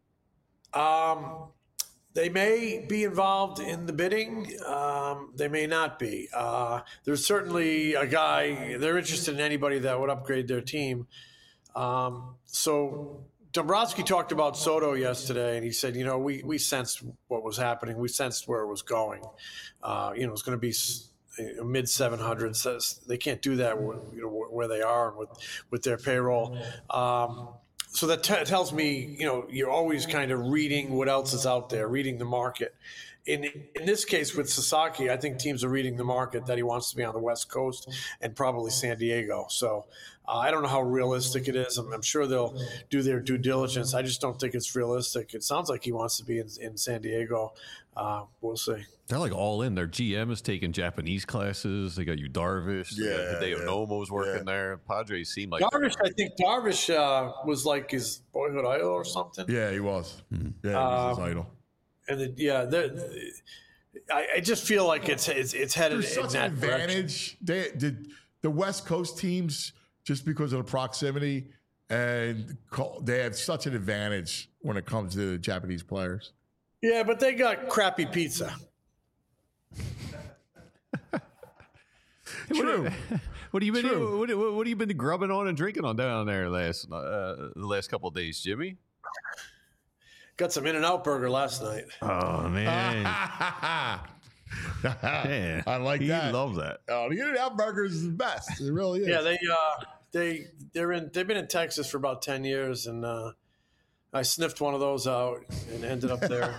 Um, they may be involved in the bidding. Um, they may not be. Uh, there's certainly a guy, they're interested in anybody that would upgrade their team. Um, so Dombrowski talked about Soto yesterday, and he said, you know, we, we sensed what was happening. We sensed where it was going. Uh, you know, it's going to be mid seven hundreds. They can't do that, you know, where they are with with their payroll. Um, so that t- tells me, you know, you're always kind of reading what else is out there, reading the market. In in this case with Sasaki, I think teams are reading the market that he wants to be on the West Coast and probably San Diego. So uh, I don't know how realistic it is. I'm, I'm sure they'll do their due diligence. I just don't think it's realistic. It sounds like he wants to be in, in San Diego. Uh, we'll see. They're like all in. Their G M is taking Japanese classes. They got you Darvish. They Yeah, got Hideo yeah, Nomo's working yeah. there. Padres seem like Darvish, I think Darvish uh, was like his boyhood idol or something. Yeah, he was. Hmm. Yeah, he was Um, his idol. And the, yeah, the, I, I just feel like it's it's, it's headed There's in such that an direction. advantage. They did the West Coast teams just because of the proximity, and co- they have such an advantage when it comes to the Japanese players. Yeah, but they got crappy pizza. True. What have you been? True. What, what, what have you been grubbing on and drinking on down there last uh, the last couple of days, Jimmy? Got some In-N-Out burger last night. Oh man, man, I like he that. loves that. Oh, the In-N-Out burger is the best. It really is. Yeah, they uh, they they're in they've been in Texas for about ten years, and uh, I sniffed one of those out and ended up there.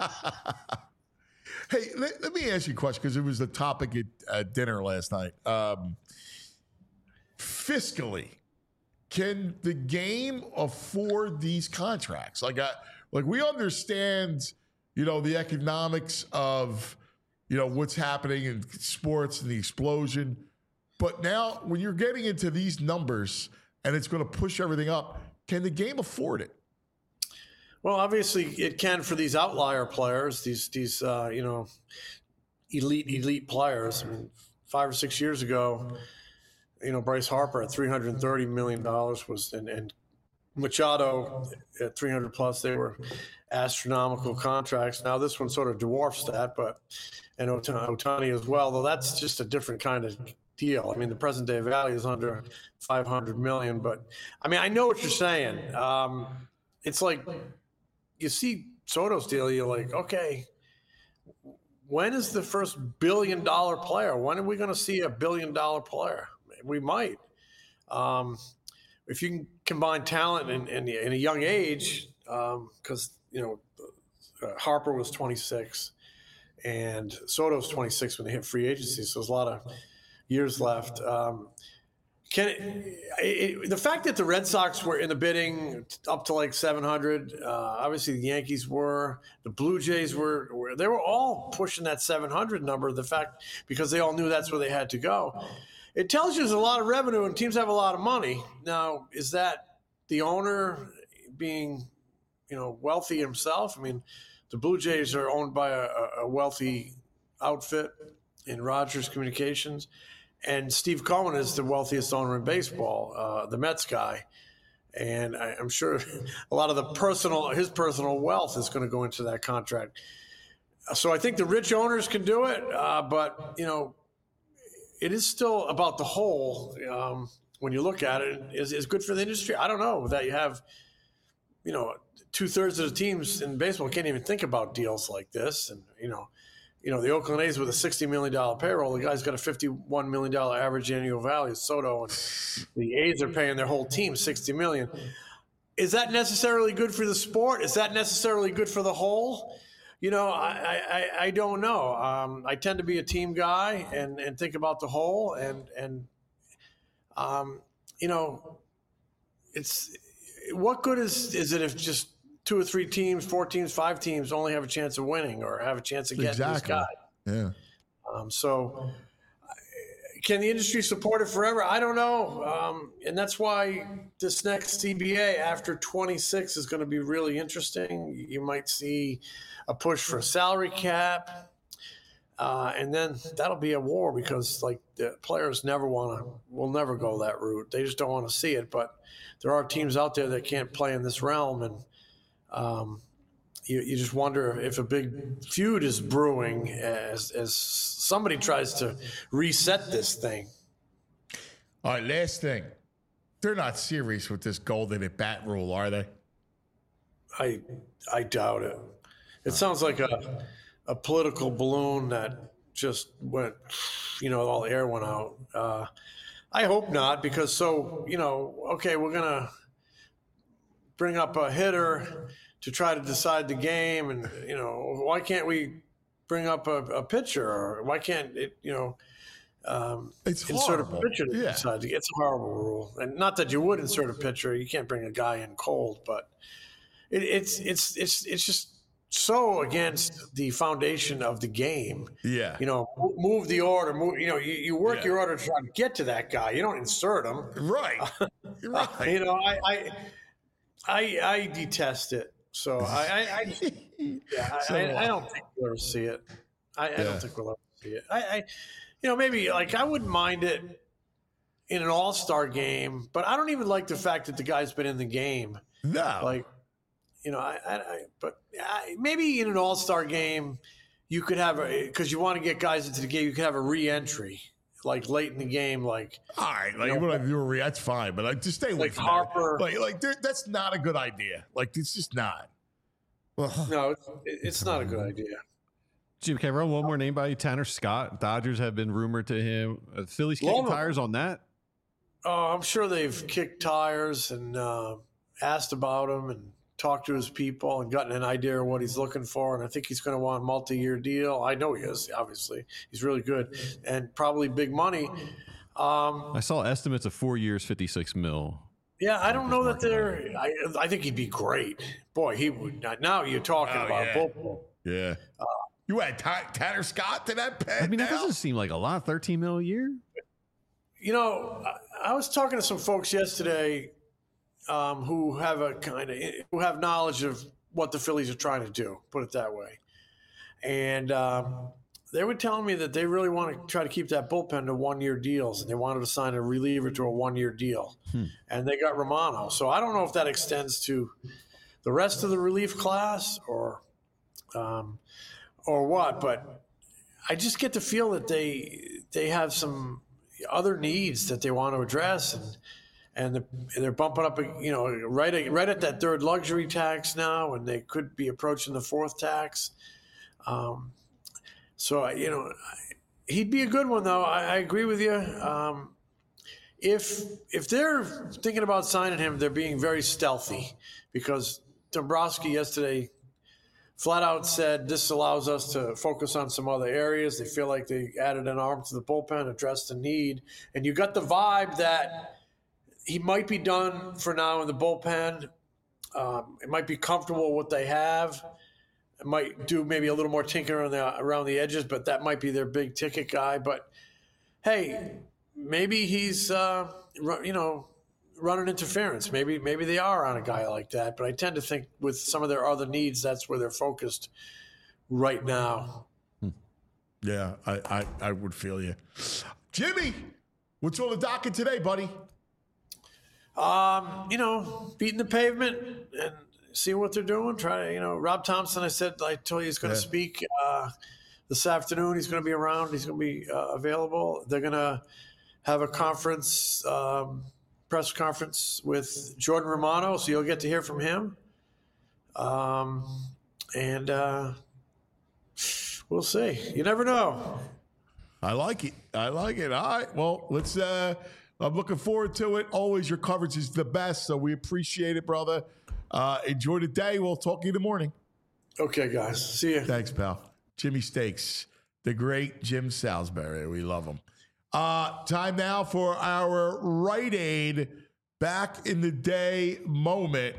Hey, let, let me ask you a question because it was the topic at uh, dinner last night. Um, fiscally, can the game afford these contracts? Like, I, like we understand, you know, the economics of, you know, what's happening in sports and the explosion. But now, when you're getting into these numbers and it's going to push everything up, Can the game afford it? Well, obviously it can for these outlier players, these these uh, you know elite elite players. I mean, five or six years ago, you know, Bryce Harper at three hundred thirty million dollars was, and, and Machado at three hundred plus. They were astronomical contracts. Now this one sort of dwarfs that, but and Ohtani as well. Though that's just a different kind of deal. I mean, the present day value is under five hundred million. But I mean, I know what you're saying. Um, it's like you see Soto's deal. You're like, okay, when is the first billion dollar player? When are we going to see a billion dollar player? We might. Um, if you can combine talent in, in, in a young age, because, um, you know, uh, Harper was twenty-six and Soto's twenty-six when they hit free agency. So there's a lot of years left. Um, can it, it, the fact that the Red Sox were in the bidding up to like seven hundred, uh, obviously the Yankees were, the Blue Jays were, were, they were all pushing that seven hundred number, the fact, because they all knew that's where they had to go. It tells you there's a lot of revenue and teams have a lot of money. Now, is that the owner being, you know, wealthy himself? I mean, the Blue Jays are owned by a, a wealthy outfit in Rogers Communications, and Steve Cohen is the wealthiest owner in baseball, uh, the Mets guy. And I, I'm sure a lot of the personal, his personal wealth is going to go into that contract. So I think the rich owners can do it, uh, but, you know, it is still about the whole. Um, when you look at it, is is good for the industry. I don't know that you have, you know, two thirds of the teams in baseball can't even think about deals like this. And, you know, you know, the Oakland A's with a sixty million dollars payroll, the guy's got a fifty-one million dollars average annual value. Soto, and the A's are paying their whole team sixty million dollars. Is that necessarily good for the sport? Is that necessarily good for the whole? You know, I, I, I don't know. Um, I tend to be a team guy and, and think about the whole. And, and um, you know, it's what good is, is it if just two or three teams, four teams, five teams only have a chance of winning or have a chance of getting Exactly. this guy? Yeah. Um, so can the industry support it forever? I don't know. Um, and that's why this next C B A after twenty-six is going to be really interesting. You might see a push for a salary cap. Uh, and then that'll be a war because like the players never want to, will never go that route. They just don't want to see it. But there are teams out there that can't play in this realm. And um, you, you just wonder if a big feud is brewing as, as somebody tries to reset this thing. All right, last thing. They're not serious with this golden at bat rule, are they? I I doubt it. It sounds like a a political balloon that just went, you know, all the air went out. Uh, I hope not, because so, you know, okay, we're going to bring up a hitter to try to decide the game. And, you know, why can't we bring up a, a pitcher? Or why can't it, you know, um, It's insert horrible. a pitcher to Yeah. decide? It's a horrible rule. And not that you would insert a pitcher. You can't bring a guy in cold, but it, it's, it's, it's, it's just so against the foundation of the game. Yeah. You know, mo- move the order, move, you know, you, you work Yeah. your order to try to get to that guy. You don't insert him. Right. You're right. You know, I, I, I, I detest it. So I, I, I, yeah, I, So, I, I don't think we'll ever see it. I, I Yeah. don't think we'll ever see it. I, I, you know, maybe like I wouldn't mind it in an all-star game, but I don't even like the fact that the guy's been in the game. No. Like, you know, I, I, I but I, maybe in an all-star game, you could have a, because you want to get guys into the game, you could have a re-entry, like late in the game, like all right, like you know, you want to do a re- that's fine, but like just stay away like from Harper. that. Like, like there- that's not a good idea. Like it's just not. Well, no, it's, it's not a good idea. Jim, can I run one more name by you? Tanner Scott. Dodgers have been rumored to him. Uh, Phillies kicking Loan him. tires on that. Oh, I'm sure they've kicked tires and uh, asked about him and talked to his people and gotten an idea of what he's looking for. And I think he's going to want a multi-year deal. I know he is, obviously. He's really good and probably big money. Um, I saw estimates of four years, fifty-six mil. yeah, I don't know that they're – I I think he'd be great. Boy, he would – now you're talking Oh, about yeah. bullpen. yeah. You had Ty- Tanner Scott to that pen. I mean, that now? doesn't seem like a lot. thirteen mil a year. You know, I, I was talking to some folks yesterday, um, who have a kind of who have knowledge of what the Phillies are trying to do. Put it that way. And um, they were telling me that they really want to try to keep that bullpen to one-year deals, and they wanted to sign a reliever to a one-year deal. Hmm. And they got Romano. So I don't know if that extends to the rest of the relief class or um, or what, but I just get the feel that they they have some other needs that they want to address, and and the, they're bumping up, you know, right at, right at that third luxury tax now, and they could be approaching the fourth tax. Um, so you know, he'd be a good one, though. I, I agree with you. Um, if if they're thinking about signing him, they're being very stealthy, because Dombrowski yesterday flat out said this allows us to focus on some other areas. They feel like they added an arm to the bullpen, addressed the need. And you got the vibe that he might be done for now in the bullpen. Um, it might be comfortable with what they have. It might do maybe a little more tinkering on the, around the edges, but that might be their big ticket guy. But, hey, maybe he's, uh, you know, running interference. Maybe maybe they are on a guy like that, but I tend to think with some of their other needs, that's where they're focused right now. Yeah, I, I, I would feel you. Jimmy, what's on the docket today, buddy? Um, you know, beating the pavement and seeing what they're doing. Try to, you know, Rob Thompson, I said, I told you he's going to yeah. speak uh, this afternoon. He's going to be around. He's going to be uh, available. They're going to have a conference um, press conference with Jordan Romano, so you'll get to hear from him. Um, and uh, we'll see. You never know. I like it. I like it. All right. Well, let's. Uh, I'm looking forward to it. Always, your coverage is the best, so we appreciate it, brother. Uh, enjoy the day. We'll talk to you in the morning. Okay, guys. See you. Thanks, pal. Jimmy Stakes, the great Jim Salisbury. We love him. Uh, time now for our Rite Aid back in the day moment.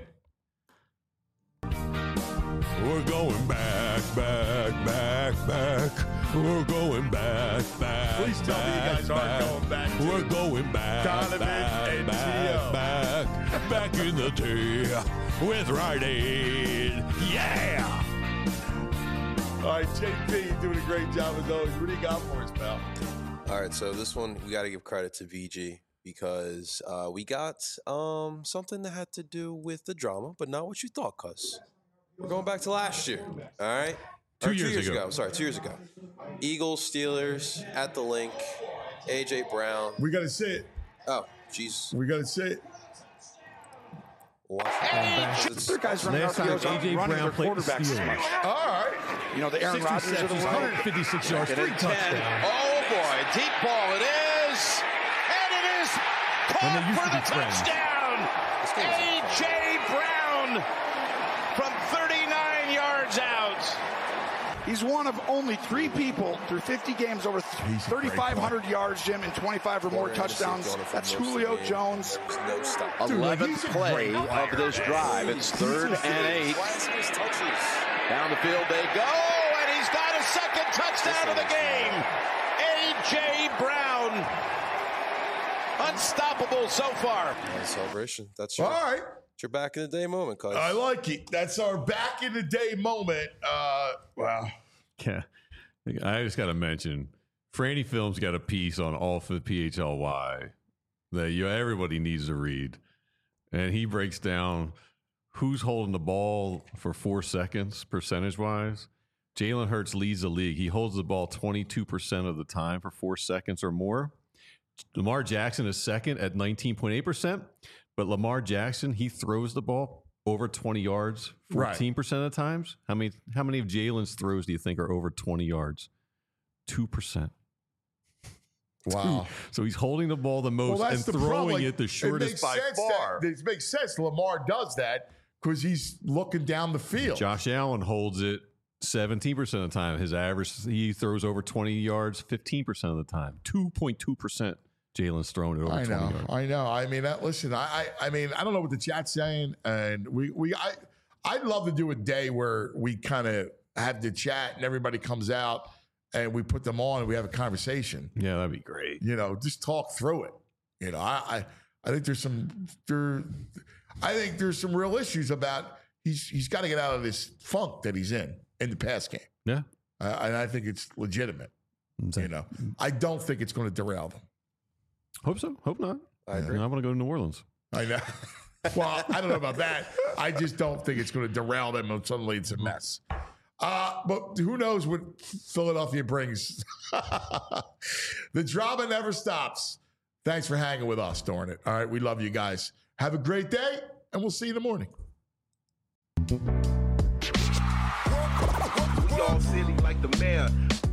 We're going back, back, back, back. We're going back, back. Please tell back, me you guys back. aren't going back. To We're going back, Donovan back, and back, back, back in the day with Rite Aid. Yeah. All right, J P, you're doing a great job as always. What do you got for us, pal? All right, so this one we got to give credit to V G because uh, we got um, something that had to do with the drama, but not what you thought, cuz. We're going back to last year, all right? Two, or years, two years ago. ago. Sorry, two years ago. Eagles, Steelers, at the link, A J Brown. We got to say it. Oh, jeez. We got to say it. Their guys running Last R P Os time aren't A J running Brown their played the quarterbacks as Steelers. much. All right. You know, the Aaron Six Rodgers of the receptions, world. one hundred fifty-six yards, Second three and ten. touchdowns. Oh, boy. Deep ball it is. And it is When they caught used for to the be friends. touchdown. A J Brown from thirty-nine yards out. He's one of only three people through fifty games over thirty-five hundred yards, Jim, and twenty-five or more touchdowns. That's Julio Jones. No stop. eleventh play of this drive. It's third and eight. Down the field they go, and he's got a second touchdown of the game. A J Brown. Unstoppable so far. Yeah, celebration. That's your, All right. it's your back in the day moment, cuz. I like it. That's our back in the day moment. Uh, wow. Yeah. I just got to mention, Franny Films got a piece on all for the P H L Y that you everybody needs to read. And he breaks down who's holding the ball for four seconds percentage-wise. Jalen Hurts leads the league. He holds the ball twenty-two percent of the time for four seconds or more. Lamar Jackson is second at nineteen point eight percent. But Lamar Jackson, he throws the ball over twenty yards fourteen percent of the times. How many how many of Jalen's throws do you think are over twenty yards? two percent. Wow. So he's holding the ball the most Well, and that's the throwing problem. it the shortest makes by sense far. That, it makes sense. Lamar does that because he's looking down the field. Josh Allen holds it seventeen percent of the time. His average, he throws over twenty yards fifteen percent of the time. two point two percent Jalen's thrown it over I twenty know. yards. I know. I mean, that, listen, I, I I mean, I don't know what the chat's saying. And we, we I, I'd love to do a day where we kind of have the chat and everybody comes out and we put them on and we have a conversation. Yeah, that'd be great. You know, just talk through it. You know, I, I, I think there's some, there, I think there's some real issues about he's he's got to get out of this funk that he's in in the pass game. Yeah. Uh, and I think it's legitimate. You know, I don't think it's going to derail them. Hope so. Hope not. I agree. I want to go to New Orleans. I know. Well, I don't know about that. I just don't think it's going to derail them and suddenly it's a mess. Uh, but who knows what Philadelphia brings. The drama never stops. Thanks for hanging with us during it. All right, we love you guys. Have a great day, and we'll see you in the morning. We all silly like the mayor.